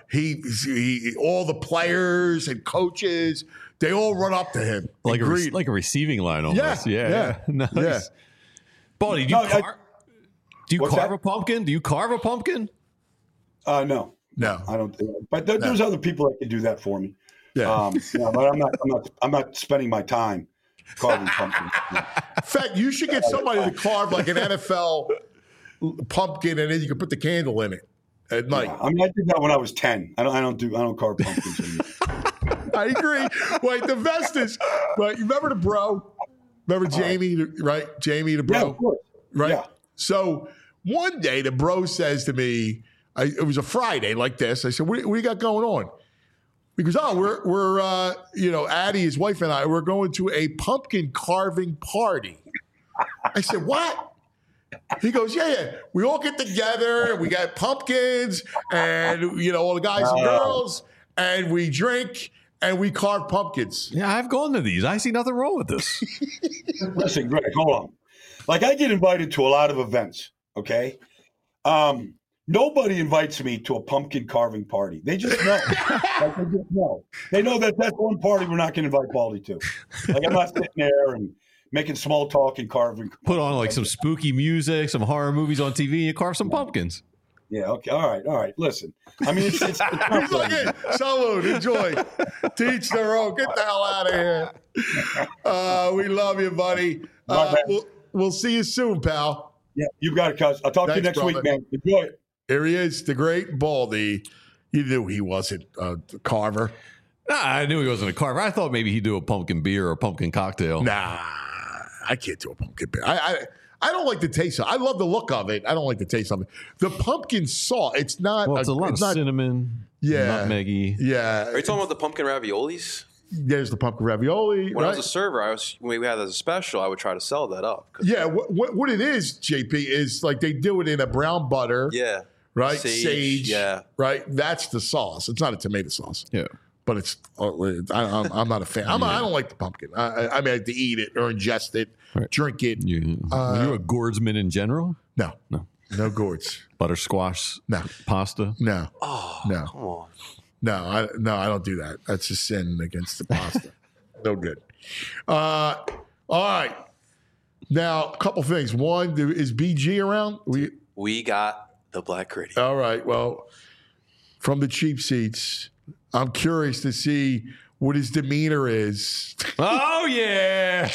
all the players and coaches, they all run up to him like a receiving line almost. Yeah. Nice. Yeah. Baldy, do you carve a pumpkin? Do you carve a pumpkin? No, I don't. But there's other people that can do that for me. Yeah, but I'm not spending my time carving pumpkins. In fact, you should get somebody to carve like an NFL pumpkin, and then you can put the candle in it at night. Yeah, I did that when I was 10. I don't carve pumpkins anymore. I agree. Wait, the Vestas. Right, you remember the bro? Remember Jamie? Right, Jamie the bro. Yeah, of course. Right. Yeah. So one day the bro says to me, it was a Friday like this. I said, "What do you got going on?" He goes, "Oh, we're Addie, his wife, and I, we're going to a pumpkin carving party." I said, "What?" He goes, "Yeah. We all get together. We got pumpkins, and all the guys and girls, and we drink." And we carve pumpkins. Yeah, I've gone to these. I see nothing wrong with this. Listen, Greg, hold on. Like, I get invited to a lot of events, okay? Nobody invites me to a pumpkin carving party. They just know. They just know. They know that that's one party we're not going to invite Baldy to. Like, I'm not sitting there and making small talk and carving. Put on, like, some spooky music, some horror movies on TV, and you carve some pumpkins. Yeah, okay. All right. Listen. It's He's like, hey, salute, enjoy. Teach their own. Get the hell out of here. We love you, buddy. We'll see you soon, pal. Yeah, you got it, cuz. I'll talk to you next week, man. Enjoy it. Here he is, the great Baldy. You knew he wasn't a carver. Nah, I knew he wasn't a carver. I thought maybe he'd do a pumpkin beer or a pumpkin cocktail. Nah, I can't do a pumpkin beer. I don't like the taste of it. I love the look of it. I don't like the taste of it. The pumpkin sauce, it's not. Well, it's a lot of cinnamon, nutmeggy. Yeah. Are you talking about the pumpkin raviolis? There's the pumpkin ravioli. When I was a server, when we had that as a special, I would try to sell that up. Yeah, what it is, JP, is like they do it in a brown butter. Yeah. Right? Sage. Yeah. Right? That's the sauce. It's not a tomato sauce. Yeah. But it's, I'm not a fan. I don't like the pumpkin. I like to eat it or ingest it, drink it. Are you a gourdsman in general? No gourds. Butter squash? No. Pasta? No. Oh, no. Come on. No, I don't do that. That's a sin against the pasta. No good. All right. Now, a couple things. One, is BG around? We got the Black Gritty. All right. Well, from the cheap seats, I'm curious to see what his demeanor is. Oh, yeah.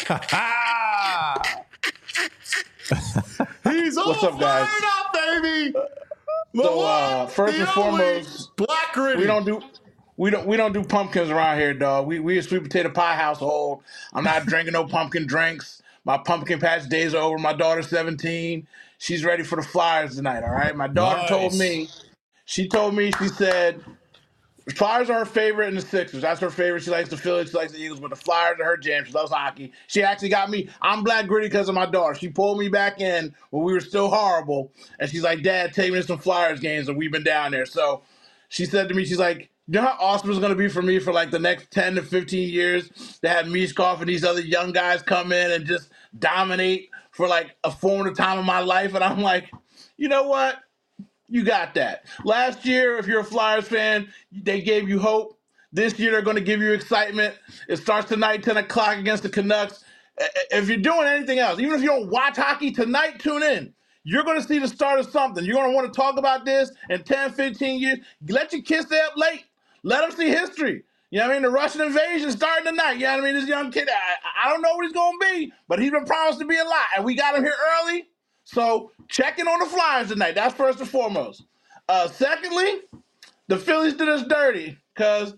He's all What's up, guys? fired up, baby. So first and foremost, Black Gritty. We don't do pumpkins around here, dog. We a sweet potato pie household. I'm not drinking no pumpkin drinks. My pumpkin patch days are over. My daughter's 17. She's ready for the Flyers tonight. All right. My daughter told me. She said Flyers are her favorite, and the Sixers. That's her favorite. She likes the Phillies. She likes the Eagles, but the Flyers are her jam. She loves hockey. She actually got me. I'm Black Gritty because of my daughter. She pulled me back in when we were still horrible, and she's like, "Dad, take me to some Flyers games," and we've been down there. So she said to me, she's like, "You know how awesome it's going to be for me for like the next 10 to 15 years to have Mishkov and these other young guys come in and just dominate for like a formative time of my life?" And I'm like, you know what? You got that. Last year, if you're a Flyers fan, they gave you hope. This year, they're going to give you excitement. It starts tonight, 10 o'clock against the Canucks. If you're doing anything else, even if you don't watch hockey tonight, tune in. You're going to see the start of something. You're going to want to talk about this in 10, 15 years. Let your kids stay up late. Let them see history. You know what I mean? The Russian invasion starting tonight. You know what I mean? This young kid, I don't know what he's going to be, but he's been promised to be a lot. And we got him here early. So check in on the Flyers tonight. That's first and foremost. Secondly, the Phillies did us dirty because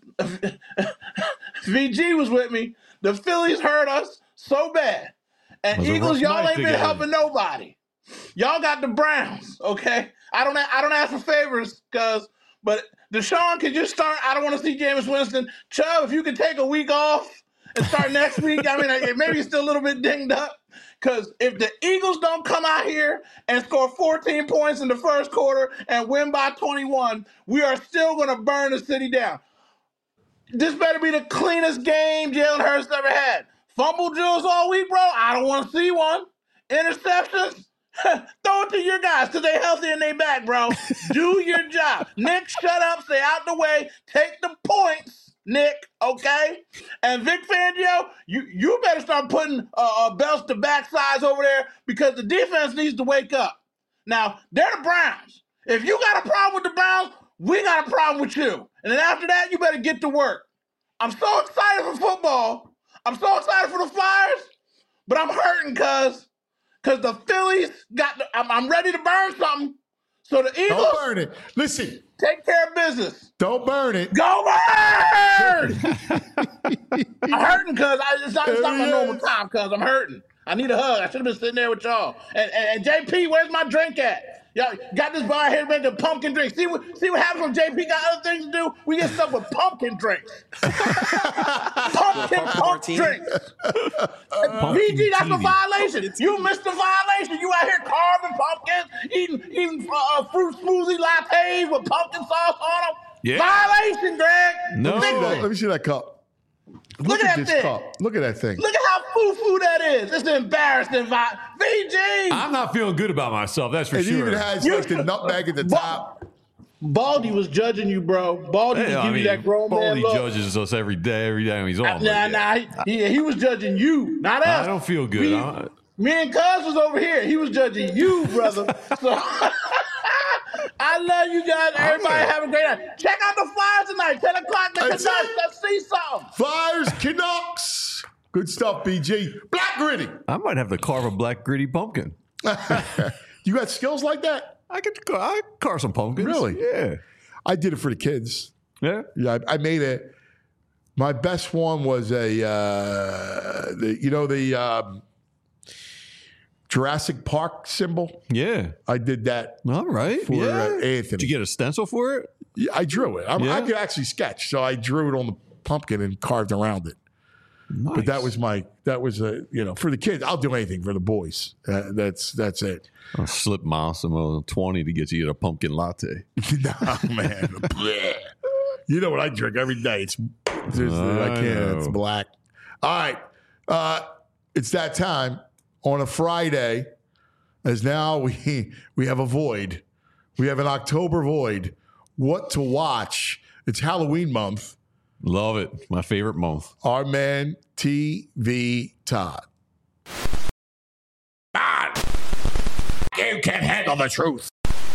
VG was with me. The Phillies hurt us so bad. And Eagles, y'all ain't been helping nobody. Y'all got the Browns, okay? I don't ask for favors because But Deshaun can just start. I don't want to see Jameis Winston. Chubb, if you could take a week off and start next week, I mean, maybe he's still a little bit dinged up. Because if the Eagles don't come out here and score 14 points in the first quarter and win by 21, we are still going to burn the city down. This better be the cleanest game Jalen Hurts ever had. Fumble drills all week, bro. I don't want to see one. Interceptions. Throw it to your guys because they're healthy and they back, bro. Do your job. Nick, shut up. Stay out the way. Take the points, Nick, okay? And Vic Fangio, you better start putting belts to backsides over there because the defense needs to wake up. Now, they're the Browns. If you got a problem with the Browns, we got a problem with you. And then after that, you better get to work. I'm so excited for football. I'm so excited for the Flyers, but I'm hurting because the Phillies I'm ready to burn something. So the Eagles. Don't burn it. Listen. Take care of business. Don't burn it. Go burn! I'm hurting because it's not my normal time because I'm hurting. I need a hug. I should have been sitting there with y'all. And JP, where's my drink at? Y'all got this bar here making pumpkin drinks. See what happens when JP got other things to do? We get stuck with pumpkin drinks. Pump drinks. VG, that's a violation. You missed the violation. You out here carving pumpkins, eating fruit smoothie lattes with pumpkin sauce on them. Yeah. Violation, Greg. No. Let me see that cup. Look at this cup. Look at that thing. Look at how foo-foo that is. It's embarrassing. VG. I'm not feeling good about myself, that's for sure. It even has like the nutmeg at the top. Baldy was judging you, bro. Baldy was giving you that grown man look. Baldy judges us every time he's on. He was judging you, not us. I don't feel good. Me and Cuz was over here. He was judging you, brother. So I love you guys. Everybody have a great night. Check out the Flyers tonight. 10 o'clock. Let's see something. Flyers, Canucks. Good stuff, BG. Black Gritty. I might have to carve a black gritty pumpkin. You got skills like that? I carve some pumpkins. Really? Yeah. I did it for the kids. Yeah? Yeah, I made it. My best one was the Jurassic Park symbol. Yeah. I did that. All right. For Anthony. Did you get a stencil for it? Yeah, I drew it. I could actually sketch. So I drew it on the pumpkin and carved around it. Nice. But that was for the kids. I'll do anything for the boys. That's it. I'll slip Massimo 20 to get you a pumpkin latte. No, man. You know what I drink every day. I can't. It's black. All right. It's that time. On a Friday, as now we have a void. We have an October void. What to watch? It's Halloween month. Love it. My favorite month. Our man, TV Todd. You can't handle the truth.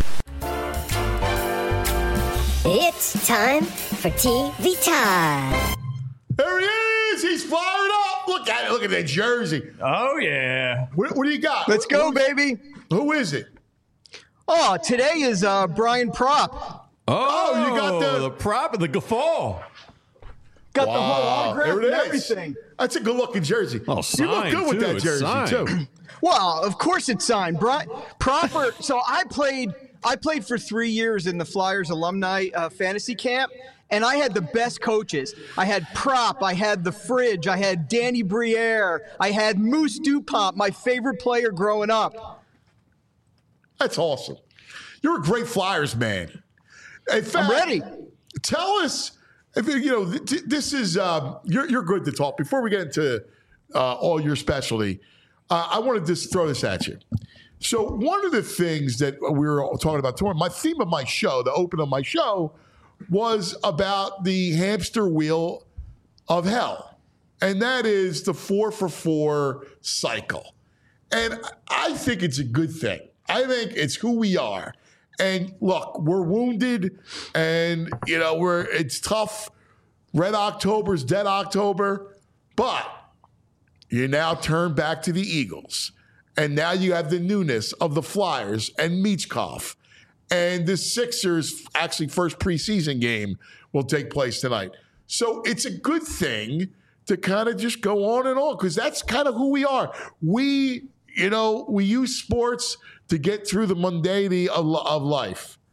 It's time for TV Todd. There he is. He's fired up. Look at it. Look at that jersey. Oh, yeah. What do you got? Let's go, baby. Who is it? Oh, today is Brian Prop. Oh, you got the prop and the guffaw. Got the whole autograph and everything. That's a good-looking jersey. Oh, you look good with that jersey, too. Well, of course it's signed. Proper. So I played for 3 years in the Flyers alumni fantasy camp, and I had the best coaches. I had Prop, I had the Fridge, I had Danny Briere, I had Moose Dupont, my favorite player growing up. That's awesome. You're a great Flyers man. In fact, I'm ready. Tell us, this is, you're good to talk. Before we get into all your specialty, I want to just throw this at you. So one of the things that we were talking about tomorrow, my theme of my show, the open of my show, was about the hamster wheel of hell. And that is the 4-for-4 cycle. And I think it's a good thing. I think it's who we are. And look, we're wounded and, it's tough. Red October's dead October. But you now turn back to the Eagles. And now you have the newness of the Flyers and Michkov. And the Sixers' actually first preseason game will take place tonight. So it's a good thing to kind of just go on and on because that's kind of who we are. We use sports to get through the mundanity of life.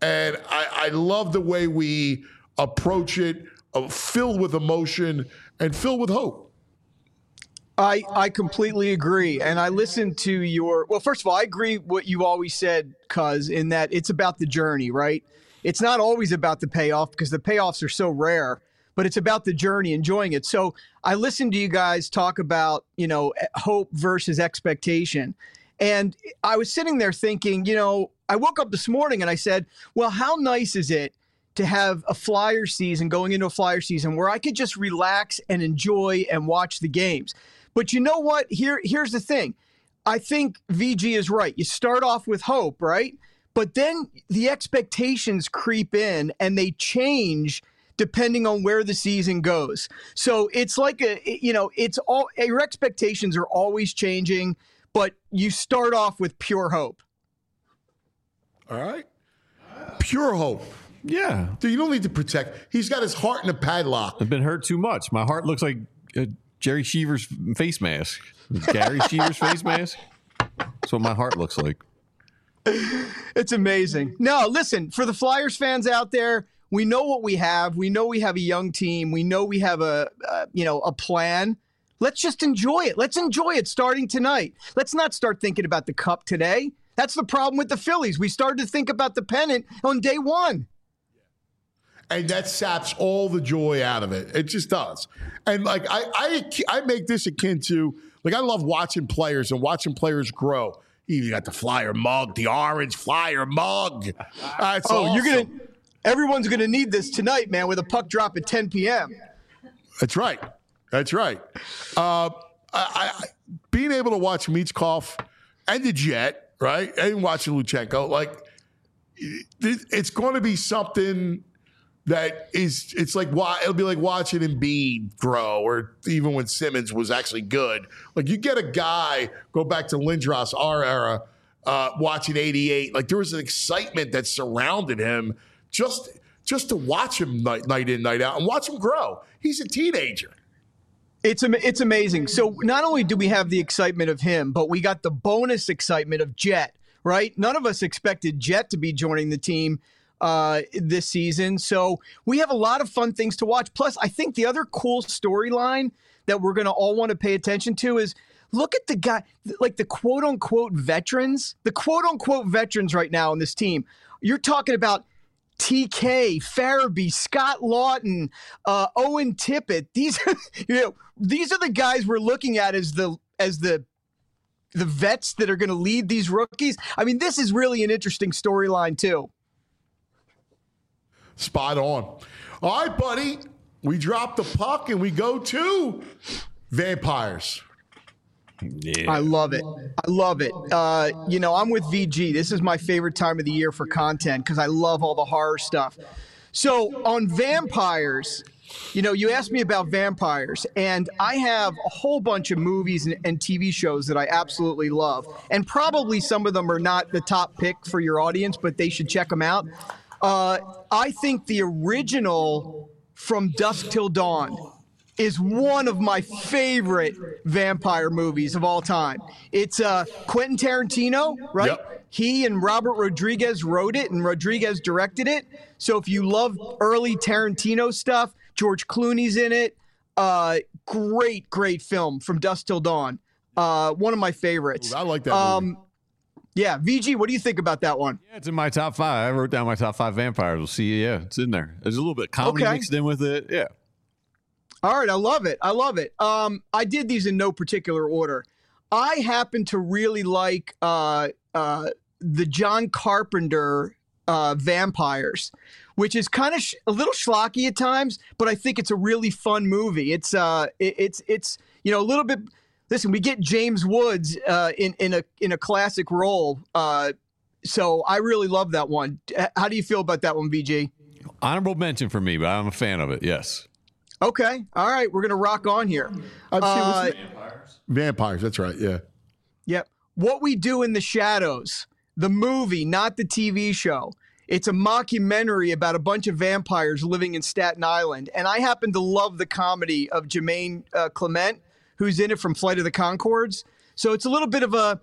And I love the way we approach it, filled with emotion and filled with hope. I completely agree. And I listened to well, first of all, I agree what you always said, Cuz, in that it's about the journey, right? It's not always about the payoff because the payoffs are so rare, but it's about the journey, enjoying it. So I listened to you guys talk about, hope versus expectation. And I was sitting there thinking, I woke up this morning and I said, well, how nice is it to have a Flyer season, going into a Flyer season where I could just relax and enjoy and watch the games. But you know what? Here's the thing. I think VG is right. You start off with hope, right? But then the expectations creep in and they change depending on where the season goes. So it's like your expectations are always changing, but you start off with pure hope. All right. Pure hope. Yeah. Dude, you don't need to protect. He's got his heart in a padlock. I've been hurt too much. My heart looks like Jerry Cheever's face mask. Gary Cheever's face mask. That's what my heart looks like. It's amazing. No, listen, for the Flyers fans out there, we know what we have. We know we have a young team. We know we have a plan. Let's just enjoy it. Let's enjoy it starting tonight. Let's not start thinking about the cup today. That's the problem with the Phillies. We started to think about the pennant on day one. And that saps all the joy out of it. It just does. And like I make this akin to, like, I love watching players and watching players grow. You got the Flyer mug, the orange Flyer mug. That's awesome. Everyone's gonna need this tonight, man, with a puck drop at 10 p.m. That's right. That's right. Being able to watch Michkov and the Jet, right, and watching Luchenko, like, it's going to be something that it's like, it'll be like watching Embiid grow, or even when Simmons was actually good. Like, you get a guy, go back to Lindros, our era, watching 88. Like, there was an excitement that surrounded him just to watch him night in, night out, and watch him grow. He's a teenager. It's amazing. So not only do we have the excitement of him, but we got the bonus excitement of Jet, right? None of us expected Jet to be joining the team this season. So we have a lot of fun things to watch. Plus, I think the other cool storyline that we're going to all want to pay attention to is, look at the guy, like the quote-unquote veterans. The quote-unquote veterans right now on this team. You're talking about TK, Farabee, Scott Lawton, Owen Tippett. These are the guys we're looking at as the vets that are going to lead these rookies. I mean, this is really an interesting storyline too. Spot on. All right, buddy. We drop the puck and we go to Vampires. Yeah. I love it. I'm with VG. This is my favorite time of the year for content because I love all the horror stuff. So on Vampires, you asked me about Vampires, and I have a whole bunch of movies and TV shows that I absolutely love. And probably some of them are not the top pick for your audience, but they should check them out. I think the original From Dusk Till Dawn is one of my favorite vampire movies of all time. It's Quentin Tarantino, right? Yep. He and Robert Rodriguez wrote it, and Rodriguez directed it. So if you love early Tarantino stuff, George Clooney's in it. Great film, From Dusk Till Dawn. One of my favorites. Ooh, I like that movie. Yeah, VG, what do you think about that one? Yeah, it's in my top 5. I wrote down my top 5 vampires. We'll see. Yeah, it's in there. There's a little bit of comedy mixed in with it. Yeah. All right, I love it. I did these in no particular order. I happen to really like the John Carpenter Vampires, which is kind of a little schlocky at times, but I think it's a really fun movie. It's a little bit. Listen, we get James Woods in a classic role, so I really love that one. How do you feel about that one, VG? Honorable mention for me, but I'm a fan of it. Yes. Okay. All right. We're going to rock on here. Vampires. That's right. Yeah. Yep. What We Do in the Shadows, the movie, not the TV show. It's a mockumentary about a bunch of vampires living in Staten Island. And I happen to love the comedy of Jermaine Clement, who's in it from Flight of the Conchords. So it's a little bit of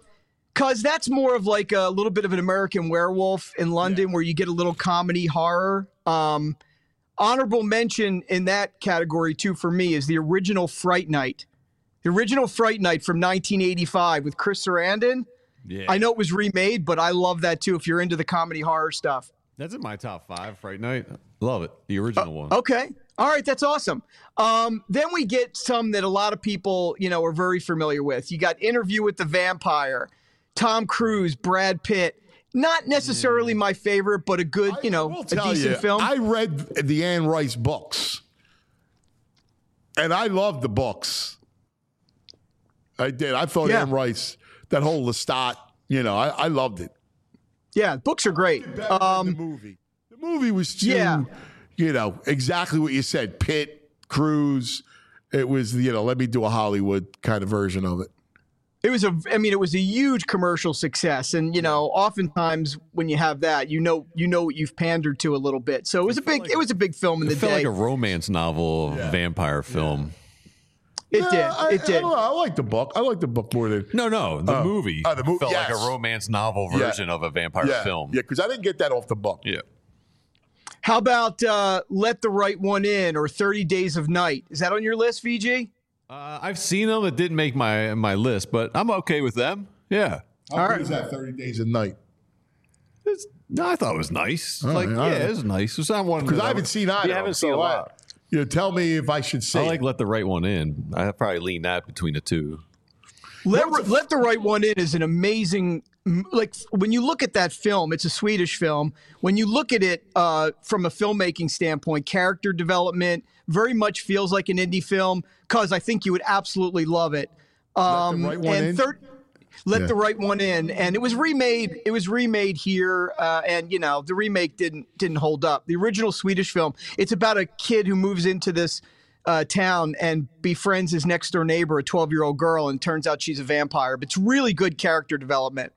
Because that's more of like a little bit of an American Werewolf in London, where you get a little comedy horror. Honorable mention in that category, too, for me, is the original Fright Night. The original Fright Night from 1985 with Chris Sarandon. Yeah. I know it was remade, but I love that, too, if you're into the comedy horror stuff. That's in my top 5, Fright Night. Love it. The original one. Okay. All right. That's awesome. Then we get some that a lot of people, are very familiar with. You got Interview with the Vampire, Tom Cruise, Brad Pitt. Not necessarily my favorite, but a good, a decent film. I read the Anne Rice books, and I loved the books. I did. I thought Anne Rice, that whole Lestat, I loved it. Yeah, books are great. The movie was too, exactly what you said. Pitt, Cruise. It was, let me do a Hollywood kind of version of it. It was a huge commercial success, and oftentimes when you have that, you know what you've pandered to a little bit. So it was a big film in the day. It felt like a romance novel, vampire film. It did. I don't know. I like the book. I like the book more than the movie. The movie felt like a romance novel version of a vampire film. Yeah, because I didn't get that off the book. Yeah. How about Let the Right One In or 30 Days of Night? Is that on your list, VG? I've seen them. It didn't make my list, but I'm okay with them. Yeah. How good is that, 30 Days of Night? I thought it was nice. It was nice. It's not one because I haven't seen either. You haven't seen a lot. Tell me if I should see. I like Let the Right One In. I probably lean that between the two. Let the Right One In is an amazing. Like when you look at that film, it's a Swedish film. When you look at it from a filmmaking standpoint, character development very much feels like an indie film. Because I think you would absolutely love it. Let the Right One In. Let the Right One In, and it was remade. It was remade here, and the remake didn't hold up. The original Swedish film. It's about a kid who moves into this town and befriends his next door neighbor, a 12-year-old girl, and turns out she's a vampire. But it's really good character development.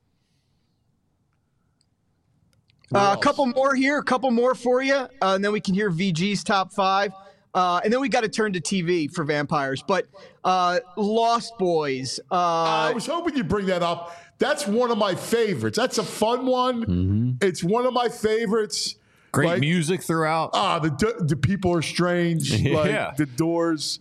A couple more here, a couple more for you, and then we can hear VG's top 5. And then we got to turn to TV for vampires. But Lost Boys. I was hoping you'd bring that up. That's one of my favorites. That's a fun one. Mm-hmm. It's one of my favorites. Great music throughout. The people are strange. Yeah. The Doors.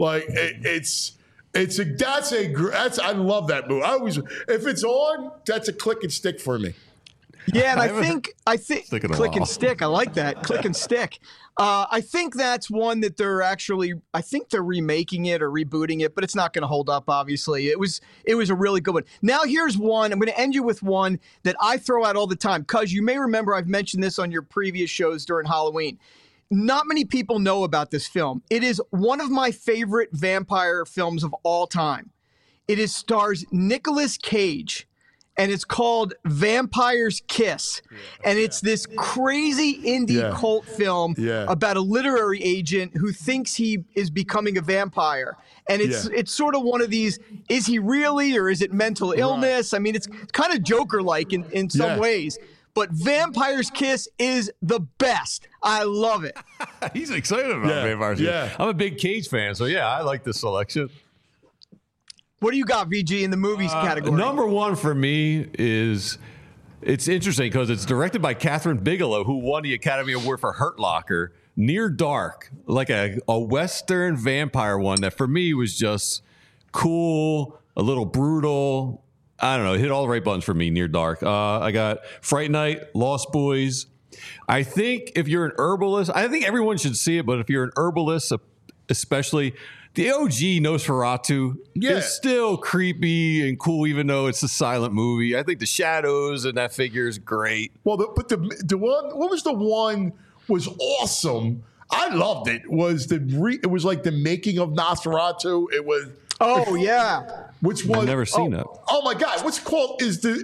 I love that movie. If it's on, that's a click and stick for me. Yeah, and I think click and stick. I like that. Click and stick. I think that's one that they're remaking it or rebooting it, but it's not going to hold up, obviously. It was a really good one. Now here's one. I'm going to end you with one that I throw out all the time, because you may remember I've mentioned this on your previous shows during Halloween. Not many people know about this film. It is one of my favorite vampire films of all time. It stars Nicolas Cage. And it's called Vampire's Kiss. And it's this crazy indie cult film about a literary agent who thinks he is becoming a vampire. And it's sort of one of these, is he really, or is it mental illness? Right. I mean, it's kind of Joker-like in some ways. But Vampire's Kiss is the best. I love it. He's excited about Vampire's Kiss. I'm a big Cage fan, so I like this selection. What do you got, VG, in the movies category? Number one for me is, it's interesting because it's directed by Catherine Bigelow, who won the Academy Award for Hurt Locker. Near Dark, like a Western vampire one that for me was just cool, a little brutal. I don't know, hit all the right buttons for me, Near Dark. I got Fright Night, Lost Boys. I think if you're an herbalist, I think everyone should see it, but if you're an herbalist, especially, the OG Nosferatu is still creepy and cool, even though it's a silent movie. I think the shadows and that figure is great. Well, the one, what was the one was awesome? I loved it. It was like the making of Nosferatu. It was. Oh yeah. Which one? I've never seen it. Oh my God! What's called is the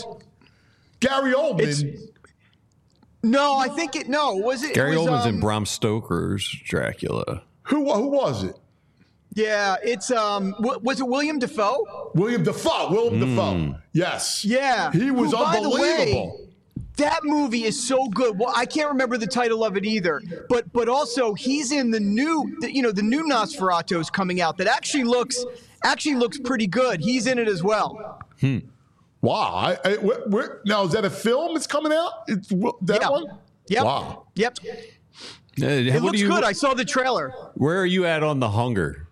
Gary Oldman? No, I think it. No, was it? Gary Oldman's in Bram Stoker's Dracula. Who was it? Yeah, it's was it William Dafoe? William Dafoe. Yes. Yeah. He was unbelievable. By the way, that movie is so good. Well, I can't remember the title of it either. But also he's in the new Nosferatu is coming out that actually looks pretty good. He's in it as well. Wow. Now, is that a film that's coming out? That one? Yep. Wow. Yep. It looks good. I saw the trailer. Where are you at on The Hunger?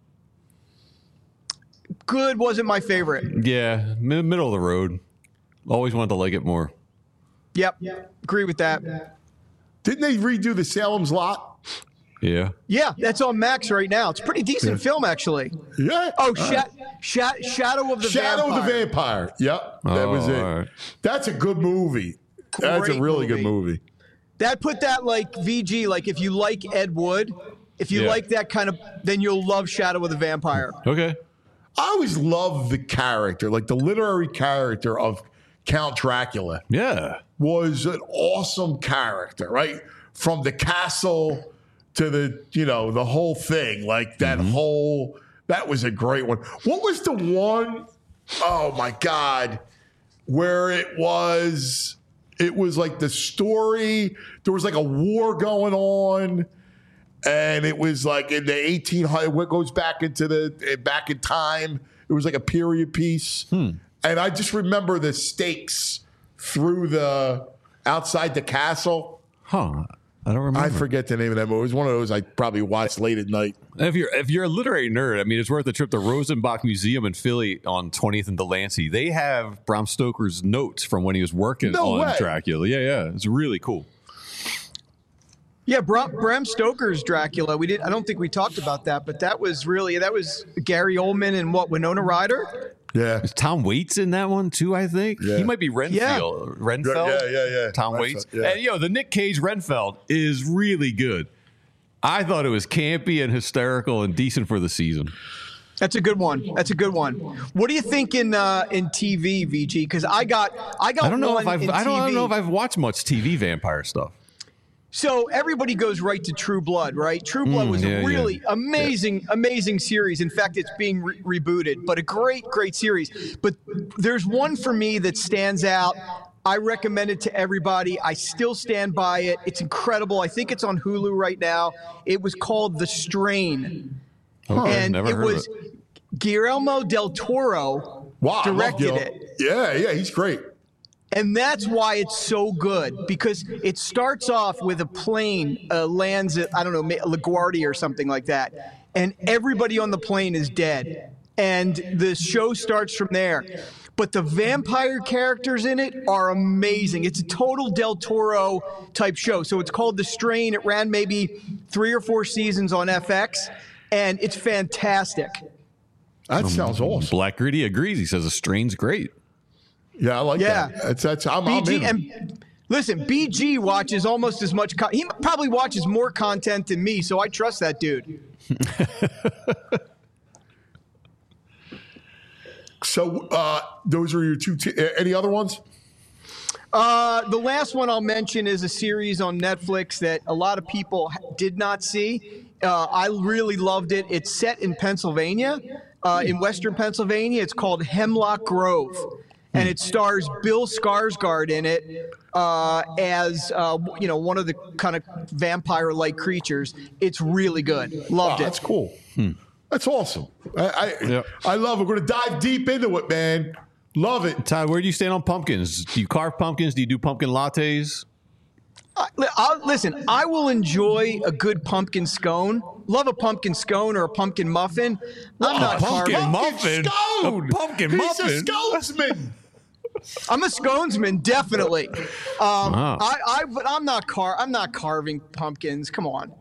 Good. Wasn't my favorite. Yeah, middle of the road. Always wanted to like it more. Yep. Agree with that. Didn't they redo the Salem's Lot? Yeah. Yeah, that's on Max right now. It's a pretty decent film, actually. Yeah. Oh, Shadow of the Vampire. Yep. That was it. Right. That's a good movie. That's a really good movie. That put that like VG, like if you like Ed Wood, if you like that kind of, then you'll love Shadow of the Vampire. Okay. I always love the character, like the literary character of Count Dracula. Yeah. Was an awesome character, right? From the castle to the whole thing, like that that was a great one. What was the one, oh my God, where it was like the story, there was like a war going on, and it was like in the 1800s, what goes back in time. It was like a period piece. And I just remember the stakes through outside the castle. Huh. I don't remember. I forget the name of that movie. It was one of those I probably watched late at night. If you're a literary nerd, I mean, it's worth the trip to Rosenbach Museum in Philly on 20th and Delancey. They have Bram Stoker's notes from when he was working on Dracula. Yeah. It's really cool. Yeah, Bram Stoker's Dracula. I don't think we talked about that, but that was Gary Oldman and Winona Ryder. Yeah. Is Tom Waits in that one too, I think? Yeah. He might be Renfeld. Yeah. Tom Waits. Yeah. And, the Nick Cage Renfeld is really good. I thought it was campy and hysterical and decent for the season. That's a good one. What do you think in TV, VG? Because I don't know if I've watched much TV vampire stuff. So everybody goes right to True Blood, right? True Blood was a really amazing series. In fact, it's being rebooted, but a great series. But there's one for me that stands out. I recommend it to everybody. I still stand by it. It's incredible. I think it's on Hulu right now. It was called The Strain. And it was Guillermo del Toro directed it. Yeah, he's great. And that's why it's so good, because it starts off with a plane lands at, I don't know, LaGuardia or something like that. And everybody on the plane is dead. And the show starts from there. But the vampire characters in it are amazing. It's a total Del Toro type show. So it's called The Strain. It ran maybe 3 or 4 seasons on FX. And it's fantastic. That sounds awesome. Black Gritty agrees. He says The Strain's great. Yeah, I like that. I'm in. And listen, BG watches almost as much. He probably watches more content than me, so I trust that dude. So those are your two. Any other ones? The last one I'll mention is a series on Netflix that a lot of people did not see. I really loved it. It's set in Pennsylvania, in Western Pennsylvania. It's called Hemlock Grove. And it stars Bill Skarsgård in it as one of the kind of vampire-like creatures. It's really good. Loved it. That's cool. That's awesome. I love it. We're going to dive deep into it, man. Love it. Todd, where do you stand on pumpkins? Do you carve pumpkins? Do you do pumpkin lattes? Listen, I will enjoy a good pumpkin scone. Love a pumpkin scone or a pumpkin muffin. I'm not pumpkin muffin. Scone. A pumpkin muffin. He's a sconesman. I'm a sconesman, definitely. Wow. But I'm not carving pumpkins. Come on.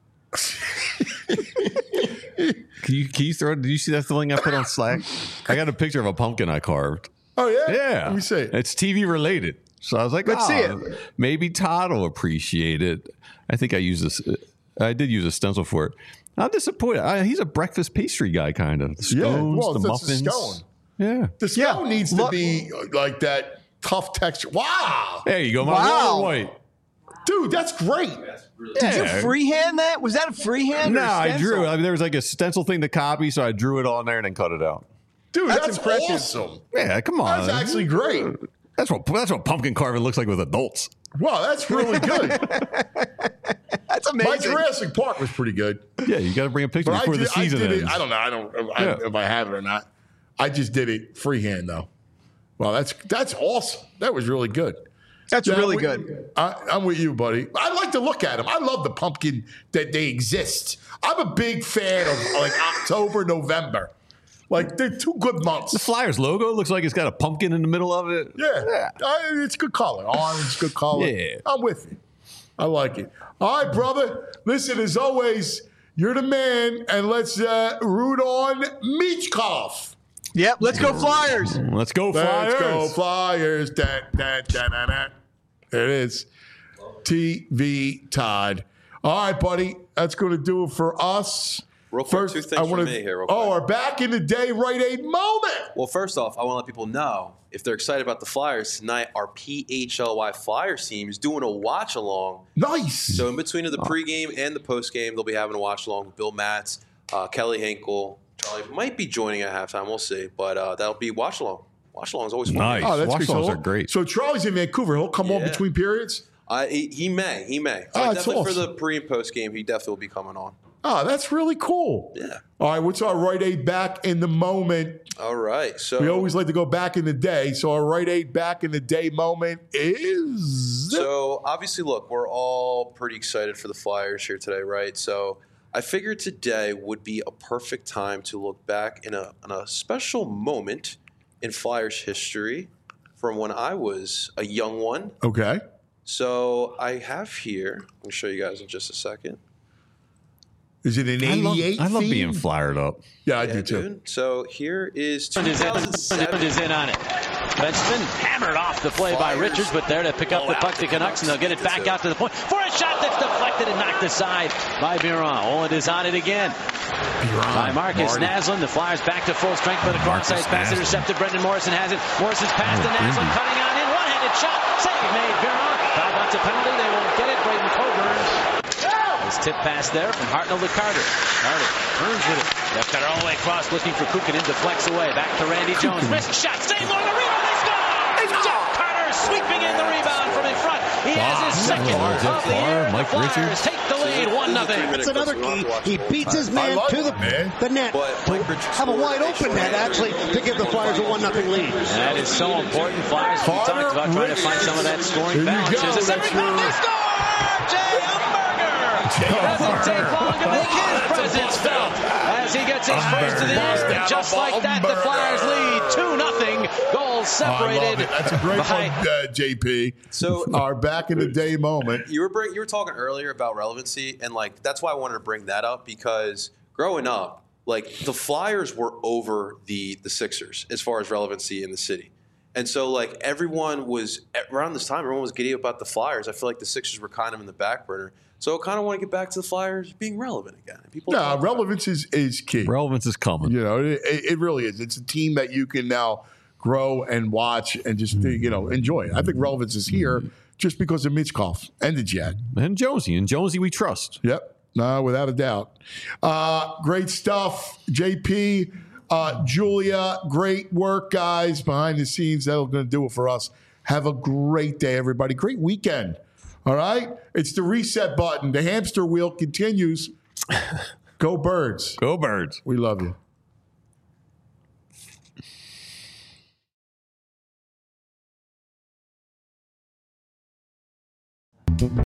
Can you throw? Did you see that thing I put on Slack? I got a picture of a pumpkin I carved. Oh yeah. Yeah. Let me see. It's TV related. So I was like, let's see it. Maybe Todd will appreciate it. I think I did use a stencil for it. I'm disappointed. He's a breakfast pastry guy, kind of. The scones, the muffins. The scone. Yeah. The scone needs to be like that tough texture. Wow. There you go. My roller white. Dude, that's great. Did you freehand that? Was that a freehand? No, or a I drew it. I mean, there was like a stencil thing to copy, so I drew it on there and then cut it out. Dude, that's impressive. Awesome. Yeah, come on. That's actually great. That's what pumpkin carving looks like with adults. Wow, that's really good. That's amazing. My Jurassic Park was pretty good. Yeah, you got to bring a picture before the season ends. I don't know. If I have it or not. I just did it freehand though. Well, that's awesome. That was really good. That's really good. I'm with you, buddy. I like to look at them. I love the pumpkin that they exist. I'm a big fan of like October, November. Like, they're 2 good months. The Flyers logo looks like it's got a pumpkin in the middle of it. Yeah. It's good color. Orange, good color. Yeah. I'm with you. I like it. All right, brother. Listen, as always, you're the man, and let's root on Michkov. Yep, let's go Flyers. Let's go Flyers. Let's go Flyers. There it is. TV Todd. All right, buddy. That's going to do it for us. Real quick, 2 things from me here. Real quick. Our back in the day Rite Aid moment. Well, first off, I want to let people know, if they're excited about the Flyers, tonight our PHLY Flyers team is doing a watch-along. Nice. So in between of the pregame and the postgame, they'll be having a watch-along with Bill Matz, Kelly Hinkle. Charlie might be joining at halftime. We'll see. But that'll be watch-along. Watch-along is always fun. Nice. Oh, that's Watch-alongs are great. So Charlie's in Vancouver. He'll come on between periods? He may. Oh, Definitely awesome. for the pre- and post-game, he definitely will be coming on. Oh, that's really cool. Yeah. All right, what's our Rite Aid back in the moment? All right. So we always like to go back in the day. So our Rite Aid back in the day moment is. So obviously, look, we're all pretty excited for the Flyers here today, right? So I figured today would be a perfect time to look back in a special moment in Flyers history from when I was a young one. Okay. So I have here, I'm going to show you guys in just a second. Is it an 88? I love being flyered up. Yeah, I do too. Dude. So here is Is in on it. Benjamin hammered off the play by Richards, but there to pick up the puck to Canucks, and they'll get it back out to the point for a shot that's deflected and knocked aside by Biron. Owen is on it again. By Marcus Naslund. The Flyers back to full strength, but a cross-ice pass intercepted. Brendan Morrison has it. Morrison's pass to Naslund, cutting on in. One-handed shot. Save made. Biron. Foul wants a penalty. They won't get it. Braden Coburn. His tip pass there from Hartnell to Carter. Carter turns with it. Left got all the way across, looking for Kukanen, deflects away. Back to Randy Jones. Wrist shot. Save on the rebound. They score! Jeff Carter sweeping in the rebound from in front. He has his second of the year. Mike The Flyers Richards take the lead 1-0. That's another key. He beats his man to the net. Have a wide open net, actually, to give the Flyers a 1-0 lead. That is so important. Flyers, we talked about trying to find some of that scoring balance. There's a separate rebound. They score! Jay doesn't take long to make his presence felt as he gets his first to the end. Just like that, the Flyers lead 2-0. Goals separated. That's a great one, JP. So our back in the day moment. You were talking earlier about relevancy, and like that's why I wanted to bring that up, because growing up, like the Flyers were over the Sixers as far as relevancy in the city. And so, like, everyone was, around this time, everyone was giddy about the Flyers. I feel like the Sixers were kind of in the back burner. So I kind of want to get back to the Flyers being relevant again. Relevance is key. Relevance is coming. You know, it really is. It's a team that you can now grow and watch and just, enjoy it. I think relevance is here just because of Michkov and the Jet. And Jonesy. And Jonesy we trust. Yep. No, without a doubt. Great stuff, JP. Julia, great work, guys, behind the scenes. That's going to do it for us. Have a great day, everybody. Great weekend. All right? It's the reset button. The hamster wheel continues. Go Birds. Go Birds. We love you.